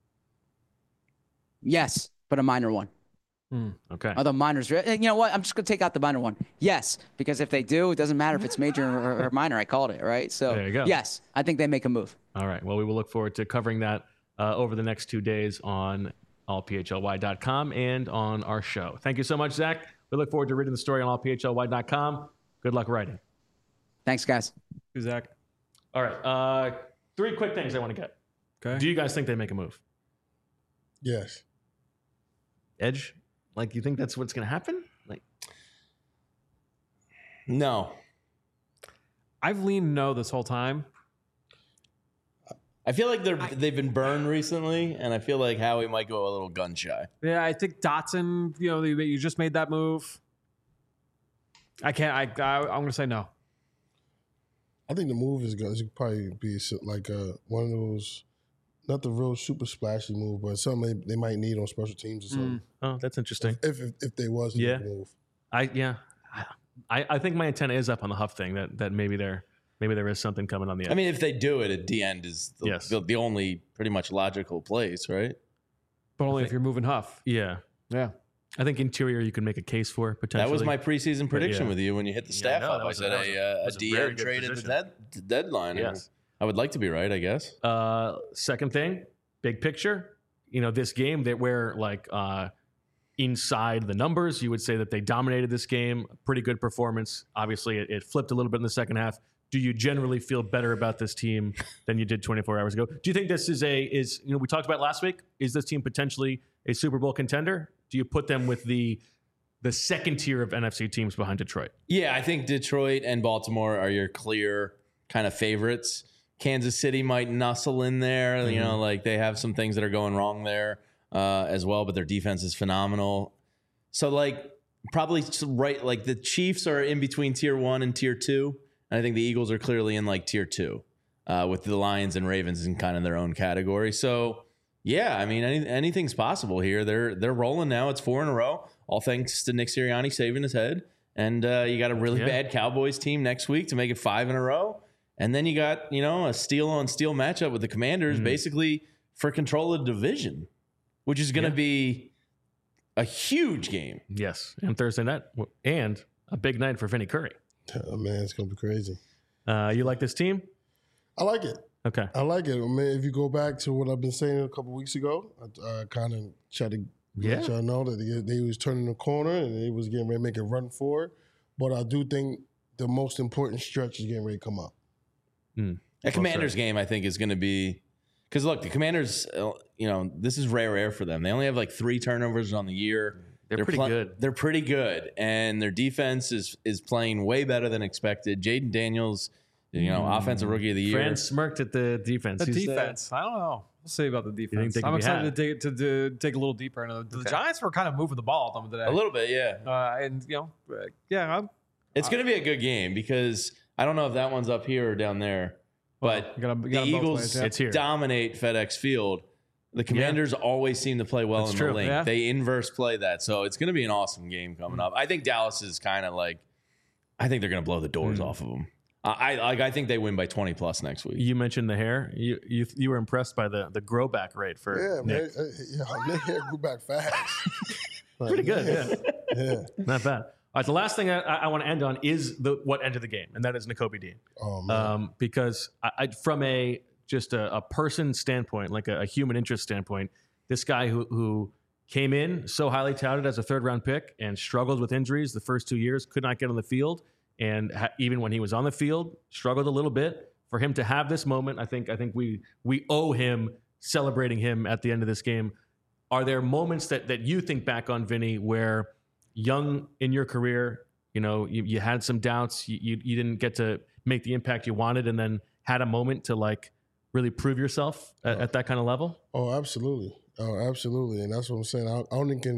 S13: Yes, but a minor one.
S1: Mm, okay.
S13: Although minors, you know what? I'm just going to take out the minor one. Yes, because if they do, it doesn't matter if it's major or, or minor. I called it, right? So,
S1: There you go.
S13: yes, I think they make a move.
S1: All right. Well, we will look forward to covering that uh, over the next two days on all p h l y dot com and on our show. Thank you so much, Zach. We look forward to reading the story on all p h l y dot com. Good luck writing.
S13: Thanks, guys.
S4: Zach.
S1: All right. Uh, three quick things I want to get.
S4: Okay.
S1: Do you guys think they make a move?
S2: Yes.
S1: Edge? Like, you think that's what's going to happen? Like,
S3: No.
S4: I've leaned no this whole time.
S3: I feel like they're they've been burned recently, and I feel like Howie might go a little gun shy.
S4: Yeah, I think Dotson, you know, you you just made that move. I can't, I, I I'm going to say no.
S2: I think the move is going to probably be so- like uh, one of those, not the real super splashy move, but something they, they might need on special teams or something.
S1: oh, that's interesting.
S2: If if, if they was a
S1: Yeah.
S2: move.
S1: I yeah. I, I think my antenna is up on the Huff thing that that maybe there maybe there is something coming on the edge.
S3: I mean, if they do it, at the end is the,
S1: Yes.
S3: the, the only pretty much logical place, right?
S4: But only if you're moving Huff.
S1: yeah.
S4: Yeah.
S1: I think interior you can make a case for potentially.
S3: That was my preseason prediction
S1: yeah.
S3: with you when you hit the
S1: Yeah,
S3: staff
S1: no,
S3: up.
S1: that
S3: I
S1: was a-
S3: said
S1: that was a-
S3: a, uh,
S1: that
S3: a
S1: was a
S3: D
S1: very
S3: M
S1: good
S3: trade at the,
S1: position.
S3: dead, the deadline.
S1: Yes.
S3: I would like to be right, I guess.
S1: Uh, second thing, big picture. You know, this game that where like uh, inside the numbers, you would say that they dominated this game. Pretty good performance. Obviously, it, it flipped a little bit in the second half. Do you generally feel better about this team than you did twenty-four hours ago? Do you think this is a is you know we talked about last week? Is this team potentially a Super Bowl contender? Do you put them with the the second tier of N F C teams behind Detroit?
S3: Yeah, I think Detroit and Baltimore are your clear kind of favorites. Kansas City might nuzzle in there.
S1: Mm-hmm.
S3: You know, like they have some things that are going wrong there uh, as well, but their defense is phenomenal. So, like, probably right, like the Chiefs are in between tier one and tier two. And I think the Eagles are clearly in like tier two uh, with the Lions and Ravens in kind of their own category. So, yeah, I mean, any, anything's possible here. They're they're rolling now. It's four in a row, all thanks to Nick Sirianni saving his head. And uh, you got a really
S1: Yeah.
S3: bad Cowboys team next week to make it five in a row. And then you got, you know, a steel on steel matchup with the Commanders
S1: Mm-hmm.
S3: basically for control of the division, which is going to
S1: Yeah.
S3: be a huge game.
S1: Yes, and Thursday night, and a big night for Vinny Curry.
S2: Oh, man, it's going to be crazy.
S1: Uh, you like this team?
S2: I like it.
S1: Okay.
S2: I like it. I mean, if you go back to what I've been saying a couple weeks ago, I uh, kind of tried to
S1: Yeah.
S2: let y'all know that they, they was turning the corner and they was getting ready to make a run for it. But I do think the most important stretch is getting ready to come up.
S1: Mm.
S3: A Commanders game, I think, is going to be because look, the Commanders, uh, you know, this is rare air for them. They only have like three turnovers on the year.
S1: They're pretty good.
S3: They're pretty good, and their defense is is playing way better than expected. Jaden Daniels, you know, offensive rookie of the year.
S1: Fran smirked at the defense.
S4: The
S1: He's, uh,
S4: defense. I don't know. We'll see about the defense.
S1: they can
S4: I'm
S1: be
S4: excited
S1: had?
S4: to dig, to, to dig a little deeper into the, the Giants were kind of moving the ball at them today.
S3: A little bit, yeah.
S4: Uh, and, you know, uh, yeah. I'm,
S3: It's going to be a good game because I don't know if that one's up here or down there, but
S4: you gotta- you
S3: the
S4: gotta both
S3: Eagles
S4: ways, yeah.
S1: It's here.
S3: dominate FedEx Field. The Commanders always seem to play well
S1: That's
S3: in
S1: true,
S3: the link.
S4: yeah.
S3: They inverse play that, so it's going to be an awesome game coming up. I think Dallas is kind of like, I think they're going to blow the doors
S1: Mm.
S3: off of them. I, I like. I think they win by twenty plus next week.
S1: You mentioned the hair. You you you were impressed by the the grow back rate for
S2: Yeah,
S1: Nick.
S2: man. Uh, Yeah, Nick hair grew back fast. Like,
S1: Pretty good,
S2: yeah.
S1: yeah.
S2: Yeah.
S1: Not bad. All right, the last thing I, I want to end on is the what ended the game, and that is Nakobe Dean.
S2: Oh, man.
S1: Um, because I, I, from a just a, a person standpoint, like a, a human interest standpoint, this guy who who came in so highly touted as a third round pick and struggled with injuries the first two years, could not get on the field, and ha- even when he was on the field, struggled a little bit. For him to have this moment, I think I think we we owe him celebrating him at the end of this game. Are there moments that that you think back on, Vinny, where young in your career, you know, you, you had some doubts, you, you you didn't get to make the impact you wanted, and then had a moment to like really prove yourself at, at that kind of level?
S2: Oh, absolutely. Oh, absolutely. And that's what I'm saying. I, I only can,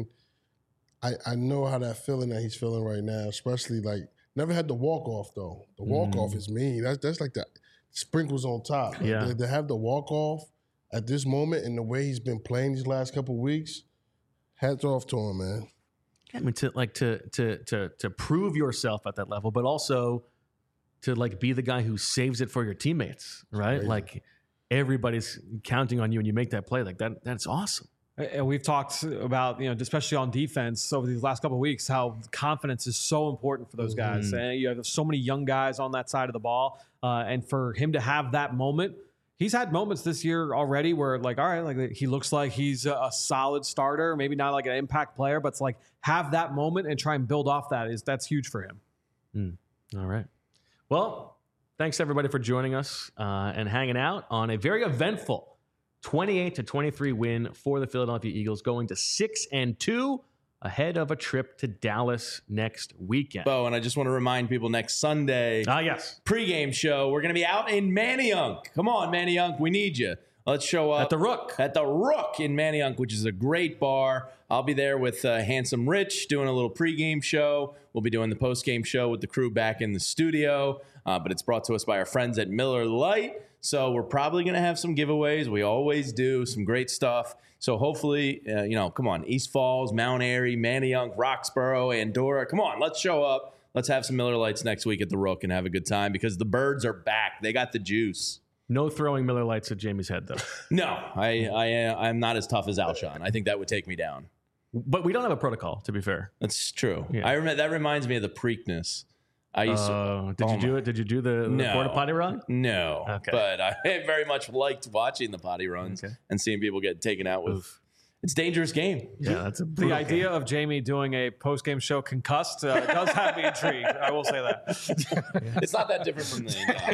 S2: I, I know how that feeling that he's feeling right now, especially like, never had the walk off though. The walk off
S1: Mm.
S2: is mean. That's that's like the sprinkles on top.
S1: Yeah.
S2: To, to have the walk off at this moment and the way he's been playing these last couple of weeks, hats off to him, man.
S1: I mean, to like to to to to prove yourself at that level, but also to like be the guy who saves it for your teammates, right?
S2: Crazy.
S1: Like everybody's counting on you, and you make that play. Like that, that's awesome.
S4: And we've talked about, you know, especially on defense over these last couple of weeks, how confidence is so important for those guys.
S1: Mhm.
S4: And you have so many young guys on that side of the ball. Uh, and for him to have that moment, he's had moments this year already where, like, all right, like he looks like he's a, a solid starter, maybe not like an impact player, but it's like have that moment and try and build off that. Is that's huge for him.
S1: Mm. All right. Well, thanks everybody for joining us uh, and hanging out on a very eventful twenty-eight to twenty-three win for the Philadelphia Eagles, going to six and two ahead of a trip to Dallas next weekend.
S3: Bo, and I just want to remind people next Sunday.
S1: Ah, yes.
S3: Pregame show. We're going to be out in Manayunk. Come on, Manayunk. We need you. Let's show up.
S1: At the Rook.
S3: At the Rook in Manayunk, which is a great bar. I'll be there with uh, Handsome Rich doing a little pregame show. We'll be doing the postgame show with the crew back in the studio. Uh, but it's brought to us by our friends at Miller Lite. So we're probably going to have some giveaways. We always do. Some great stuff. So hopefully, uh, you know, come on. East Falls, Mount Airy, Manayunk, Roxborough, Andorra. Come on. Let's show up. Let's have some Miller Lites next week at the Rook and have a good time because the birds are back. They got the juice.
S1: No throwing Miller Lights at Jamie's head, though.
S3: No, I, I, uh, I'm not as tough as Alshon. I think that would take me down.
S1: But we don't have a protocol, to be fair.
S3: That's true.
S1: Yeah.
S3: I rem- That reminds me of the Preakness. I used to.
S1: Uh, did
S3: oh
S1: you do
S3: my-
S1: it? Did you do the, the
S3: No.
S1: porta potty run?
S3: No,
S1: Okay.
S3: but I very much liked watching the potty runs
S1: Okay.
S3: and seeing people get taken out with.
S1: Oof.
S3: It's a dangerous game.
S1: Yeah, that's a
S4: The
S1: brutal
S4: idea
S1: game.
S4: of Jamie doing a post-game show concussed uh, does have me intrigued. I will say that.
S3: It's not that different from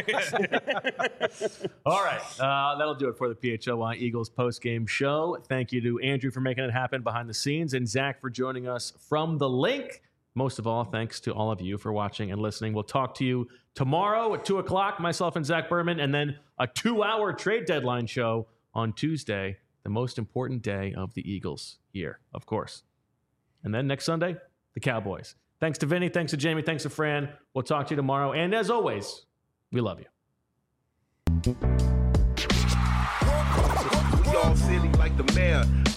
S3: the.
S1: All right. Uh, that'll do it for the P H L Y Eagles post-game show. Thank you to Andrew for making it happen behind the scenes and Zach for joining us from the link. Most of all, thanks to all of you for watching and listening. We'll talk to you tomorrow at two o'clock, myself and Zach Berman, and then a two-hour trade deadline show on Tuesday, the most important day of the Eagles year, of course. And then next Sunday, the Cowboys. Thanks to Vinny. Thanks to Jamie. Thanks to Fran. We'll talk to you tomorrow. And as always, we love you.
S14: We all silly like the mayor.